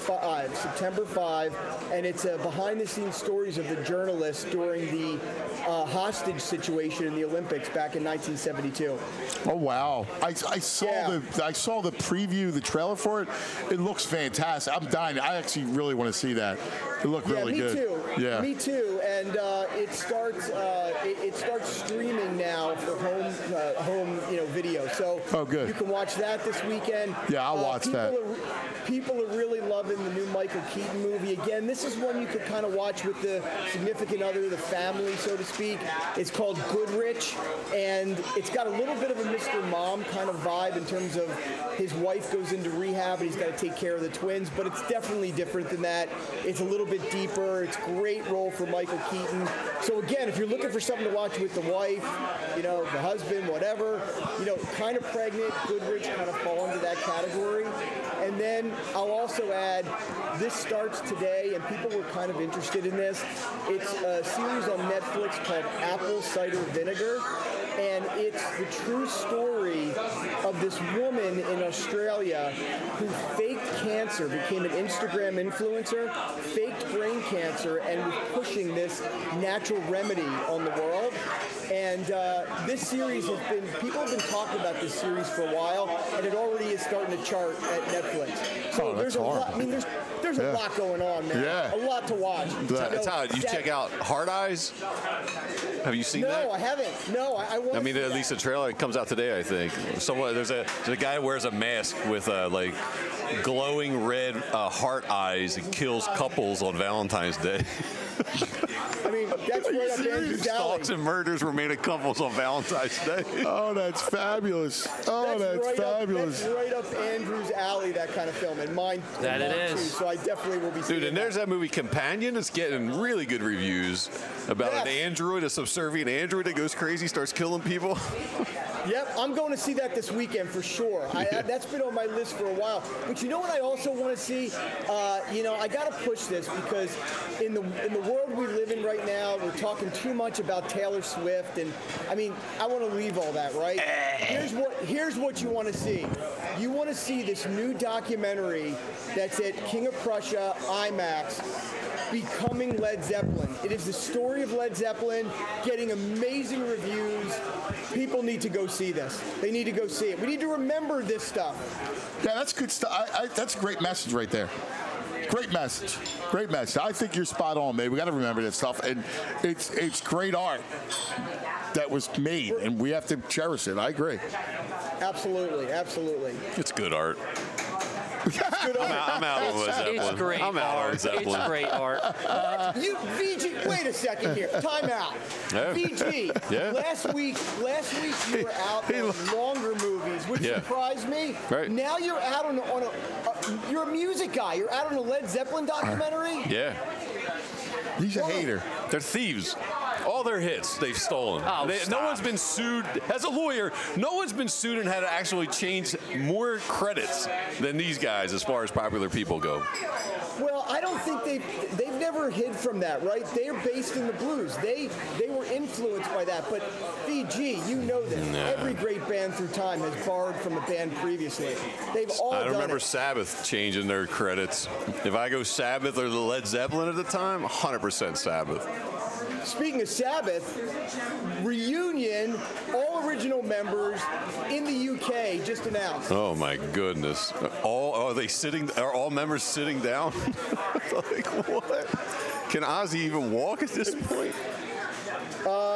5, and it's behind-the-scenes stories of the journalists during the hostage situation in the Olympics back in 1972. Oh wow! I saw the preview, the trailer for it. It looks fantastic. I'm dying. I actually really want to see that. It looked really good. Yeah, me too. And it starts streaming now for home video. So good. You can watch that this weekend. Yeah, I'll watch that. People are really loving the new Michael Keaton movie. Again, this is one you could kind of watch with the significant other, the family, so to speak. It's called Goodrich, and it's got a little bit of a Mr. Mom kind of vibe in terms of his wife goes into rehab and he's got to take care of the twins, but it's definitely different than that. It's a little bit deeper. It's a great role for Michael Keaton. So again, if you're looking for something to watch with the wife, the husband, whatever, kind of pregnant, Goodrich kind of fall into that category. And then I'll also add, this starts today, and people were kind of interested in this. It's a series on Netflix called Apple Cider Vinegar, and it's the true story of this woman in Australia who faked cancer, became an Instagram influencer, faked brain cancer, and was pushing this natural remedy on the world. And this series people have been talking about this series for a while, and it already is starting to chart at Netflix. So there's a lot. I mean, there's a lot going on, man. Yeah. A lot to watch. You check out Hard Eyes? Have you seen that? No, I haven't. No, I want. I mean, at least the trailer comes out today, I think. There's a guy who wears a mask with like glowing red heart eyes and kills couples on Valentine's Day. I mean, that's right up Andrew's alley. Stalks and murders were made of couples on Valentine's Day. Oh, that's fabulous. That's fabulous. That's right up Andrew's alley, that kind of film, and mine. That it is. Too, so I definitely will be seeing Dude, and there's that movie Companion. It's getting really good reviews about an android, a subservient android that goes crazy, starts killing people. Yep, I'm going to see that this weekend for sure. That's been on my list for a while. But you know what I also want to see? I got to push this because in the world we live in right now, we're talking too much about Taylor Swift, and I mean, I want to leave all that, right? Here's what you want to see. You want to see this new documentary that's at King of Prussia IMAX, Becoming Led Zeppelin. It is the story of Led Zeppelin, getting amazing reviews. People need to go see this. They need to go see it. We need to remember this stuff. Yeah, that's good stuff. That's a great message right there. Great message. Great message. I think you're spot on, man. We got to remember this stuff, and it's great art that was made, and we have to cherish it. I agree. Absolutely. It's good art. I'm out on Led Zeppelin. It's great art. It's great art. VG, wait a second here. Time out. Yeah. VG, Yeah. last week you were out on longer movies, which surprised me. Right. Now you're out on you're a music guy. You're out on a Led Zeppelin documentary? Yeah. He's a hater. They're thieves. All their hits, they've stolen. No one's been sued. As a lawyer, no one's been sued and had to actually change more credits than these guys as far as popular people go. Well, I don't think they've never hid from that, right? They are based in the blues. They were influenced by that. But VG, you know this. Every great band through time has borrowed from a band previously. They've all done it. I remember Sabbath changing their credits. If I go Sabbath or the Led Zeppelin at the time, 100% Sabbath. Speaking of Sabbath, reunion, all original members in the UK just announced. Oh my goodness! Are all members sitting down? Like what? Can Ozzy even walk at this point?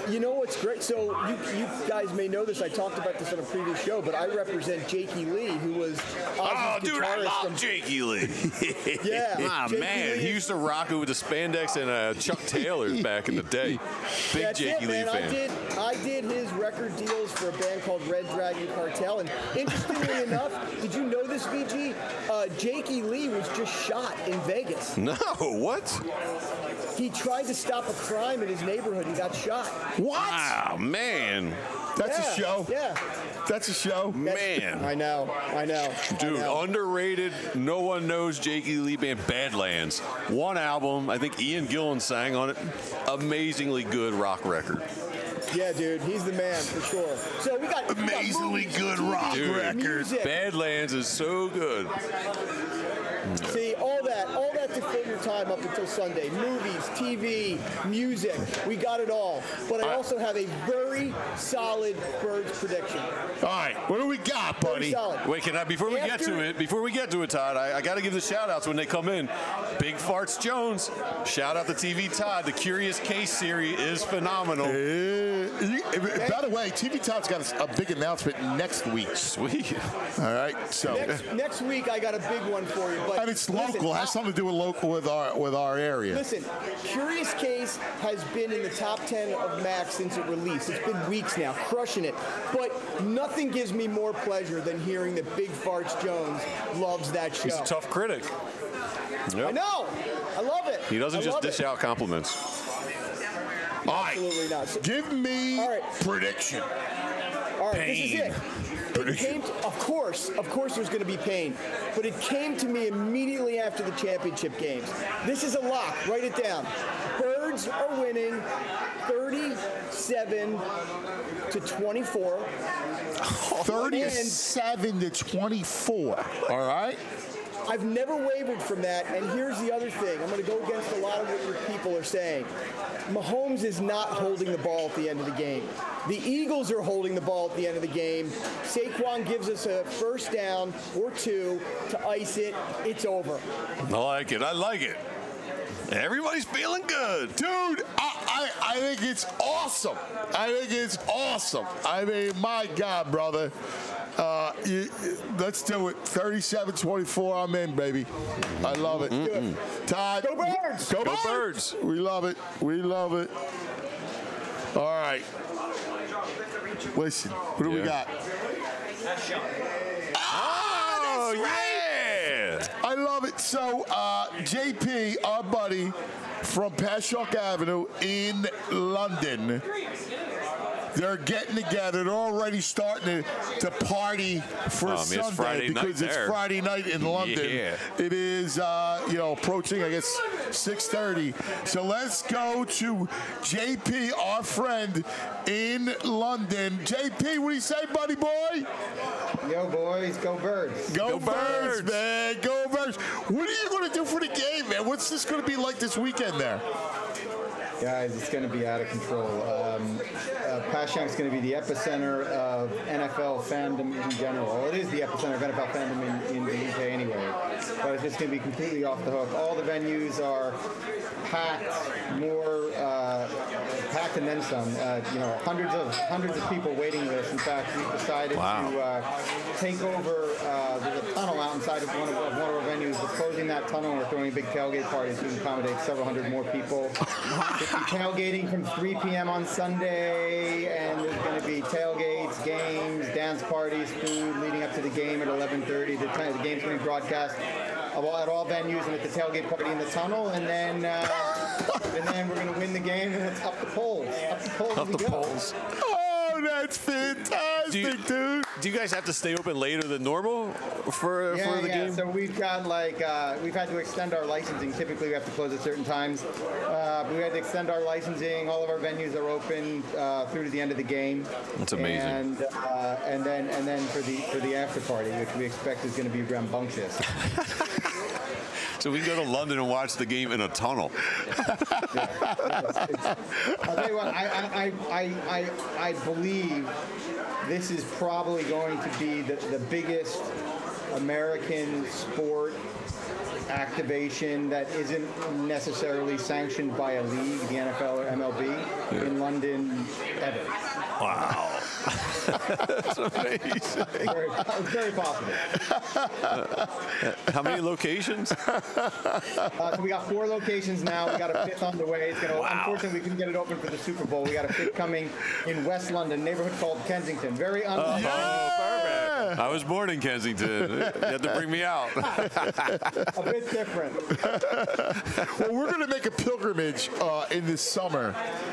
You know what's great? So you guys may know this. I talked about this on a previous show, but I represent Jakey Lee, who was Ozzy's dude, I guitarist love from Jakey Lee. Yeah. Jakey man, Lee he used to rock it with the spandex and Chuck Taylors back in the day. Big That's Jakey Lee man. fan. I did his record deals for a band called Red Dragon Cartel, and interestingly enough, did you know this, VG? Jakey Lee was just shot in Vegas. No, what? He tried to stop a crime in his neighborhood. He got shot. What? Wow, man. That's a show. Yeah. That's a show. Man. I know. Dude, underrated, no one knows Jakey Lee band, Badlands. One album, I think Ian Gillan sang on it. Amazingly good rock record. Yeah, dude, he's the man for sure. So we got amazingly good rock record. Music. Badlands is so good. See, all that to fill your time up until Sunday. Movies, TV, music, we got it all. But I also have a very solid Birds prediction. All right, what do we got, buddy? Wait, can I, before we get to it, Todd, I got to give the shout-outs when they come in. Big Farts Jones, shout out to TV Todd. The Curious Case series is phenomenal. By the way, TV Todd's got a big announcement next week. Sweet. All right, so next week I got a big one for you. But and it's local. It has something to do with our area. Listen, Curious Case has been in the top 10 of Max since it released. It's been weeks now, crushing it. But nothing gives me more pleasure than hearing that Big Farts Jones loves that show. He's a tough critic. Yep. I know. I love it. He doesn't just dish out compliments. Absolutely not. So, give me prediction. All right, this is it. It came to, of course, there's going to be pain, but it came to me immediately after the championship games. This is a lock. Write it down. Birds are winning 37-24. 37-24. All right. I've never wavered from that, and here's the other thing. I'm going to go against a lot of what your people are saying. Mahomes is not holding the ball at the end of the game. The Eagles are holding the ball at the end of the game. Saquon gives us a first down or two to ice it. It's over. I like it. Everybody's feeling good. Dude, I think it's awesome. I mean, my God, brother. Let's do it. 37-24. I'm in, baby. I love it. Todd. Go Birds. Go Birds. We love it. All right. Listen, what do we got? Oh, that's right. I love it. So, JP, our buddy from Pashock Avenue in London, they're getting together. They're already starting to party for Sunday because it's Friday night in London. Yeah. It is, approaching, I guess, 6:30. So let's go to JP, our friend in London. JP, what do you say, buddy boy? Yo, boys, go Birds. Go Birds, man. Go Birds. What are you going to do for the game, man? What's this going to be like this weekend there? Guys, it's going to be out of control. Pashock's going to be the epicenter of NFL fandom in general. Well, it is the epicenter of NFL fandom in the UK anyway. But it's just going to be completely off the hook. All the venues are packed, more packed and then some. Hundreds of people waiting list. In fact, we've decided to take over. There's a tunnel out inside of one of our venues. We're closing that tunnel and we're throwing big tailgate parties to accommodate several hundred more people. Tailgating from 3 p.m. on Sunday, and there's going to be tailgates, games, dance parties, food leading up to the game at 11:30. The game's going to be broadcast at all venues and at the tailgate party in the tunnel, and then we're going to win the game, and it's up the poles. Up the poles. Oh, that's fantastic, dude. Do you guys have to stay open later than normal for the game? So we've got we've had to extend our licensing. Typically, we have to close at certain times. We had to extend our licensing. All of our venues are open through to the end of the game. That's amazing. And then for the after party, which we expect is going to be rambunctious. So we can go to London and watch the game in a tunnel. I'll tell you what, I believe this is probably going to be the biggest American sport activation that isn't necessarily sanctioned by a league, the NFL or MLB, in London ever. Wow. That's amazing. Very possible. How many locations? So we got 4 locations now. We got a 5th on the way. It's gonna, unfortunately, we couldn't get it open for the Super Bowl. We got a 5th coming in West London, neighborhood called Kensington. Very perfect. I was born in Kensington. You had to bring me out. A bit different. Well, we're going to make a pilgrimage in this summer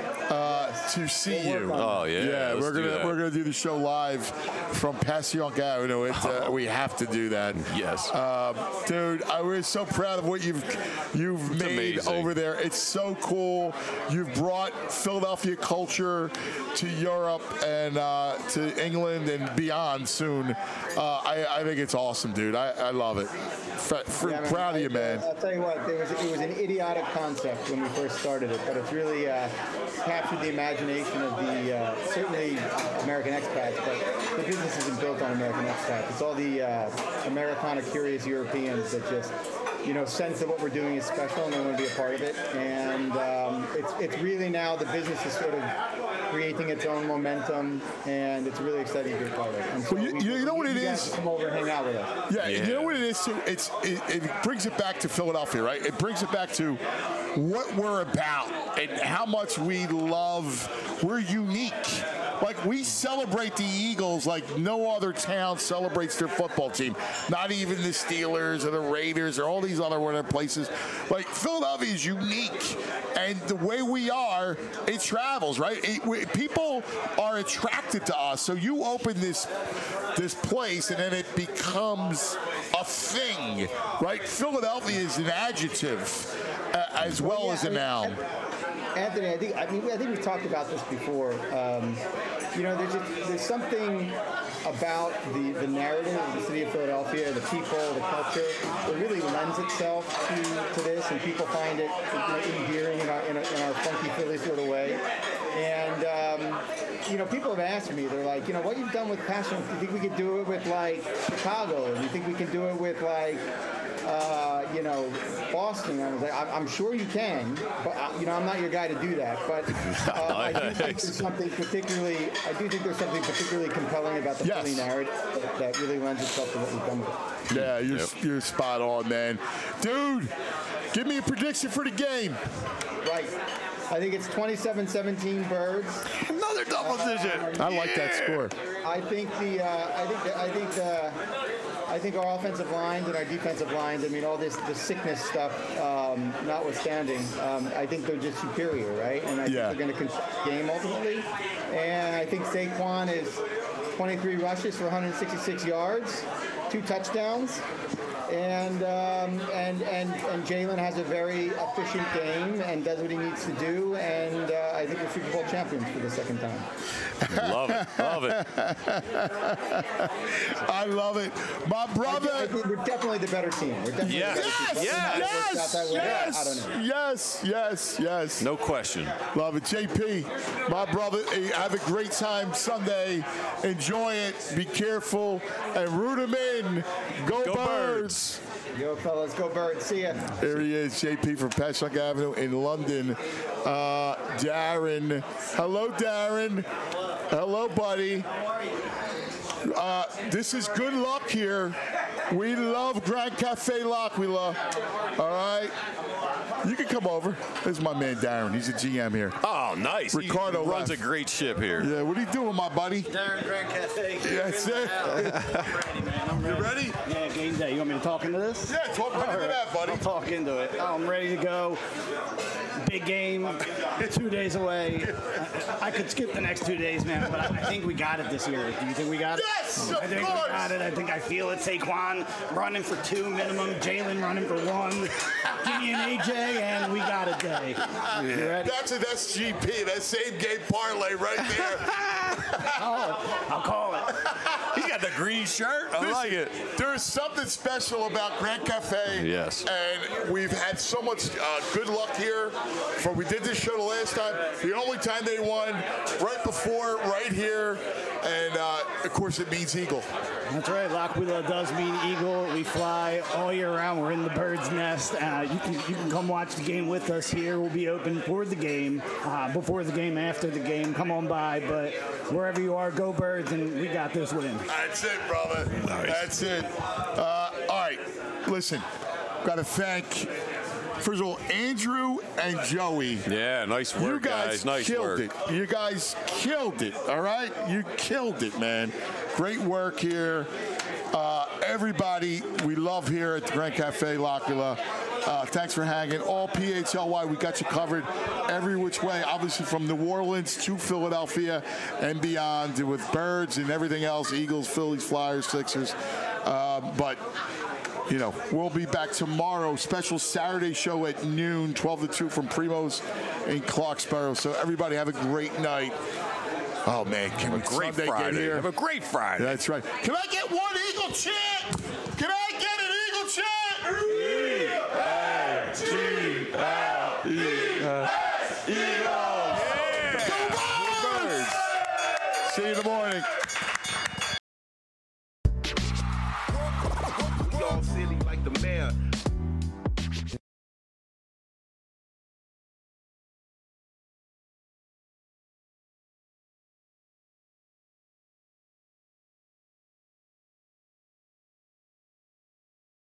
to see you. Oh yeah. Yeah, we're gonna do the show live from Passyunk Avenue. We have to do that. Yes. Dude, we're so proud of what you've made amazing. over there. It's so cool. You've brought Philadelphia culture to Europe and to England and beyond soon. I think it's awesome, dude. I love it. Proud of you, man. I'll tell you what, it was an idiotic concept when we first started it, but it's really captured the imagination of the certainly American expats, but the business isn't built on American expats. It's all the Americana curious Europeans that just sense that what we're doing is special and they want to be a part of it. And it's really now the business is sort of creating its own momentum, and it's really exciting to be a part of it. And so well, you know what it is? Come over and hang out with us. Yeah, you know what it is too? It brings it back to Philadelphia, right? It brings it back to what we're about and how much we love. We're unique. Like, we celebrate the Eagles like no other town celebrates their football team. Not even the Steelers or the Raiders or all these other places. Like, Philadelphia is unique. And the way we are, it travels, right? People are attracted to us. So you open this place, and then it becomes a thing, right? Philadelphia is an adjective as well as a noun. Anthony, I think we've talked about this before. There's something about the narrative of the city of Philadelphia, the people, the culture, that really lends itself to this, and people find it endearing in our funky Philly sort of way. And people have asked me, they're like, what you've done with Passion, do you think we could do it with like Chicago? Do you think we can do it with like Boston? I was like, I'm sure you can, but I'm not your guy to do that. But I do think there's something particularly compelling about the Philly narrative that really lends itself to what we've done with it. Yeah, you're spot on, man. Dude, give me a prediction for the game. Right. I think it's 27-17 Birds. Another double digit. I like that score. I think I think our offensive lines and our defensive lines, all the sickness stuff notwithstanding, I think they're just superior, right? And I think they're going to control the game ultimately. And I think Saquon is 23 rushes for 166 yards, 2 touchdowns. And Jalen has a very efficient game and does what he needs to do, and I think we're Super Bowl champions for the second time. Love it. I love it. My brother. I think we're definitely the better team. We're definitely the better team. Yes. No question. Love it. JP, my brother, have a great time Sunday. Enjoy it. Be careful and root them in. Go Birds. Yo, fellas, go Birds. See ya. There he is, JP from Passyunk Avenue in London. Darren. Hello, Darren. Hello, buddy. This is good luck here. We love Grand Cafe L'Aquila. All right? You can come over. This is my man, Darren. He's a GM here. Oh, nice. Ricardo he runs a great ship here. Yeah, what are you doing, my buddy? Darren, Grand Cafe. That's it. I'm ready, man. I'm ready. You ready? Yeah, game day. You want me to talk into this? Yeah, talk into that, buddy. I'll talk into it. I'm ready to go. Big game, 2 days away. I could skip the next 2 days, man, but I think we got it this year. Do you think we got it? Yes, I think we got it. I think I feel it. Saquon running for 2 minimum. Jalen running for 1. Give me an AJ, and we got a day. You ready? That's an SGP. That same game parlay right there. I'll call it. He's got the green shirt. I like it. There's something special about Grand Cafe. Yes. And we've had so much good luck here. We did this show the last time. The only time they won, right before, right here. And, of course, it means eagle. That's right. L'Aquila does mean eagle. We fly all year round. We're in the bird's nest. You can come watch the game with us here. We'll be open for the game, before the game, after the game. Come on by. But wherever you are, go Birds, and we got this win. That's it, brother. That's it. All right. Listen, got to thank, first of all, Andrew and Joey. Yeah, nice work, you guys. Nice killed work. it. You guys killed it, all right? You killed it, man. Great work here. Everybody we love here at the Grand Cafe L'Aquila. Thanks for hanging. All PHLY, we got you covered every which way, obviously from New Orleans to Philadelphia and beyond with Birds and everything else, Eagles, Phillies, Flyers, Sixers. But, you know, we'll be back tomorrow. Special Saturday show at noon, 12 to 2 from Primo's in Clarksboro. So everybody have a great night. Oh, man. Can we Sunday get here? Have a great Friday. That's right. Can I get one Eagle chant? Can I get an Eagle chant?